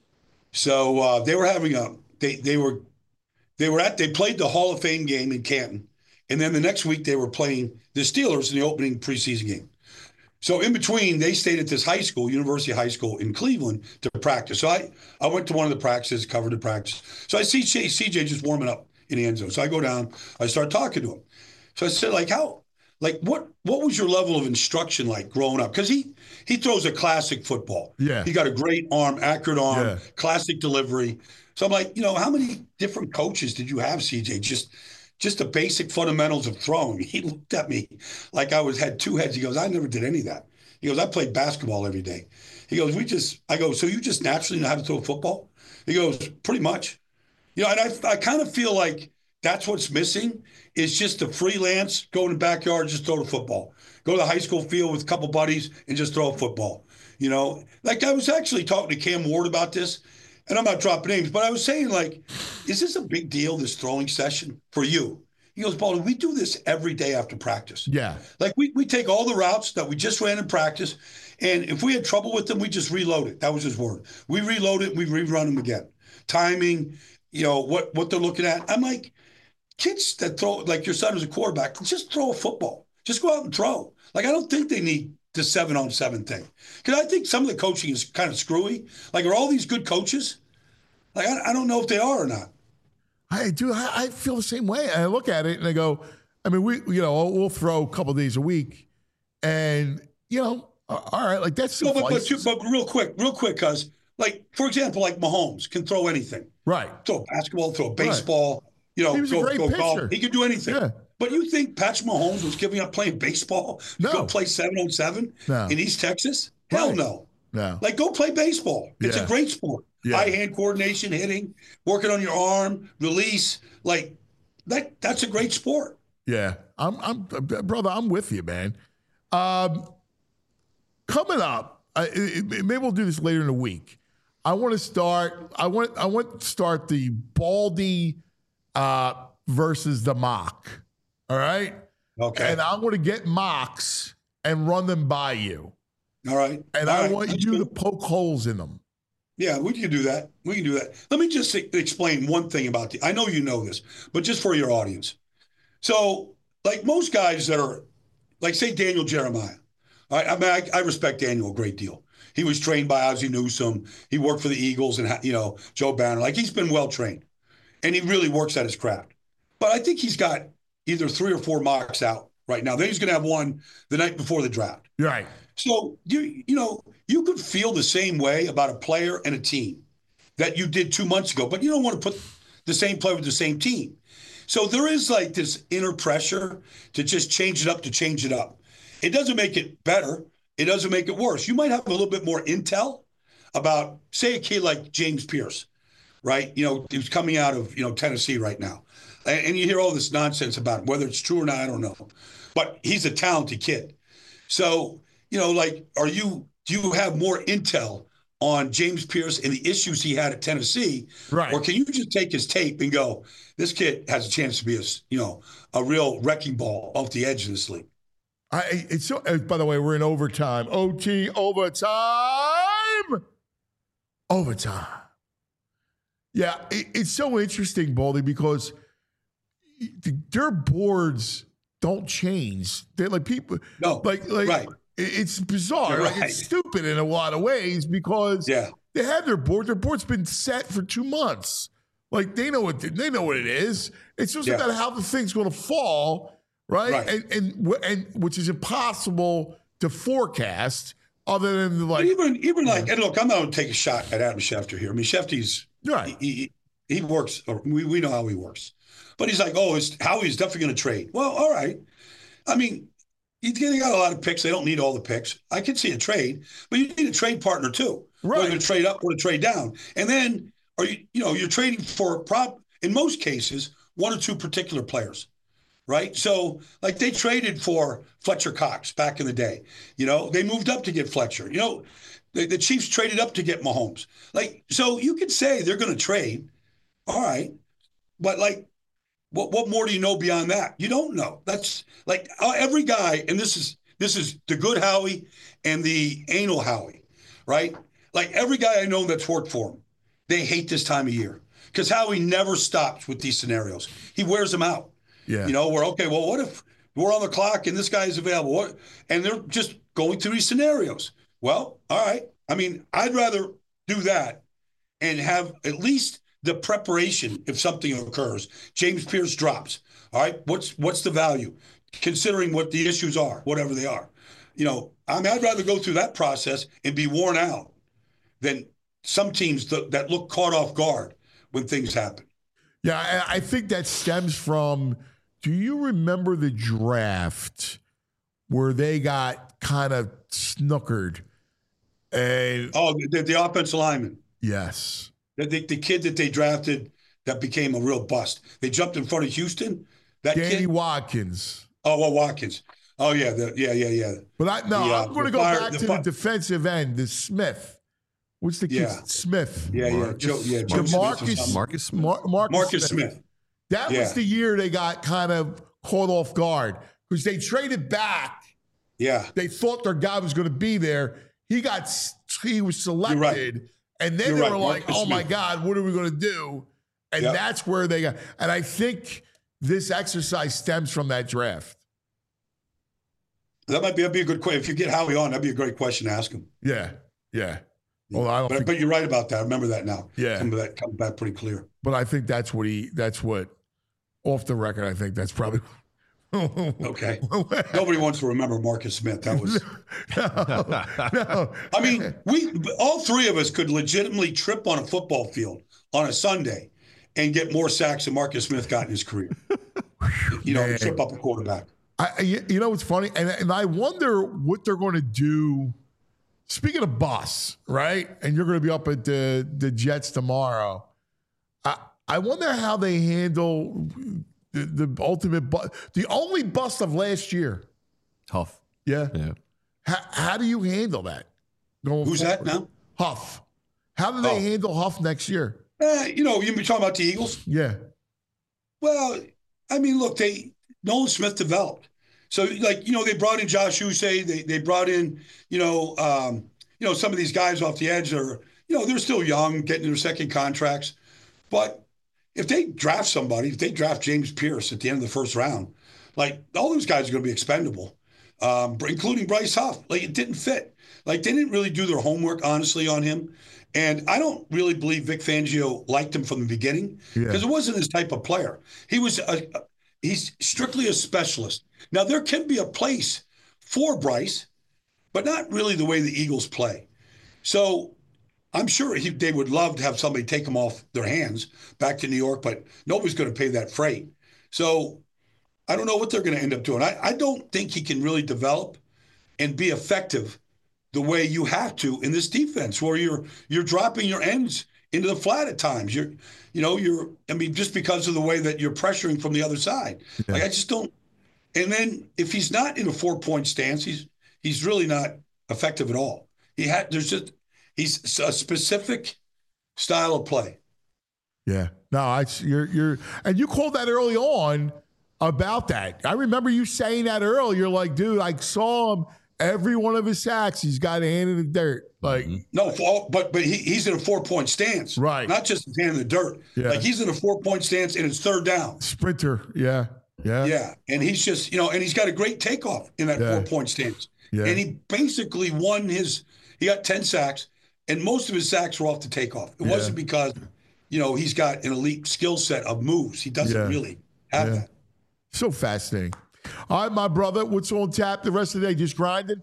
So uh, they were having a they they were. They were at, they played the Hall of Fame game in Canton. And then the next week they were playing the Steelers in the opening preseason game. So in between, they stayed at this high school, University High School in Cleveland, to practice. So I, I went to one of the practices, covered the practice. So I see C J just warming up in the end zone. So I go down, I start talking to him. So I said, like, how, like, what, what was your level of instruction like growing up? Because he, he throws a classic football. Yeah. He got a great arm, accurate arm, yeah. classic delivery. So I'm like, you know, how many different coaches did you have, C J? Just just the basic fundamentals of throwing. He looked at me like I was had two heads. He goes, I never did any of that. He goes, I played basketball every day. He goes, we just, I go, so you just naturally know how to throw football? He goes, pretty much. You know, and I, I kind of feel like that's what's missing is just the freelance, go in the backyard, just throw the football. Go to the high school field with a couple buddies and just throw a football. You know, like I was actually talking to Cam Ward about this. And I'm not dropping names, but I was saying, like, is this a big deal, this throwing session for you? He goes, Baldy, we do this every day after practice. Yeah. Like, we, we take all the routes that we just ran in practice, and if we had trouble with them, we just reload it. That was his word. We reload it, we rerun them again. Timing, you know, what, what they're looking at. I'm like, kids that throw, like your son is a quarterback, just throw a football. Just go out and throw. Like, I don't think they need the seven on seven thing. Because I think some of the coaching is kind of screwy. Like, are all these good coaches? Like, I, I don't know if they are or not. I do. I, I feel the same way. I look at it and I go, I mean, we, you know, we'll throw a couple of days a week and, you know, all right, like that's no, but, but, but real quick, real quick, because, like, for example, like Mahomes can throw anything. Right. Throw a basketball, throw a baseball, right. you know, he was go, a great go pitcher. golf. He could do anything. Yeah. But you think Patrick Mahomes was giving up playing baseball to no. go play seven on seven no. in East Texas? Hell right. no. No. Like, go play baseball. It's yeah. a great sport. Yeah. Eye-hand coordination, hitting, working on your arm, release. Like, that. that's a great sport. Yeah. I'm, I'm, brother, I'm with you, man. Um, coming up, I, it, maybe we'll do this later in the week. I want to start, I want, I want to start the Baldy uh, versus the mock. All right? Okay. And I'm going to get mocks and run them by you. All right. And All I right. want That's you cool. to poke holes in them. Yeah, we can do that. We can do that. Let me just explain one thing about the, I know you know this, but just for your audience. So, like most guys that are, like say Daniel Jeremiah. I, I mean, I, I respect Daniel a great deal. He was trained by Ozzie Newsome. He worked for the Eagles and, you know, Joe Banner. Like, he's been well trained. And he really works at his craft. But I think he's got either three or four mocks out right now. Then he's going to have one the night before the draft. Right. So, you you know, you could feel the same way about a player and a team that you did two months ago, but you don't want to put the same player with the same team. So there is like this inner pressure to just change it up to change it up. It doesn't make it better. It doesn't make it worse. You might have a little bit more intel about, say, a kid like James Pierce, right? You know, he's coming out of, you know, Tennessee right now. And, and you hear all this nonsense about him, whether it's true or not, I don't know. But he's a talented kid. So, you know, like, are you, do you have more intel on James Pierce and the issues he had at Tennessee? Right. Or can you just take his tape and go, this kid has a chance to be a, you know, a real wrecking ball off the edge of this league? I, it's so, uh, by the way, we're in overtime. O T, overtime. Overtime. Yeah, it, it's so interesting, Baldy, because their boards don't change. They're like people. No, like like right. it- it's bizarre. You're Like right. it's stupid in a lot of ways because Yeah. they have their board. Their board's been set for two months. Like they know what they know what it is. It's just Yeah. about how the thing's going to fall, right? Right. And and wh- and which is impossible to forecast, other than like But even even like, and look, I'm not going to take a shot at Adam Schefter here. I mean, Schefter's right. he, he, he works. Or we we know how he works, but he's like, oh, is Howie's definitely going to trade. Well, all right. I mean, you they got a lot of picks. They don't need all the picks. I can see a trade, but you need a trade partner too, Right. whether to trade up or to trade down. And then, are you you know you're trading for prop in most cases one or two particular players. Right. So like they traded for Fletcher Cox back in the day. You know, they moved up to get Fletcher. You know, the, the Chiefs traded up to get Mahomes. Like, so you could say they're going to trade. All right. But like, what what more do you know beyond that? You don't know. That's like uh, every guy. And this is this is the good Howie and the anal Howie. Right. Like every guy I know that's worked for him, they hate this time of year because Howie never stops with these scenarios. He wears them out. Yeah. You know, we're okay. Well, what if we're on the clock and this guy is available? What? And they're just going through these scenarios. Well, all right. I mean, I'd rather do that and have at least the preparation if something occurs. James Pierce drops. All right. What's what's the value? Considering what the issues are, whatever they are. You know, I mean, I'd rather go through that process and be worn out than some teams that, that look caught off guard when things happen. Yeah, I I think that stems from, do you remember the draft where they got kind of snookered? And Oh, the, the offensive lineman. yes. The, the, the kid that they drafted that became a real bust. They jumped in front of Houston. That Danny kid. Watkins. Oh, well, Watkins. Oh, yeah. The, yeah, yeah, yeah. But I no, The, uh, I'm going to the go fire- back the to fi- the defensive end, the Smith. What's the kid? Yeah. Smith. Yeah, yeah. Marcus- Joe, yeah, Joe Smith or Marcus, something. Marcus Smith. Mar- Marcus, Marcus Smith. Smith. That Yeah. was the year they got kind of caught off guard because they traded back. Yeah. They thought their guy was going to be there. He got s- he was selected, right. and then You're they right, were like, Marcus "Oh my Smith. God, what are we going to do?" And Yep. that's where they got. And I think this exercise stems from that draft. That might be, that'd be a good question. If you get Howie on, that'd be a great question to ask him. Yeah, yeah. Well, I don't But, think, but you're right about that. I remember that now. Yeah. Some of that comes back pretty clear. but I think that's what he. That's what. Off the record, I think that's probably. Okay. Nobody wants to remember Marcus Smith. That was. no, no. I mean, we all three of us could legitimately trip on a football field on a Sunday and get more sacks than Marcus Smith got in his career. You know, Man. trip up a quarterback. I, I- you know what's funny, and and I wonder what they're going to do. Speaking of bus, right? And you're going to be up at the the Jets tomorrow. I I wonder how they handle the, the ultimate bus, the only bust of last year. Tough. Yeah. Yeah. How, how do you handle that? Going Who's that forward? now? Huff. How do they Oh. handle Huff next year? Eh, you know, you've been talking about the Eagles. Yeah. Well, I mean, look, they Nolan Smith developed. So, like, you know, they brought in Josh Uche. They they brought in, you know, um, you know, some of these guys off the edge that are, you know, they're still young, getting their second contracts. But if they draft somebody, if they draft James Pierce at the end of the first round, like all those guys are going to be expendable, um, including Bryce Huff. Like it didn't fit. Like they didn't really do their homework, honestly, on him. And I don't really believe Vic Fangio liked him from the beginning because Yeah. it wasn't his type of player. He was a, he's strictly a specialist. Now there can be a place for Bryce, but not really the way the Eagles play. So I'm sure he, they would love to have somebody take him off their hands back to New York, but nobody's going to pay that freight. So I don't know what they're going to end up doing. I, I don't think he can really develop and be effective the way you have to in this defense, where you're you're dropping your ends into the flat at times. You're, you know, you're, I mean, just because of the way that you're pressuring from the other side. Yeah. Like, I just don't. And then if he's not in a four point stance, he's, he's really not effective at all. He had, there's just, he's a specific style of play. Yeah. No, I, you're, you're, and you called that early on about that. I remember you saying that earlier. You're like, dude, I saw him every one of his sacks. He's got a hand in the dirt. Like, no, for, but but he, he's in a four point stance, right? Not just his hand in the dirt. Yeah. Like, he's in a four point stance and it's third down. Sprinter. Yeah. Yeah. Yeah. And he's just, you know, and he's got a great takeoff in that Yeah. four point stance. Yeah. And he basically won his, he got ten sacks, and most of his sacks were off the takeoff. It Yeah. wasn't because, you know, he's got an elite skill set of moves. He doesn't Yeah. really have Yeah. that. So fascinating. All right, my brother, what's on tap the rest of the day? Just grinding?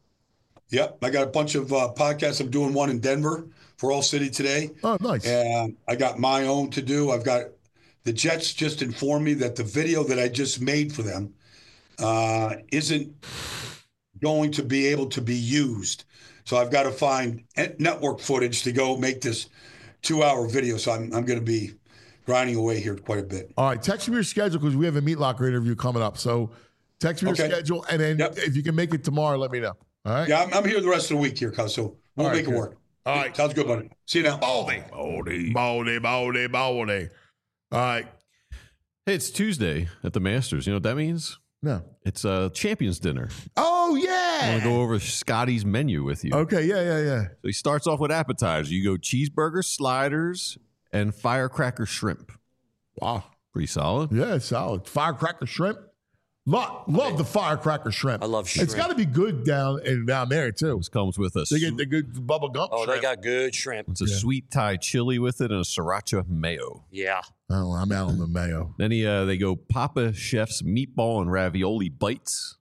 Yep. I got a bunch of uh, podcasts. I'm doing one in Denver for All City today. Oh, nice. And I got my own to do. I've got the Jets just informed me that the video that I just made for them uh, isn't going to be able to be used. So I've got to find network footage to go make this two-hour video. So I'm, I'm going to be grinding away here quite a bit. All right, text me your schedule because we have a Meat Locker interview coming up. So text me your Okay. schedule, and then Yep. if you can make it tomorrow, let me know. All right? Yeah, I'm, I'm here the rest of the week here, cuz, so we'll All right, make it good. work. All right. Sounds good, buddy. See you now. Baldy. Baldy. Baldy, baldy, baldy. All right. Hey, it's Tuesday at the Masters. You know what that means? No. It's a champions dinner. Oh, I yeah. want to go over Scotty's menu with you. Okay, yeah, yeah, yeah. So he starts off with appetizers. You go cheeseburger, sliders, and firecracker shrimp. Wow. Pretty solid. Yeah, it's solid. Firecracker shrimp. Love, love the firecracker shrimp. I love shrimp. It's got to be good down and down there, too. This comes with a, They get the good bubble gum Oh, shrimp. they got good shrimp. it's a Yeah. sweet Thai chili with it and a sriracha mayo. Yeah. Oh, I'm out on the mayo. Then he, uh, they go Papa Chef's meatball and ravioli bites.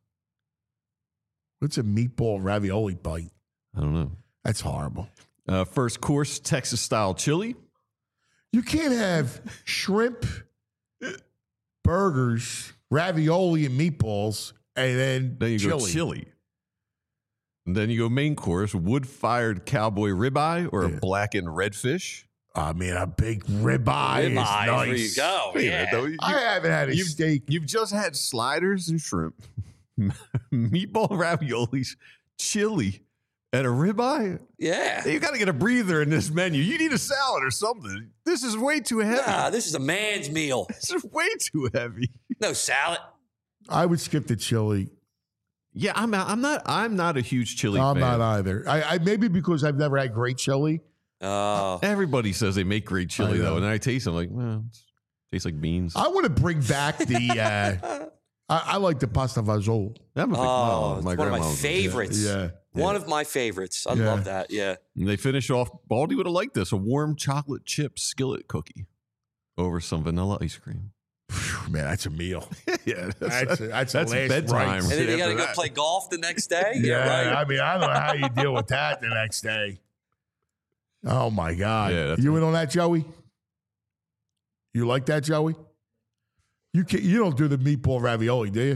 What's a meatball ravioli bite? I don't know. That's horrible. Uh, first course, Texas style chili. You can't have shrimp, burgers, ravioli, and meatballs, and then, Then you chili. go chili. And then you go main course, wood fired cowboy ribeye or a Yeah. blackened redfish. I mean, a big ribeye, is Ribeye, nice. there you go. Wait a Yeah. minute, though. You- I haven't had a You've- steak. You've just had sliders and shrimp, meatball raviolis, chili, and a ribeye. Yeah. You got to get a breather in this menu. You need a salad or something. This is way too heavy. Nah, this is a man's meal. This is way too heavy. No salad. I would skip the chili. Yeah, I'm not. I'm not. I'm not a huge chili I'm fan. not either. I, I maybe because I've never had great chili. Oh. Everybody says they make great chili I know. though, and then I taste them like, well, it tastes like beans. I want to bring back the. Uh, I, I like the pasta fagioli. I'm a big, Oh, well, it's my one of my grandma was- favorites. Yeah. One of my favorites. I Yeah. love that. Yeah. And they finish off. Baldy would have liked this: a warm chocolate chip skillet cookie over some vanilla ice cream. Phew, man, that's a meal. yeah, That's a, that's, a that's last bedtime. rites. And then you got to After go that. play golf the next day. Yeah, right. I mean, I don't know how you deal with that the next day. Oh my God! Yeah, that's you in on that, Joey? You like that, Joey? You can You don't do the meatball ravioli, do you?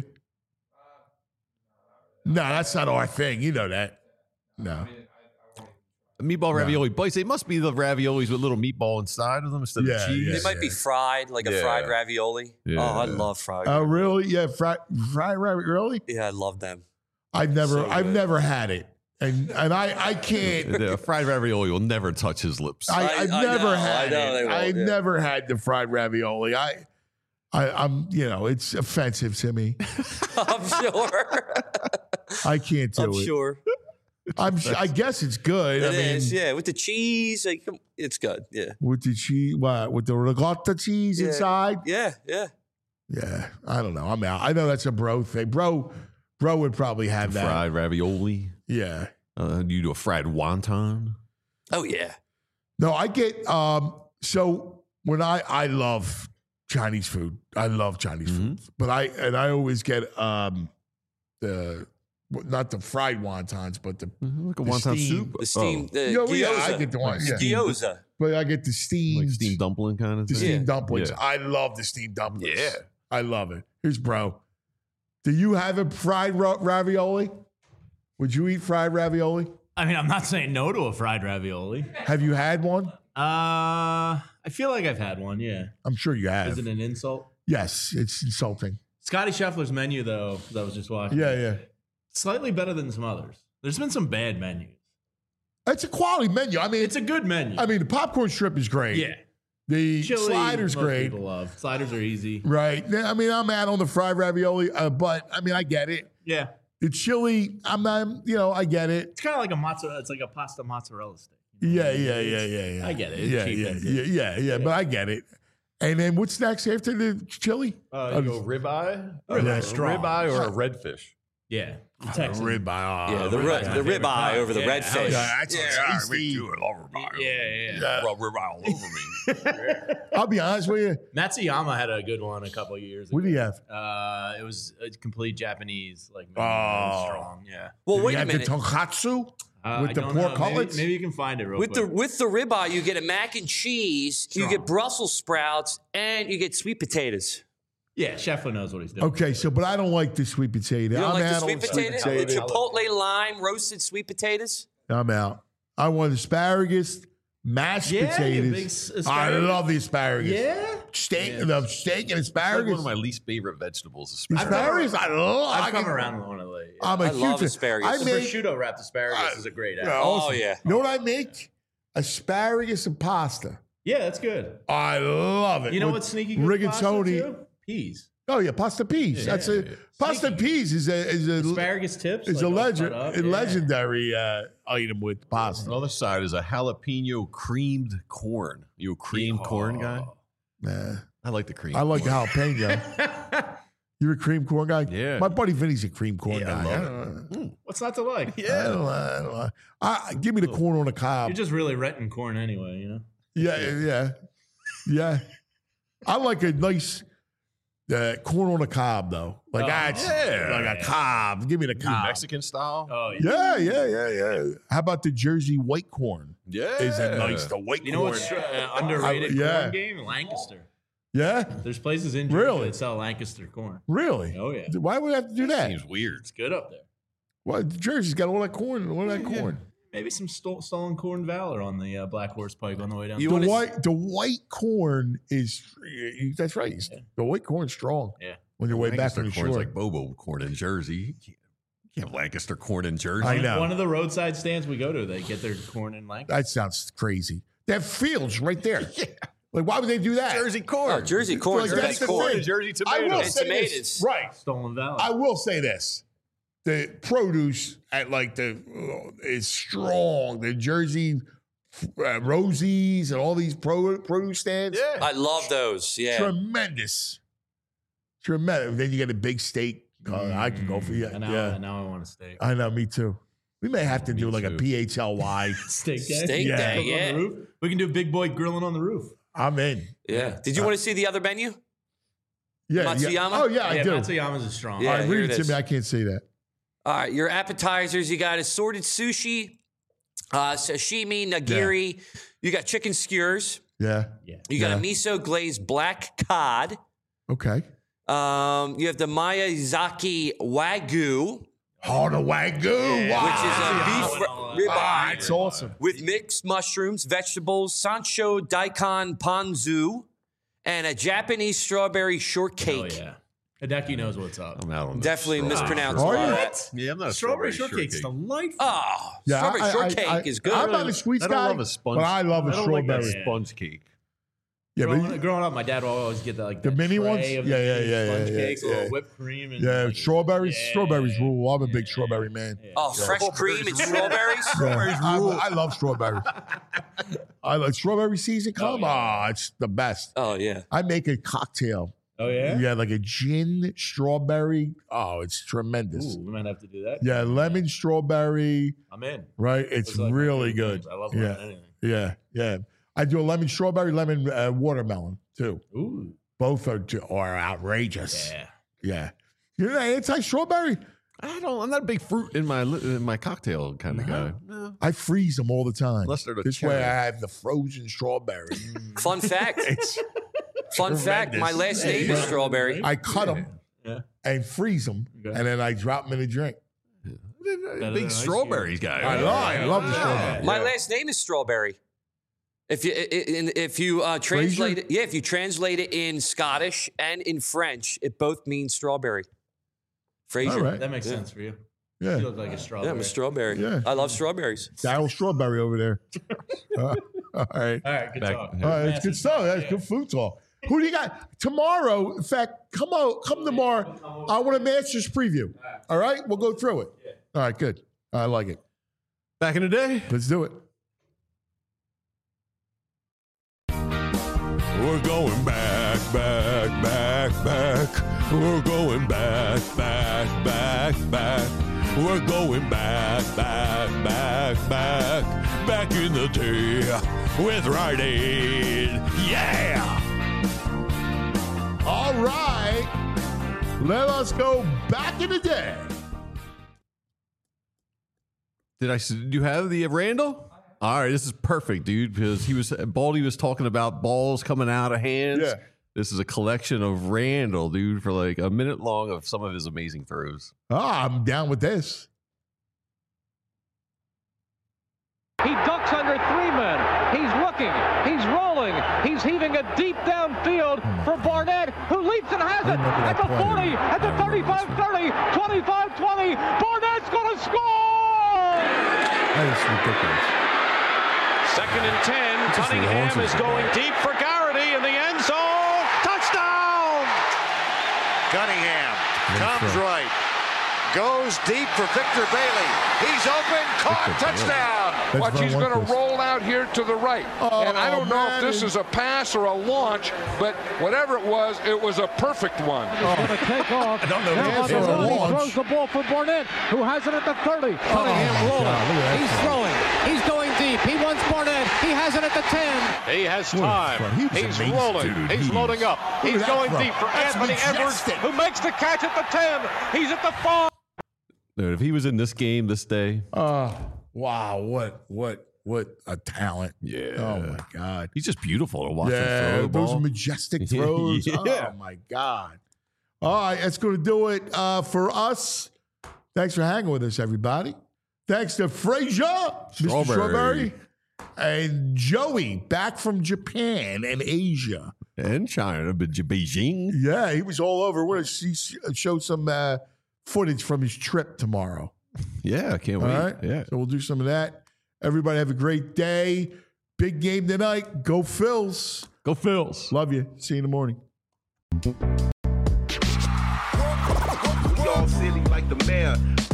No, that's not our thing. You know that. No. Meatball ravioli bites. They must be the raviolis with little meatball inside of them instead Yeah, of cheese. yeah. They might be fried, like a Yeah. fried ravioli. Yeah. Oh, I love fried. Oh, really? Yeah, fried fried ravioli. yeah, I love them. I've never, So I've good. never had it, and and I, I can't. The fried ravioli will never touch his lips. I, I- I've I never know, I had know they it. won't, I've yeah. never had the fried ravioli. I, I, I'm, you know, it's offensive to me. I'm sure. I can't do I'm it. sure. I'm, s- I guess it's good. It I mean, is, yeah. With the cheese, like, it's good. Yeah. with the cheese, what, with the ricotta cheese Yeah. inside. Yeah, yeah. Yeah, I don't know. I'm out. I know that's a bro thing. Bro, bro would probably have that. fried ravioli. Yeah. Uh, you do a fried wonton. Oh, yeah. No, I get. Um. So when I I love Chinese food, I love Chinese Mhm. food, but I and I always get um the not the fried wontons, but the Mhm, Like a The wonton steam- soup. The steam, the Yo, gyoza. yeah, I get the one. Yeah. Gyoza. but I get the Oh, steamed like steamed dumpling kind of the thing. steamed Yeah. dumplings. Yeah. I love the steamed dumplings. Yeah. I love it. Here's bro. Do you have a fried ra- ravioli? Would you eat fried ravioli? I mean, I'm not saying no to a fried ravioli. Have you had one? Uh, I feel like I've had one. Yeah. I'm sure you have. Is it an insult? Yes, it's insulting. Scotty Scheffler's menu, though, that I was just watching. Yeah, yeah. Slightly better than some others. There's been some bad menus. It's a quality menu. I mean, It's a good menu. I mean, the popcorn strip is great. yeah. The Chili, slider's most great. People love sliders are easy. Right. Yeah, I mean, I'm out on the fried ravioli, uh, but I mean, I get it. Yeah. The chili, I'm not, you know, I get it. It's kind of like a mozzarella. It's like a pasta mozzarella steak. Yeah, yeah, yeah, yeah, yeah. I get it. It's Yeah, cheap yeah, and yeah, good. yeah, yeah, but I get it. And then what's next after the chili? Uh, you go ribeye, Ribeye, uh, strong. ribeye or a redfish. Yeah. Oh, Texan. ribeye. Oh, Yeah, the, ribeye. ri- the ribeye over the Yeah, redfish. Yeah, that's Yeah, tasty. me too. I love ribeye. Yeah, yeah. Yeah. Well, ribeye all over me. I'll be honest with you. Matsuyama had a good one a couple of years ago. What do you have? Uh, it was a complete Japanese, like menu, Oh. strong. Yeah. Well, Did wait you a have minute. the tonkatsu Uh, with I the don't pork know. cutlets? Maybe, maybe you can find it real With the quick. with the ribeye, you get a mac and cheese, you Strong. get Brussels sprouts, and you get sweet potatoes. yeah, Scheffler knows what he's doing. Okay, so but I don't like the sweet potato. You don't I'm like the out sweet on potato? sweet The potato. Chipotle lime roasted sweet potatoes? I'm out. I want asparagus, mashed Yeah, you potatoes. big s- I asparagus. love the asparagus. Yeah? Steak, Yeah. the steak and It's like asparagus. one of my least favorite vegetables. asparagus, I love. I've I come can- around with one of the. I'm a I huge love fan. asparagus. I the make. prosciutto wrapped asparagus Uh, is a great Yeah, app. Oh, awesome. yeah. You know what I make? Asparagus and pasta. Yeah, that's good. I love it. You know With what's sneaky good with pasta, rigatoni. too? Peas. Oh yeah, pasta peas. Yeah, That's yeah, a yeah. pasta Sneaky. peas is a is a Asparagus tips. is like a all legend cut up, a yeah. legendary uh, item with pasta. On the other side is a jalapeno creamed corn. You a cream corn guy? Nah, I like the cream. I like the corn. jalapeno. You're a cream corn guy. Yeah. my buddy Vinny's a cream corn Yeah, guy. I love I it. don't know. What's not to like? I don't know. I don't know. I, give me the corn on the cob. You're just really renting corn anyway, you know? Yeah, yeah, yeah. I like a nice uh, corn on a cob though. Like Oh, that's yeah. like a cob. Give me the You cob. Mexican style? Oh, yeah. Yeah, yeah, yeah, yeah. How about the Jersey white corn? yeah. Is it nice? The white You know corn. what's uh, underrated I- yeah. corn game? Lancaster. Yeah, There's places in Georgia Really? that sell Lancaster corn. really? Oh, yeah. Why would we have to do that? Seems weird. It's good up there. Well, Jersey's got all that corn. All that Yeah. corn. Maybe some sto- stolen corn valor on the uh, Black Horse Pike on the way down. You The wanna- white, the white corn is. That's right. It's- The white corn's strong. Yeah. On your way back Lancaster from the corn's shore. like Bobo corn in Jersey. You can't, you can't have Lancaster corn in Jersey. I know. One of the roadside stands we go to, they get their corn in Lancaster. That sounds crazy. They have fields right there. Like, why would they do that? Jersey corn. Oh, Jersey corn. Like, Jersey that's the corn. thing. Jersey I tomatoes. will And say tomatoes. this. Right. Stolen valor. I will say this. The produce at like the uh, is strong. The Jersey uh, Rosie's and all these pro, produce stands. Yeah. I love those. Yeah. Tremendous. Tremendous. Then you get a big steak. Uh, I can go for you. And now, Yeah. now I want a steak. I know, me too. We may have to Me do like a too. P H L Y. Steak day. Steak Yeah. day, Cook on yeah. the roof. We can do big boy grilling on the roof. I'm in. Yeah. Did you want to see the other menu? Yeah. Matsuyama? yeah. Oh, yeah, I yeah, do. Matsuyama's is strong. Yeah, All right, here read it it to is. me. I can't see that. All right, your appetizers, you got assorted sushi, uh, sashimi, nigiri. You got chicken skewers. Yeah. Yeah. You got Yeah. a miso glazed black cod. Okay. Um, you have the Miyazaki Wagyu, Oh, the Wagyu. Wow. which is a beef Oh, ribeye Ah, it's awesome. with mixed mushrooms, vegetables, Sancho daikon ponzu, and a Japanese strawberry Oh, shortcake. yeah. Hideki knows what's up. I'm out on this. Definitely Strawberry mispronounced Are a lot you? of that. Yeah, I'm not a Strawberry, strawberry, shortcake's shortcake. delightful. Oh, Yeah, strawberry I- I- shortcake I- is good. I'm not a sweets I don't guy, love a sponge. but I love a I don't like strawberry. a sponge cake. Yeah, growing, but growing up, my dad would always get the, like The that mini tray ones? of Yeah, the yeah, big yeah, sponge yeah, cakes, yeah, a little yeah. whipped cream, and yeah, like, strawberries. yeah, strawberries rule. I'm a big yeah, strawberry man. yeah. Oh, fresh cream and strawberries? Yeah, I, I love strawberries. I like strawberry season. Come Oh, on, it's the best. Oh, yeah. I make a cocktail. Oh, yeah? Yeah, like a gin strawberry. Oh, it's tremendous. Ooh, we might have to do that. Yeah, lemon strawberry. I'm in. Right, it's Those are like my really favorite good. things. I love Yeah. lemon anything. Yeah, yeah. I do a lemon strawberry, lemon uh, watermelon too. Ooh. Both are are outrageous. Yeah. Yeah. You're not anti strawberry. I don't. I'm not a big fruit in my li- in my cocktail kind of guy. No. I freeze them all the time. Unless they're the this way, cherry. I have the frozen strawberry. Fun fact. It's Fun fact. My tremendous. last name is Strawberry. I cut them Yeah. and freeze them, Okay. and then I drop them in a drink. than Big ice strawberries guy. I love, I love the strawberry. My Yeah. last name is Strawberry. If you if you uh, translate it, yeah, if you translate it in Scottish and in French, it both means strawberry. Fraser. All right. That makes yeah. sense for you. Yeah. You look like a strawberry. Yeah, I'm a strawberry. Yeah. I love strawberries. Daryl Strawberry over there. uh, all right. All right, good Back- talk. All right, that's good stuff. That's Yeah. good food talk. Who do you got tomorrow? In fact, come on, come tomorrow. I want a Masters preview. All right, we'll go through it. All right, good. I like it. Back in the day, Let's do it. We're going back, back, back, back. We're going back, back, back, back. We're going back, back, back, back. Back in the day with Rite Aid. Yeah! All right, let us go back in the day. did I? Do you have the Randall? All right, this is perfect, dude. Because he was Baldy was talking about balls coming out of hands. Yeah. This is a collection of Randall, dude, for like a minute long of some of his amazing throws. Ah, I'm down with this. He ducks under three men. He's looking. He's rolling. He's heaving a deep downfield for Barnett, who leaps and has it at the forty, at the thirty-five thirty, twenty-five twenty. Barnett's going to score! That is ridiculous. Second and ten. Cunningham is going deep for Garrity in the end zone. Touchdown! Cunningham comes right. Goes deep for Victor Bailey. He's open. Caught. Touchdown. Watch, he's going to roll out here to the right. Oh, and I don't know man. if this is a pass or a launch, but whatever it was, it was a perfect one. He's going to take off. I don't know Now if on it's the a run, he launch. throws the ball for Barnett, who has it at the thirty. Cunningham my rolling. God, look at that He's thing. throwing. He's going deep. He wants Barnett. He has it at the ten. He has What a time. throw. He was He's amazing, rolling. dude. He's He loading was- up. Look He's at that going throw. deep for That's Anthony Edwards, majestic. who makes the catch at the ten. He's at the five. Dude, if he was in this game this day, Uh, wow, what, what, what a talent. yeah. Oh, my God. He's just beautiful to watch him Yeah, throw the those ball. majestic throws. Yeah. Oh, my God. All right, that's going to do it uh, for us. Thanks for hanging with us, everybody. Thanks to Frazier, Mister Strawberry. Strawberry, and Joey back from Japan and Asia. And China, but Beijing. Yeah, he was all over. We're going to see, show some uh, footage from his trip tomorrow. Yeah, I can't All wait. right. Yeah. So we'll do some of that. Everybody have a great day. Big game tonight. Go Phils. Go Phils. Love you. See you in the morning. Y'all silly like the mayor.